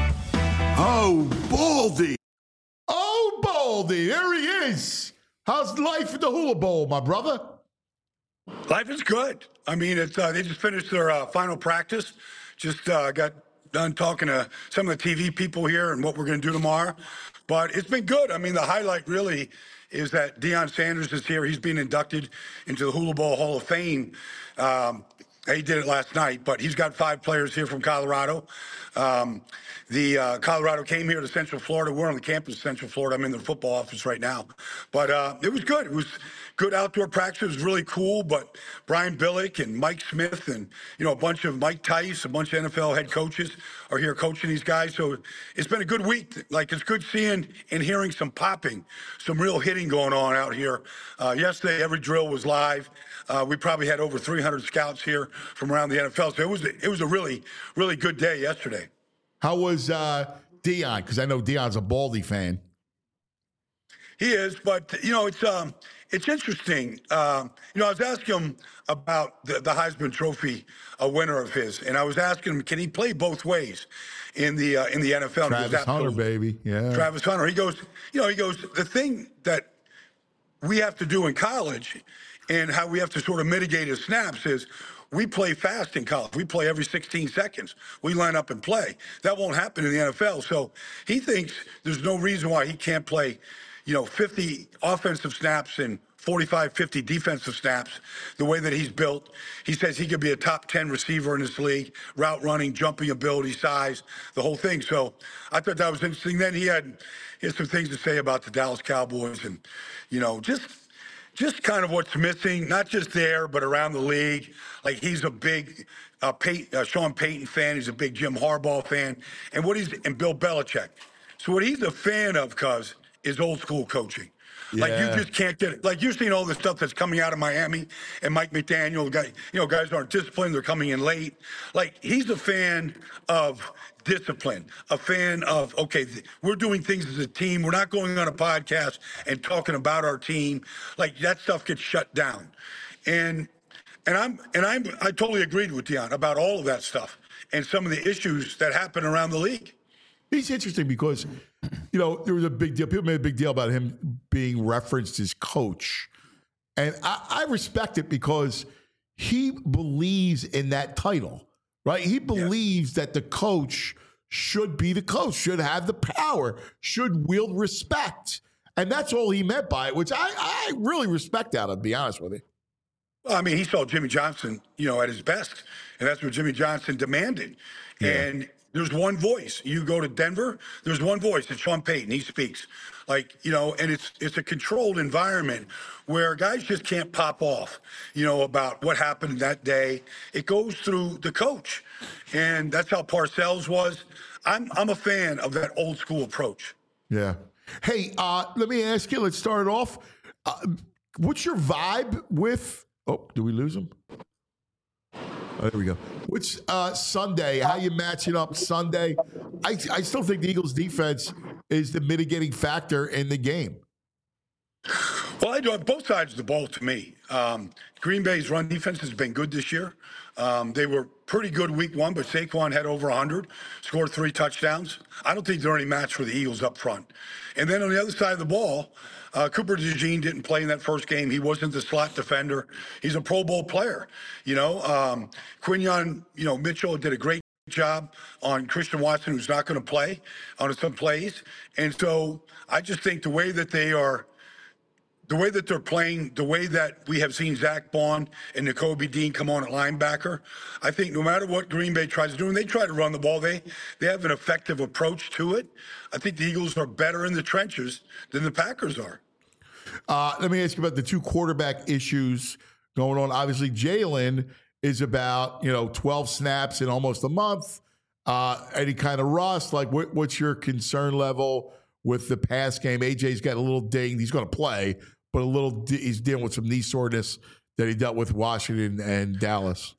Oh, Baldy. Oh, Baldy. There he is. How's life at the Hula Bowl, my brother? Life is good. I mean, it's uh, they just finished their uh, final practice. Just uh, got done talking to some of the T V people here and what we're going to do tomorrow. But it's been good. I mean, the highlight really is that Deion Sanders is here. He's being inducted into the Hula Bowl Hall of Fame. Um, he did it last night, but he's got five players here from Colorado. Um, the uh, Colorado came here to Central Florida. We're on the campus of Central Florida. I'm in the football office right now. But uh, it was good. It was good outdoor practice. It was really cool. But Brian Billick and Mike Smith and, you know, a bunch of Mike Tice, a bunch of N F L head coaches are here coaching these guys. So it's been a good week. Like, it's good seeing and hearing some popping, some real hitting going on out here. Uh, yesterday, every drill was live. Uh, we probably had over three hundred scouts here from around the N F L. So it was, it was a really, really good day yesterday. How was uh, Deion? Because I know Deion's a Baldy fan. He is, but, you know, it's um, it's interesting. Um, you know, I was asking him about the, the Heisman Trophy, a winner of his, and I was asking him, can he play both ways in the uh, in the N F L? Travis Hunter, baby. Yeah. Travis Hunter. He goes, you know, he goes, the thing that we have to do in college and how we have to sort of mitigate his snaps is we play fast in college. We play every sixteen seconds. We line up and play. That won't happen in the N F L. So he thinks there's no reason why he can't play, you know, fifty offensive snaps and forty-five, fifty defensive snaps the way that he's built. He says he could be a top ten receiver in this league, route running, jumping ability, size, the whole thing. So I thought that was interesting. Then he had, he had some things to say about the Dallas Cowboys and, you know, just just kind of what's missing, not just there, but around the league. Like, he's a big uh, Peyton, uh, Sean Payton fan. He's a big Jim Harbaugh fan. And what he's, and Bill Belichick. So what he's a fan of, cuz, is old school coaching. Yeah. Like, you just can't get it. Like, you've seen all the stuff that's coming out of Miami and Mike McDaniel, guy, you know, guys aren't disciplined. They're coming in late. Like, he's a fan of discipline, a fan of, okay, th- we're doing things as a team. We're not going on a podcast and talking about our team. Like, that stuff gets shut down. And and I'm and I'm I totally agreed with Deion about all of that stuff and some of the issues that happen around the league. He's interesting because, you know, there was a big deal. People made a big deal about him being referenced as coach. And I, I respect it because he believes in that title, right? He believes yeah. that the coach should be the coach, should have the power, should wield respect. And that's all he meant by it, which I, I really respect that, to be honest with you. Well, I mean, he saw Jimmy Johnson, you know, at his best. And that's what Jimmy Johnson demanded. Yeah. And there's one voice. You go to Denver, there's one voice. It's Sean Payton. He speaks. Like, you know, and it's it's a controlled environment where guys just can't pop off, you know, about what happened that day. It goes through the coach. And that's how Parcells was. I'm I'm a fan of that old school approach. Yeah. Hey, uh, let me ask you, let's start it off. Uh, what's your vibe with, oh, did we lose him? Oh, there we go. Which uh, Sunday, how you matching up Sunday? I, I still think the Eagles defense is the mitigating factor in the game. Well, I do have both sides of the ball to me. Um, Green Bay's run defense has been good this year. Um, they were pretty good week one, but Saquon had over one hundred, scored three touchdowns. I don't think they're any match for the Eagles up front. And then on the other side of the ball, uh, Cooper DeJean didn't play in that first game. He wasn't the slot defender. He's a Pro Bowl player. You know, um, Quinyon, you know, Mitchell did a great job on Christian Watson, who's not going to play on some plays. And so I just think the way that they are, the way that they're playing, the way that we have seen Zach Bond and Nakobe Dean come on at linebacker, I think no matter what Green Bay tries to do, and they try to run the ball, they they have an effective approach to it. I think the Eagles are better in the trenches than the Packers are. Uh, let me ask you about the two quarterback issues going on. Obviously, Jalen is about, you know, twelve snaps in almost a month. Uh, any kind of rust? Like, what, what's your concern level with the pass game? A J's got a little dinged. He's going to play, but a little he's dealing with some knee soreness that he dealt with Washington and Dallas.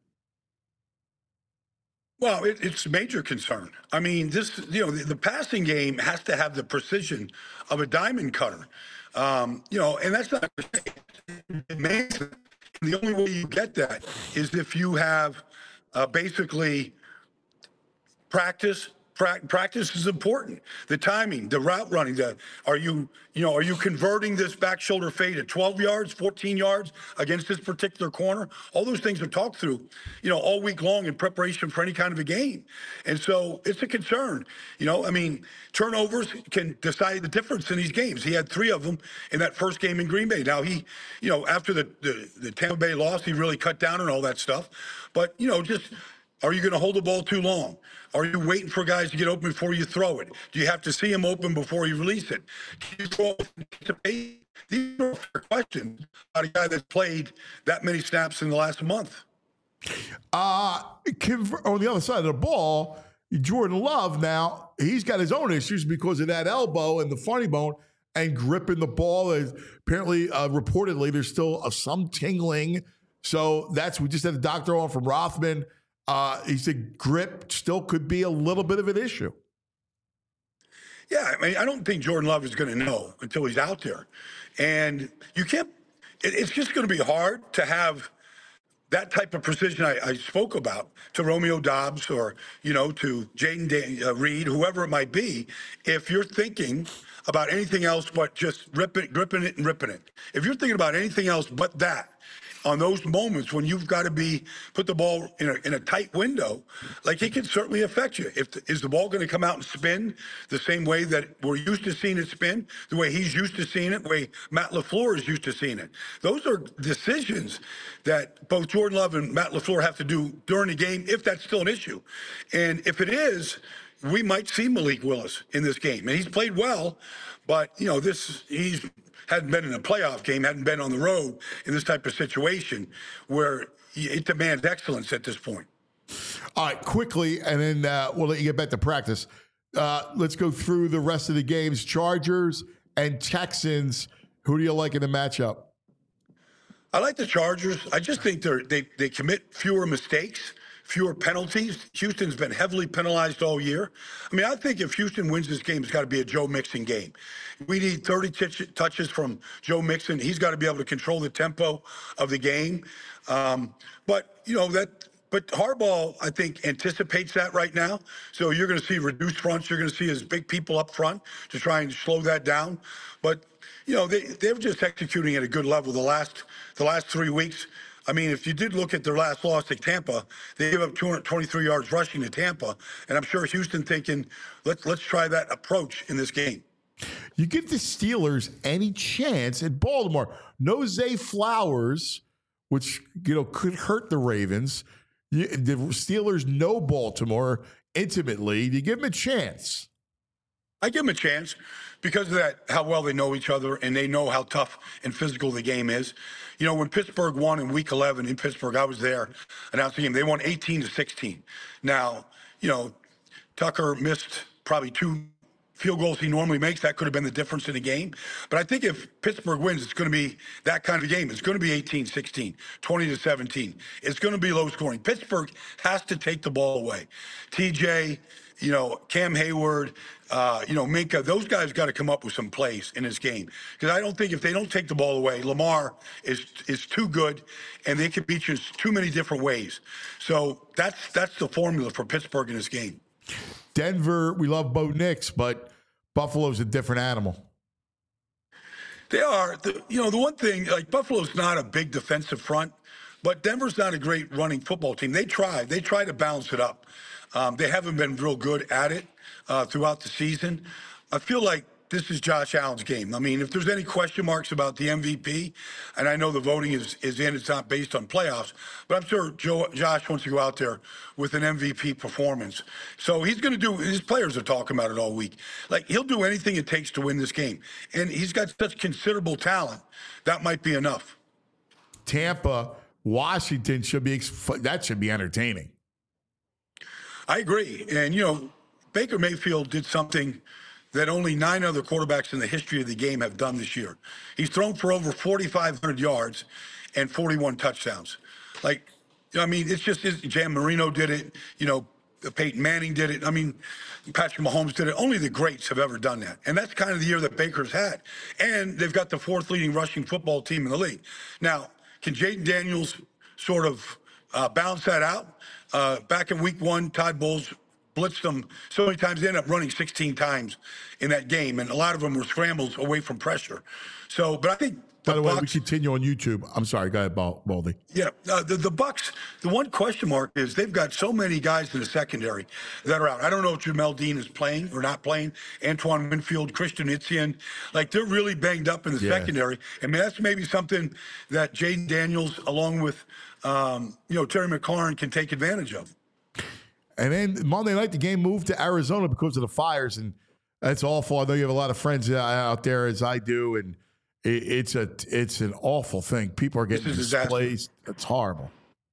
Well, it, it's a major concern. I mean, this, you know, the, the passing game has to have the precision of a diamond cutter. Um, you know, and that's not amazing. The only way you get that is if you have uh, basically practice. Pra- practice is important. The timing, the route running. The are you, you know, are you converting this back shoulder fade at twelve yards, fourteen yards against this particular corner? All those things are talked through, you know, all week long in preparation for any kind of a game. And so it's a concern. You know, I mean, turnovers can decide the difference in these games. He had three of them in that first game in Green Bay. Now he, you know, after the the, the Tampa Bay loss, he really cut down on all that stuff. But you know, just. Are you going to hold the ball too long? Are you waiting for guys to get open before you throw it? Do you have to see them open before you release it? Can you throw it? These are fair questions about a guy that's played that many snaps in the last month. Uh, on the other side of the ball, Jordan Love now, he's got his own issues because of that elbow and the funny bone and gripping the ball. Apparently, uh, reportedly, there's still uh, some tingling. So that's, we just had a doctor on from Rothman. Uh, he said grip still could be a little bit of an issue. Yeah, I mean, I don't think Jordan Love is going to know until he's out there. And you can't, it, it's just going to be hard to have that type of precision I, I spoke about to Romeo Doubs or, you know, to Jaden uh, Reed, whoever it might be, if you're thinking about anything else but just ripping, gripping it and ripping it. If you're thinking about anything else but that, on those moments when you've got to be put the ball in a, in a tight window, like it can certainly affect you. If the, is the ball going to come out and spin the same way that we're used to seeing it spin, the way he's used to seeing it, the way Matt LaFleur is used to seeing it? Those are decisions that both Jordan Love and Matt LaFleur have to do during the game, if that's still an issue. And if it is, we might see Malik Willis in this game. And he's played well, but you know, this he's hadn't been in a playoff game, hadn't been on the road in this type of situation where it demands excellence at this point. All right, quickly, and then uh, we'll let you get back to practice. Uh, let's go through the rest of the games. Chargers and Texans. Who do you like in the matchup? I like the Chargers. I just think they're, they they commit fewer mistakes, fewer penalties. Houston's been heavily penalized all year. I mean, I think if Houston wins this game, it's got to be a Joe Mixon game. We need thirty t- touches from Joe Mixon. He's got to be able to control the tempo of the game. Um, but, you know, that but Harbaugh, I think, anticipates that right now. So you're going to see reduced fronts. You're going to see his big people up front to try and slow that down. But, you know, they, they're just executing at a good level the last the last three weeks. I mean, if you did look at their last loss to Tampa, they gave up two hundred twenty-three yards rushing to Tampa. And I'm sure Houston thinking, let's let's try that approach in this game. You give the Steelers any chance at Baltimore. No Zay Flowers, which, you know, could hurt the Ravens. You, the Steelers know Baltimore intimately. Do you give them a chance? I give them a chance because of that, how well they know each other and they know how tough and physical the game is. You know, when Pittsburgh won in week eleven in Pittsburgh, I was there announcing the game. They won eighteen to sixteen. Now, you know, Tucker missed probably two field goals he normally makes. That could have been the difference in the game. But I think if Pittsburgh wins, it's going to be that kind of a game. It's going to be eighteen sixteen, twenty to seventeen. It's going to be low scoring. Pittsburgh has to take the ball away. T J, you know, Cam Hayward, uh, you know, Minka, those guys got to come up with some plays in this game. Because I don't think if they don't take the ball away, Lamar is is too good, and they can beat you in too many different ways. So that's that's the formula for Pittsburgh in this game. Denver, we love Bo Nix, but Buffalo's a different animal. They are. The, you know, the one thing, like Buffalo's not a big defensive front, but Denver's not a great running football team. They try. They try to balance it up. Um, they haven't been real good at it uh, throughout the season. I feel like this is Josh Allen's game. I mean, if there's any question marks about the M V P, and I know the voting is, is in, it's not based on playoffs, but I'm sure Joe, Josh wants to go out there with an M V P performance. So he's going to do, his players are talking about it all week. Like, he'll do anything it takes to win this game. And he's got such considerable talent, that might be enough. Tampa, Washington should be that should be entertaining. I agree. And, you know, Baker Mayfield did something that only nine other quarterbacks in the history of the game have done this year. He's thrown for over forty-five hundred yards and forty-one touchdowns. Like, you know, I mean, it's just, it's, Jan Marino did it, you know, Peyton Manning did it. I mean, Patrick Mahomes did it. Only the greats have ever done that. And that's kind of the year that Baker's had. And they've got the fourth leading rushing football team in the league. Now, can Jaden Daniels sort of uh, balance that out? Uh, back in week one, Todd Bowles blitzed them so many times. They ended up running sixteen times in that game. And a lot of them were scrambles away from pressure. So, but I think, by the way, Bucs, we continue on YouTube. I'm sorry, go ahead, Baldy. Yeah, uh, the the Bucs. The one question mark is they've got so many guys in the secondary that are out. I don't know if Jamel Dean is playing or not playing. Antoine Winfield, Christian Itzian, like they're really banged up in the yeah. secondary. I mean, that's maybe something that Jaden Daniels, along with um, you know Terry McLaurin, can take advantage of. And then Monday night, the game moved to Arizona because of the fires, and that's awful. I know you have a lot of friends out there, as I do, and it's a it's an awful thing. People are getting displaced. It's horrible.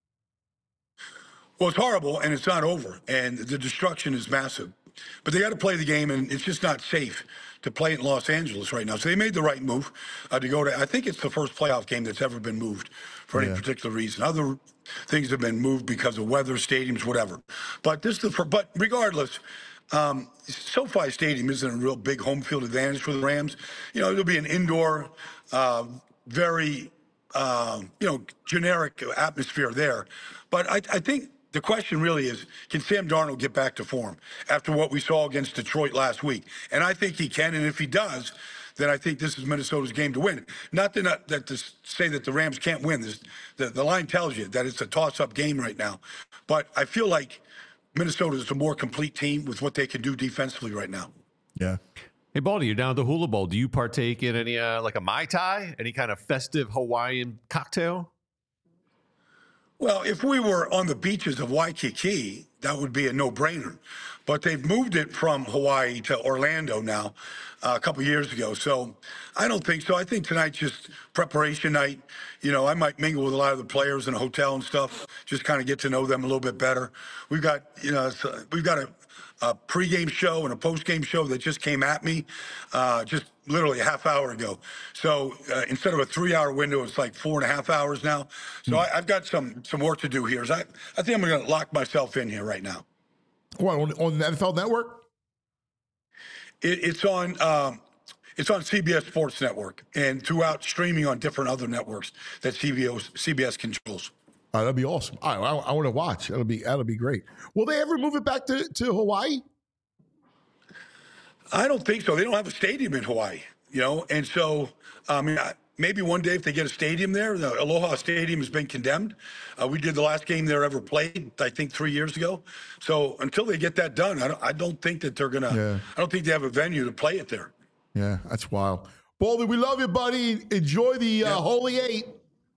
Well, it's horrible, and it's not over, and the destruction is massive. But they got to play the game, and it's just not safe to play in Los Angeles right now. So they made the right move uh, to go to. I think it's the first playoff game that's ever been moved for any yeah. particular reason. Other things have been moved because of weather, stadiums, whatever. But this is the. But regardless. Um, SoFi Stadium isn't a real big home field advantage for the Rams. You know, it'll be an indoor, uh, very, uh, you know, generic atmosphere there. But I, I think the question really is, can Sam Darnold get back to form after what we saw against Detroit last week? And I think he can. And if he does, then I think this is Minnesota's game to win. Not to, not, that to say that the Rams can't win. This, the, the line tells you that it's a toss-up game right now. But I feel like Minnesota is a more complete team with what they can do defensively right now. Yeah. Hey, Baldy, you're down at the Hula Bowl. Do you partake in any, uh, like a Mai Tai? Any kind of festive Hawaiian cocktail? Well, if we were on the beaches of Waikiki, that would be a no-brainer. But they've moved it from Hawaii to Orlando now uh, a couple years ago. So I don't think so. I think tonight's just preparation night. You know, I might mingle with a lot of the players in a hotel and stuff, just kind of get to know them a little bit better. We've got, you know, we've got a, a pregame show and a postgame show that just came at me uh, just literally a half hour ago. So uh, instead of a three-hour window, it's like four and a half hours now. So mm. I, I've got some some work to do here. So I, I think I'm going to lock myself in here right now. What, on, on the N F L Network? It, it's on um, it's on C B S Sports Network and throughout streaming on different other networks that C B S, C B S controls. Oh, that'd be awesome. I, I, I want to watch. That'll be that'll be great. Will they ever move it back to, to Hawaii? I don't think so. They don't have a stadium in Hawaii, you know, and so I mean, maybe one day if they get a stadium there. The Aloha Stadium has been condemned. Uh, we did the last game there ever played, I think, three years ago. So until they get that done, I don't, I don't think that they're gonna. Yeah. I don't think they have a venue to play it there. Yeah, that's wild. Baldy, we love you, buddy. Enjoy the uh, yeah. Holy Eight.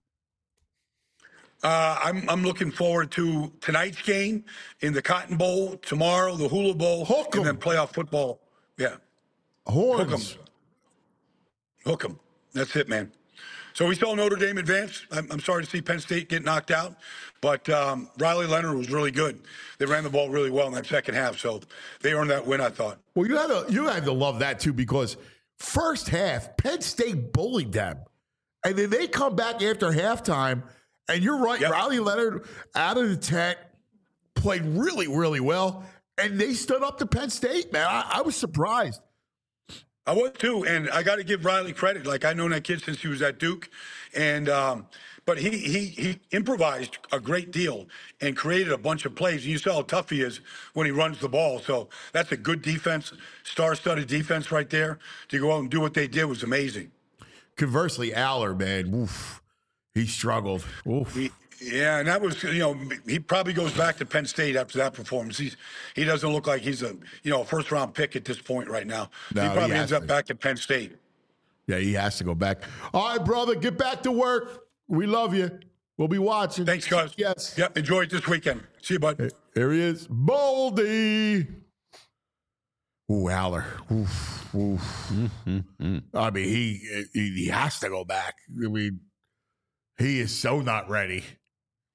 Uh, I'm I'm looking forward to tonight's game in the Cotton Bowl, tomorrow the Hula Bowl, Hook 'em. and then playoff football. Yeah, horns. Hook 'em. Hook 'em. That's it, man. So we saw Notre Dame advance. I'm, I'm sorry to see Penn State get knocked out, but um, Riley Leonard was really good. They ran the ball really well in that second half, so they earned that win, I thought. Well, you had to you had to love that too, because first half Penn State bullied them, and then they come back after halftime. And you're right, yep. Riley Leonard out of the tent played really, really well, and they stood up to Penn State, man. I, I was surprised. I was too, and I got to give Riley credit. Like, I've known that kid since he was at Duke, and um, but he he he improvised a great deal and created a bunch of plays. And you saw how tough he is when he runs the ball. So that's a good defense, star-studded defense right there. To go out and do what they did was amazing. Conversely, Aller, man, oof. He struggled. Oof. He, yeah, and that was, you know, he probably goes back to Penn State after that performance. He's he doesn't look like he's a, you know, a first round pick at this point right now. No, he probably he ends to. up back at Penn State. Yeah, he has to go back. All right, brother, get back to work. We love you. We'll be watching. Thanks, guys. Yes. Yep. Enjoy it this weekend. See you, bud. Hey, there he is, Baldy. Ooh, Aller. Oof, oof. Mm-hmm. I mean, he, he he has to go back. I mean. He is so not ready.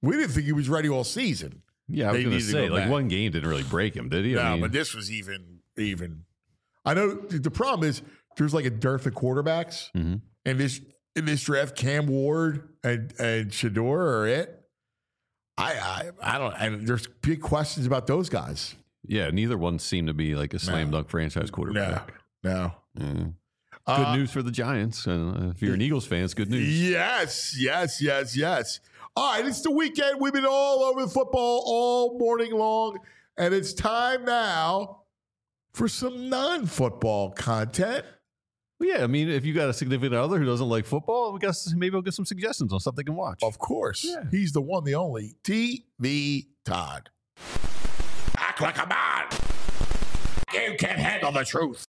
We didn't think he was ready all season. Yeah, I was going to say, like, one game didn't really break him, did he? No, I mean, but this was even, even. I know the problem is there's like a dearth of quarterbacks. Mm-hmm. And this in this draft, Cam Ward and, and Shador are it. I, I I don't. And there's big questions about those guys. Yeah, neither one seemed to be like a slam dunk franchise quarterback. No, no. Mm. Good Uh, news for the Giants. And uh, if you're an Eagles fan, it's good news. Yes, yes, yes, yes. All right, it's the weekend. We've been all over the football all morning long, and it's time now for some non-football content. Well, yeah, I mean, if you got a significant other who doesn't like football, we got maybe we'll get some suggestions on stuff they can watch. Of course. Yeah. He's the one, the only, T V Todd. Act like a man. You can't handle the truth.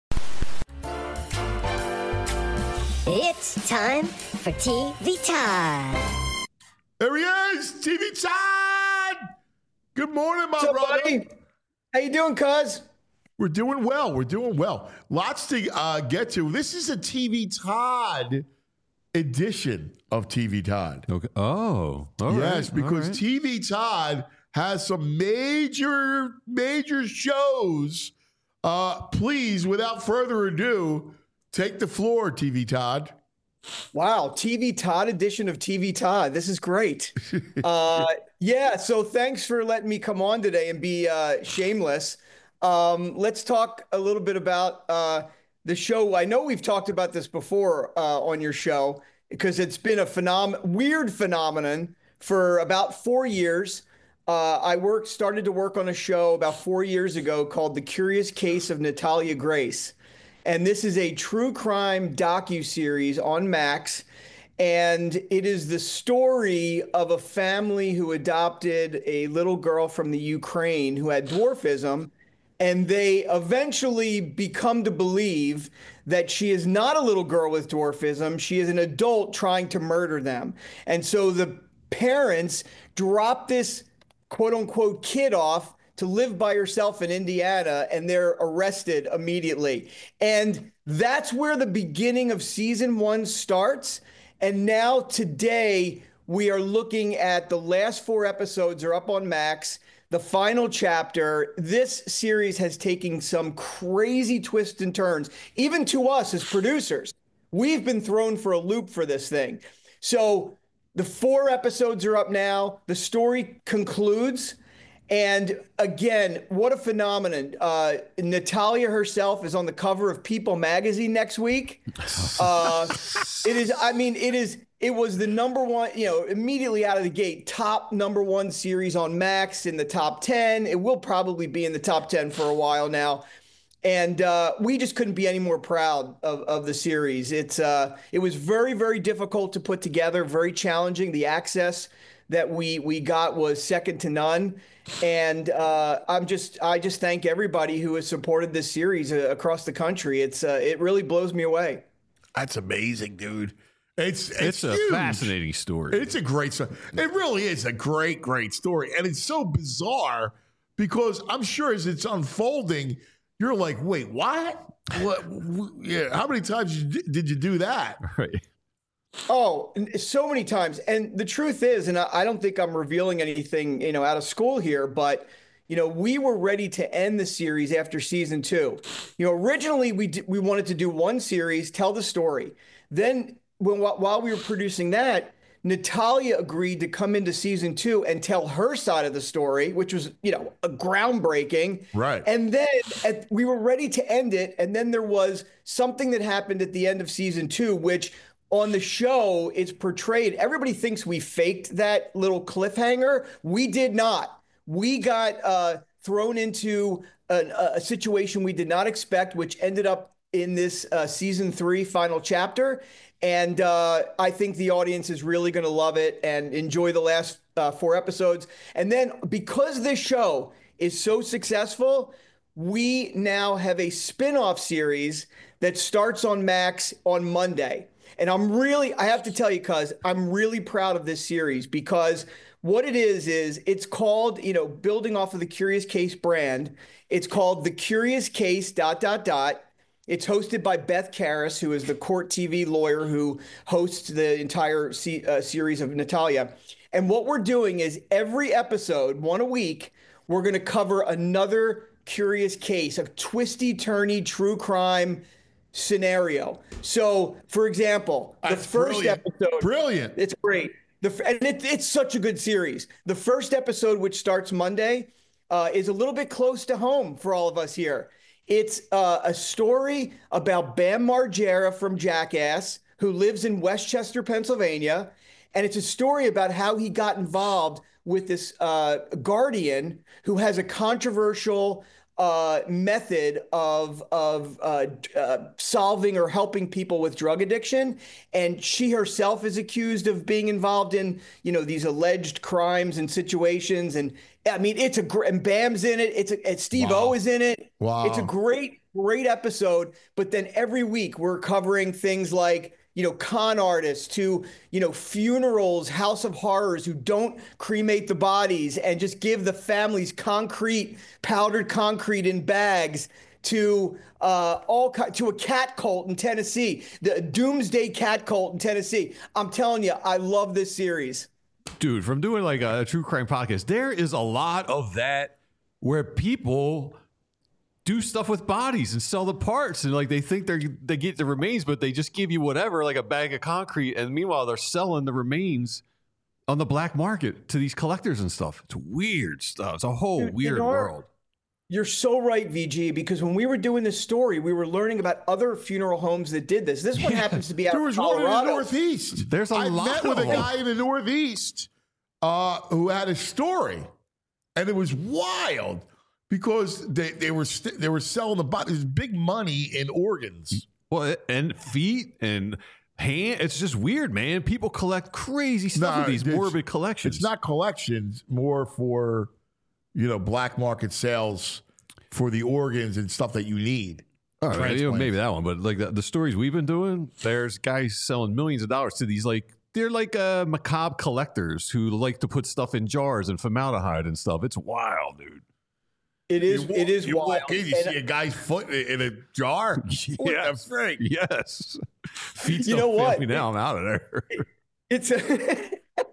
It's time for T V Todd. There he is, T V Todd. Good morning, my What's up, brother. buddy? How you doing, cuz? We're doing well. We're doing well. Lots to uh, get to. This is a T V Todd edition of T V Todd. Okay. Oh, all yes, right, because all right. T V Todd has some major, major shows. Uh, please, without further ado, take the floor, T V Todd. Wow, T V Todd edition of T V Todd. This is great. uh, yeah, so thanks for letting me come on today and be uh, shameless. Um, let's talk a little bit about uh, the show. I know we've talked about this before uh, on your show because it's been a phenom- weird phenomenon for about four years. Uh, I worked, started to work on a show about four years ago called The Curious Case of Natalia Grace. And this is a true crime docuseries on Max. And it is the story of a family who adopted a little girl from the Ukraine who had dwarfism. And they eventually become to believe that she is not a little girl with dwarfism. She is an adult trying to murder them. And so the parents drop this quote unquote kid off to live by herself in Indiana, and they're arrested immediately. And that's where the beginning of season one starts. And now today we are looking at the last four episodes are up on Max. The final chapter. This series has taken some crazy twists and turns, even to us as producers. We've been thrown for a loop for this thing. So the four episodes are up now. The story concludes. And again, what a phenomenon. Uh, Natalia herself is on the cover of People magazine next week. Uh, it is, I mean, it is, it was the number one, you know, immediately out of the gate, top number one series on Max in the top ten. It will probably be in the top ten for a while now. And uh, we just couldn't be any more proud of, of the series. It's uh, it was very, very difficult to put together, very challenging. The access that we we got was second to none. And uh, I'm just I just thank everybody who has supported this series uh, across the country. It's uh, it really blows me away. That's amazing, dude. It's it's, It's a huge. fascinating story. It's a great story. It really is a great, great story. And it's so bizarre because I'm sure as it's unfolding, you're like, wait, what? What? Yeah. How many times did you do that? Right. Oh, so many times. And the truth is, and I don't think I'm revealing anything, you know, out of school here, but, you know, we were ready to end the series after season two. You know, originally we d- we wanted to do one series, tell the story. Then when while we were producing that, Natalia agreed to come into season two and tell her side of the story, which was, you know, a groundbreaking. Right. And then at, we were ready to end it. And then there was something that happened at the end of season two, which on the show it's portrayed. Everybody thinks we faked that little cliffhanger. We did not. We got uh, thrown into an, a situation we did not expect, which ended up in this uh, season three final chapter. And uh, I think the audience is really going to love it and enjoy the last uh, four episodes. And then because this show is so successful, we now have a spin-off series that starts on Max on Monday. And I'm really, I have to tell you, cuz I'm really proud of this series because what it is, is it's called, you know, building off of the Curious Case brand. It's called The Curious Case dot, dot, dot. It's hosted by Beth Karas, who is the Court T V lawyer who hosts the entire se- uh, series of Natalia. And what we're doing is every episode, one a week, we're going to cover another curious case, a twisty, turny, true crime scenario. So, for example, the That's first brilliant. episode, Brilliant. It's great. The and it, it's such a good series. The first episode, which starts Monday, uh, is a little bit close to home for all of us here. It's uh, a story about Bam Margera from Jackass, who lives in Westchester, Pennsylvania, and it's a story about how he got involved with this uh, guardian who has a controversial uh, method of of uh, uh, solving or helping people with drug addiction, and she herself is accused of being involved in, you know, these alleged crimes and situations. And I mean, it's a great, and Bam's in it. It's a, and Steve Wow. O is in it. Wow. It's a great, great episode. But then every week we're covering things like, you know, con artists to, you know, funerals, House of Horrors who don't cremate the bodies and just give the families concrete, powdered concrete in bags, to uh, all to a cat cult in Tennessee, the Doomsday Cat Cult in Tennessee. I'm telling you, I love this series. Dude, from doing like a true crime podcast, there is a lot of that where people do stuff with bodies and sell the parts, and like they think they they get the remains, but they just give you whatever, like a bag of concrete, and meanwhile they're selling the remains on the black market to these collectors and stuff. It's weird stuff. It's a whole Dude, weird you know, world. You're so right, V G, because when we were doing this story, we were learning about other funeral homes that did this. This one happens to be out There of was Colorado. one in the Northeast. There's a I lot met of with a them. guy in the Northeast uh, who had a story, and it was wild because they, they were st- they were selling the bodies, big money in organs. Well, and feet and hand. It's just weird, man. People collect crazy stuff Nah, with these it's- morbid collections. It's not collections, more for, you know, black market sales for the organs and stuff that you need. All right, you know, Transplants. maybe that one, but like the, the stories we've been doing, there's guys selling millions of dollars to these like they're like uh, macabre collectors who like to put stuff in jars and formaldehyde and stuff. It's wild, dude. It is. You walk- it is you wild. walk in, you And- see a guy's foot in a jar. What the frick? Yes. Feet You know what? Me now I'm out of there. It's a,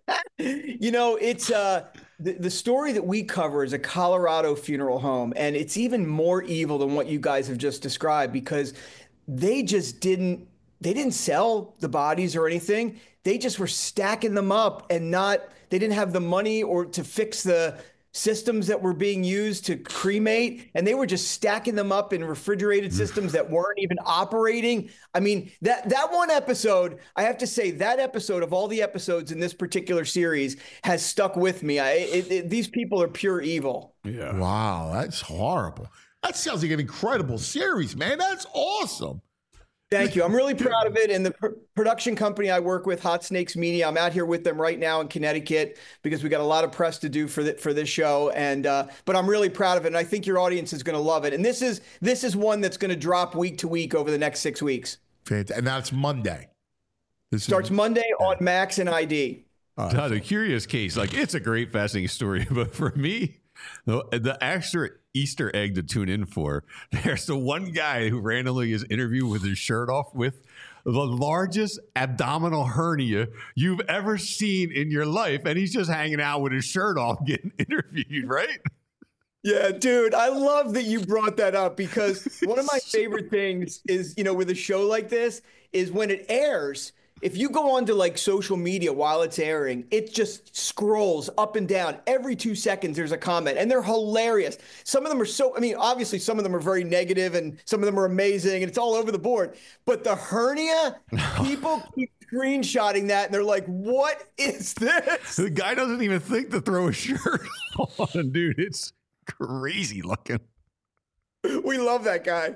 you know, it's uh the, the story that we cover is a Colorado funeral home, and it's even more evil than what you guys have just described because they just didn't they didn't sell the bodies or anything. They just were stacking them up and not they didn't have the money or to fix the systems that were being used to cremate, and they were just stacking them up in refrigerated systems that weren't even operating. I mean, that that one episode, I have to say, that episode of all the episodes in this particular series has stuck with me. I, it, it, these people are pure evil. Yeah. Wow, that's horrible. That sounds like an incredible series, man. That's awesome. Thank you. I'm really proud of it. And the pr- production company I work with, Hot Snakes Media, I'm out here with them right now in Connecticut because we got a lot of press to do for the, for this show. And uh, but I'm really proud of it, and I think your audience is going to love it. And this is this is one that's going to drop week to week over the next six weeks. Fantastic. And that's Monday. This Starts is, Monday on Max and I D. Todd, a curious case. Like it's a great, fascinating story, but for me, the, the extra Easter egg to tune in for, there's the one guy who randomly is interviewed with his shirt off with the largest abdominal hernia you've ever seen in your life, and he's just hanging out with his shirt off getting interviewed, right? Yeah, dude, I love that you brought that up because one of my favorite things is, you know, with a show like this is when it airs, if you go onto like social media while it's airing, it just scrolls up and down. Every two seconds, there's a comment, and they're hilarious. Some of them are so, I mean, obviously some of them are very negative and some of them are amazing and it's all over the board. But the hernia, people keep screenshotting that and they're like, what is this? The guy doesn't even think to throw a shirt on, dude. It's crazy looking. We love that guy.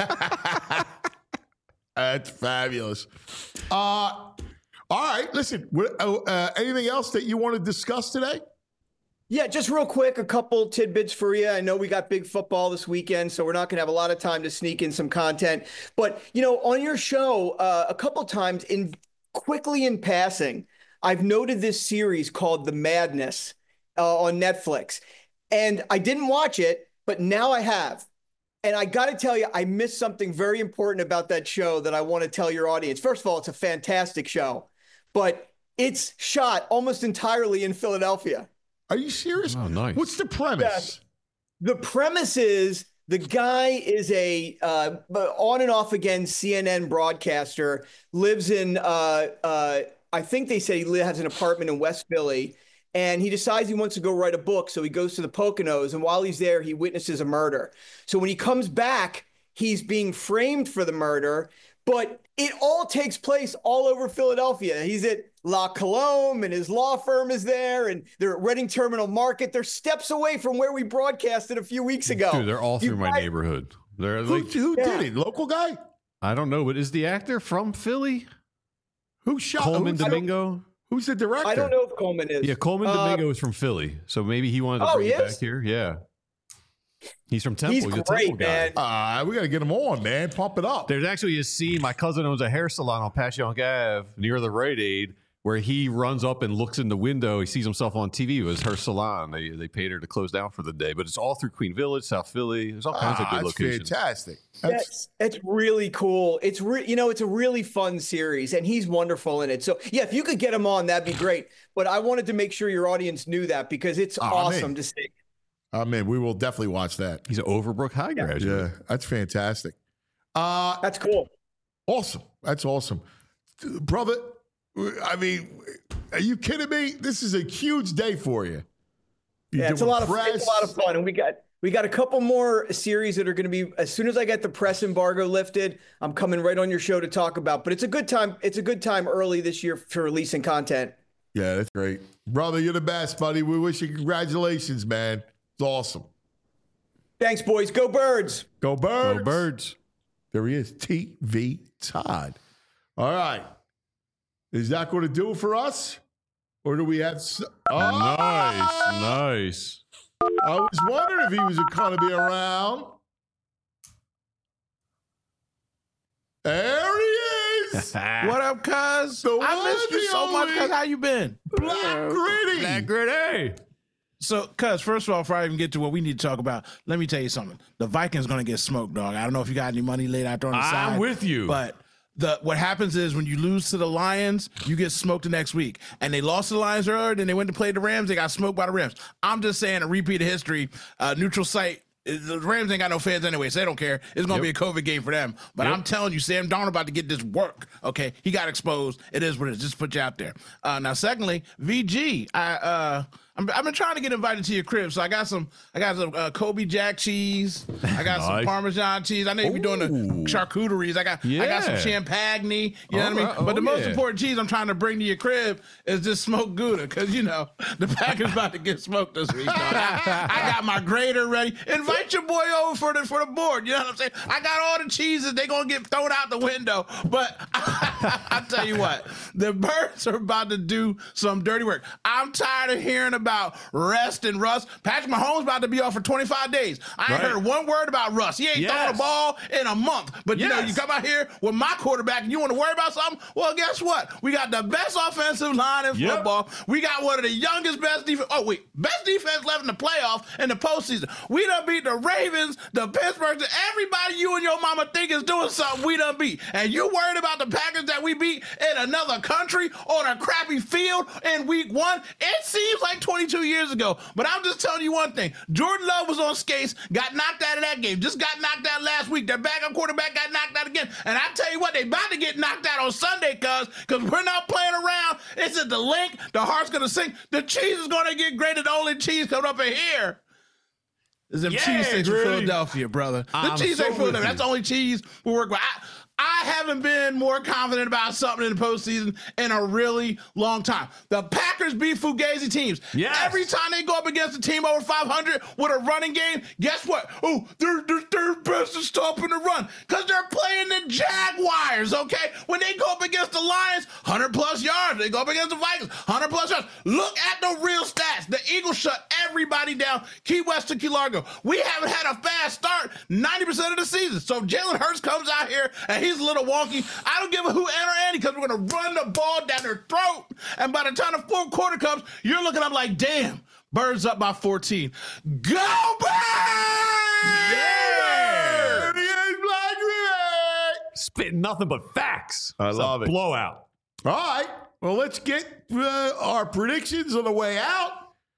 That's fabulous. Uh, all right, listen. What, uh, anything else that you want to discuss today? Yeah, just real quick, a couple tidbits for you. I know we got big football this weekend, so we're not going to have a lot of time to sneak in some content. But, you know, on your show, uh, a couple times, in quickly in passing, I've noted this series called The Madness uh, on Netflix. And I didn't watch it, but now I have. And I got to tell you, I missed something very important about that show that I want to tell your audience. First of all, it's a fantastic show. But It's shot almost entirely in Philadelphia. Are you serious? Oh, nice. What's the premise? Yeah. The premise is the guy is a uh, on and off again C N N broadcaster, lives in, uh, uh, I think they said he has an apartment in West Philly, and he decides he wants to go write a book. So he goes to the Poconos, and while he's there, he witnesses a murder. So when he comes back, he's being framed for the murder, but it all takes place all over Philadelphia. He's at La Colombe, and his law firm is there, and they're at Reading Terminal Market. They're steps away from where we broadcasted a few weeks ago. Dude, they're all through You my guys- neighborhood. They're Who, like, who Yeah. did it? Local guy? I don't know, but is the actor from Philly? Who shot Coleman who's, Domingo? who's the director? I don't know if Coleman is. Yeah, Coleman Uh, Domingo is from Philly, so maybe he wanted to Oh, bring he it back is? here. Yeah, he's from Temple. He's a great, Temple guy. man. Uh, we got to get him on, man. Pump it up. There's actually a scene. My cousin owns a hair salon on Passyunk Ave near the Rite Aid, where he runs up and looks in the window. He sees himself on T V. It was her salon. They they paid her to close down for the day, but it's all through Queen Village, South Philly. There's all kinds Ah, of good that's locations. fantastic. That's it's really cool. It's re- you know, it's a really fun series, and he's wonderful in it. So yeah, if you could get him on, that'd be great. But I wanted to make sure your audience knew that because it's Oh, awesome man. to see. I mean, we will definitely watch that. He's an Overbrook High graduate. Yeah, that's fantastic. Uh, That's cool. Awesome. That's awesome. Brother, I mean, are you kidding me? This is a huge day for you. You're Yeah, it's a doing lot of press. it's a lot of fun, and we got we got a couple more series that are going to be as soon as I get the press embargo lifted. I'm coming right on your show to talk about. But it's a good time. It's a good time early this year for releasing content. Yeah, that's great. Brother, you're the best, buddy. We wish you congratulations, man. It's awesome. Thanks, boys. Go Birds. Go Birds. Go Birds. There he is, T V Todd. All right. Is that going to do it for us? Or do we have... s- Oh! Nice, nice. I was wondering if he was going to be around. There he is. What up, cuz? The I one missed you and so much, only cuz. How you been? Black Gritty. Black Gritty. So, cuz, first of all, before I even get to what we need to talk about, let me tell you something. The Vikings going to get smoked, dog. I don't know if you got any money laid out there on the side. I'm with you. But the what happens is when you lose to the Lions, you get smoked the next week. And they lost to the Lions earlier, then they went to play the Rams. They got smoked by the Rams. I'm just saying a repeat of history, uh, neutral site. The Rams ain't got no fans anyway, so they don't care. It's going to Yep. be a COVID game for them. But Yep. I'm telling you, Sam Darnold about to get this work, okay? He got exposed. It is what it is. Just put you out there. Uh, now, secondly, V G, I, uh, I'm, I've been trying to get invited to your crib, so I got some I got some uh, Kobe Jack cheese. I got some Nice. Parmesan cheese. I know you be doing the Ooh. charcuteries. I got I got some Yeah. champagne. You know All what I mean? right. But Oh, the most yeah. important cheese I'm trying to bring to your crib is this smoked Gouda, because, you know, the Packers about to get smoked this week. dog. I, I got my grater ready. Invite your boy over for the for the board. You know what I'm saying? I got all the cheeses. They're going to get thrown out the window. But I tell you what, the Birds are about to do some dirty work. I'm tired of hearing about rest and Russ. Patrick Mahomes about to be off for twenty-five days. I ain't Right. heard one word about Russ. He ain't thrown Yes. a ball in a month. But you know, Yes. you come out here with my quarterback and you want to worry about something? Well, guess what? We got the best offensive line in Yep. football. We got one of the youngest, best defense. Oh, wait, best defense left in the playoffs in the postseason. We done beat the Ravens, the Pittsburgh, everybody you and your mama think is doing something we done beat. And you worried about the Packers that we beat in another country on a crappy field in week one? It seems like twenty-two years ago. But I'm just telling you one thing. Jordan Love was on skates, got knocked out of that game. Just got knocked out last week. Their backup quarterback got knocked out again. And I tell you what, they about to get knocked out on Sunday, cuz, because we're not playing around. It's at the link. The heart's going to sink. The cheese is going to get grated. The only cheese coming up in here is them Yeah, cheese sticks from Gritty. Philadelphia, brother. The I'm cheese so ain't Philadelphia. with That's the you. only cheese we work with. I, I haven't been more confident about something in the postseason in a really long time. The Packers beat Fugazi teams. Yes. Every time they go up against a team over five hundred with a running game, guess what? Oh, they're, they're, they're best at stopping the run because they're playing the Jaguars, okay? When they go up against the Lions, one hundred plus yards. They go up against the Vikings, one hundred plus yards. Look at the real stats. The Eagles shut everybody down. Key West to Key Largo. We haven't had a fast start ninety percent of the season. So if Jalen Hurts comes out here and he's a little wonky, I don't give a who and or Andy because we're going to run the ball down their throat. And by the time the fourth quarter comes, you're looking up like, damn, Birds up by fourteen. Go Birds! There he is, Black Gritty. Spitting nothing but facts. I It's love a it. blowout. All right. Well, let's get uh, our predictions on the way out.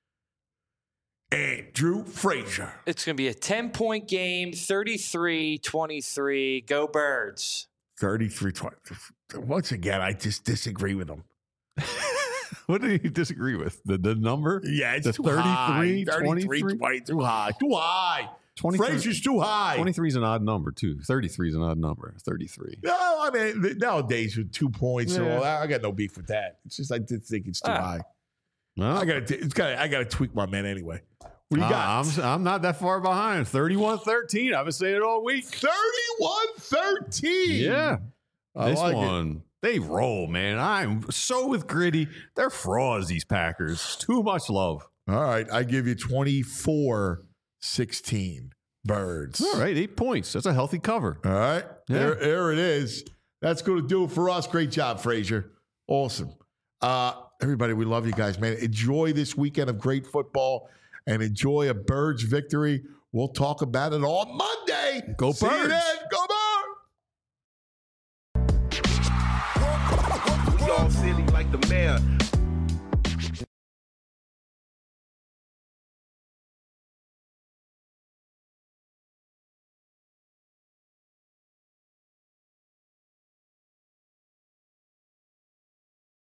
Andrew Frazier. It's going to be a ten-point game, thirty-three twenty-three. Go Birds. thirty-three twenty. Once again, I just disagree with him. What do you disagree with? The the number? Yeah, it's the too thirty-three, high. thirty-three, twenty-three? twenty, too high. Too high. twenty-three Frazier's too high. twenty-three is an odd number, too. thirty-three is an odd number. thirty-three. No, I mean, nowadays with two points and Yeah. all that, I got no beef with that. It's just I did think it's too Ah. high. No. I got to. It's got. I got to tweak my man anyway. What do you Uh, got? I'm, I'm not that far behind. thirty-one thirteen. I've been saying it all week. thirty-one thirteen. Yeah. I this like it. one, they roll, man. I'm so with Gritty. They're frauds, these Packers. Too much love. All right. I give you twenty-four sixteen. Birds. All right. Eight points. That's a healthy cover. All right. Yeah. There, there it is. That's going to do it for us. Great job, Frazier. Awesome. Uh, everybody, we love you guys, man. Enjoy this weekend of great football and enjoy a Birds victory. We'll talk about it on Monday. Go See you Birds. then. Go Birds. We all silly like the mayor.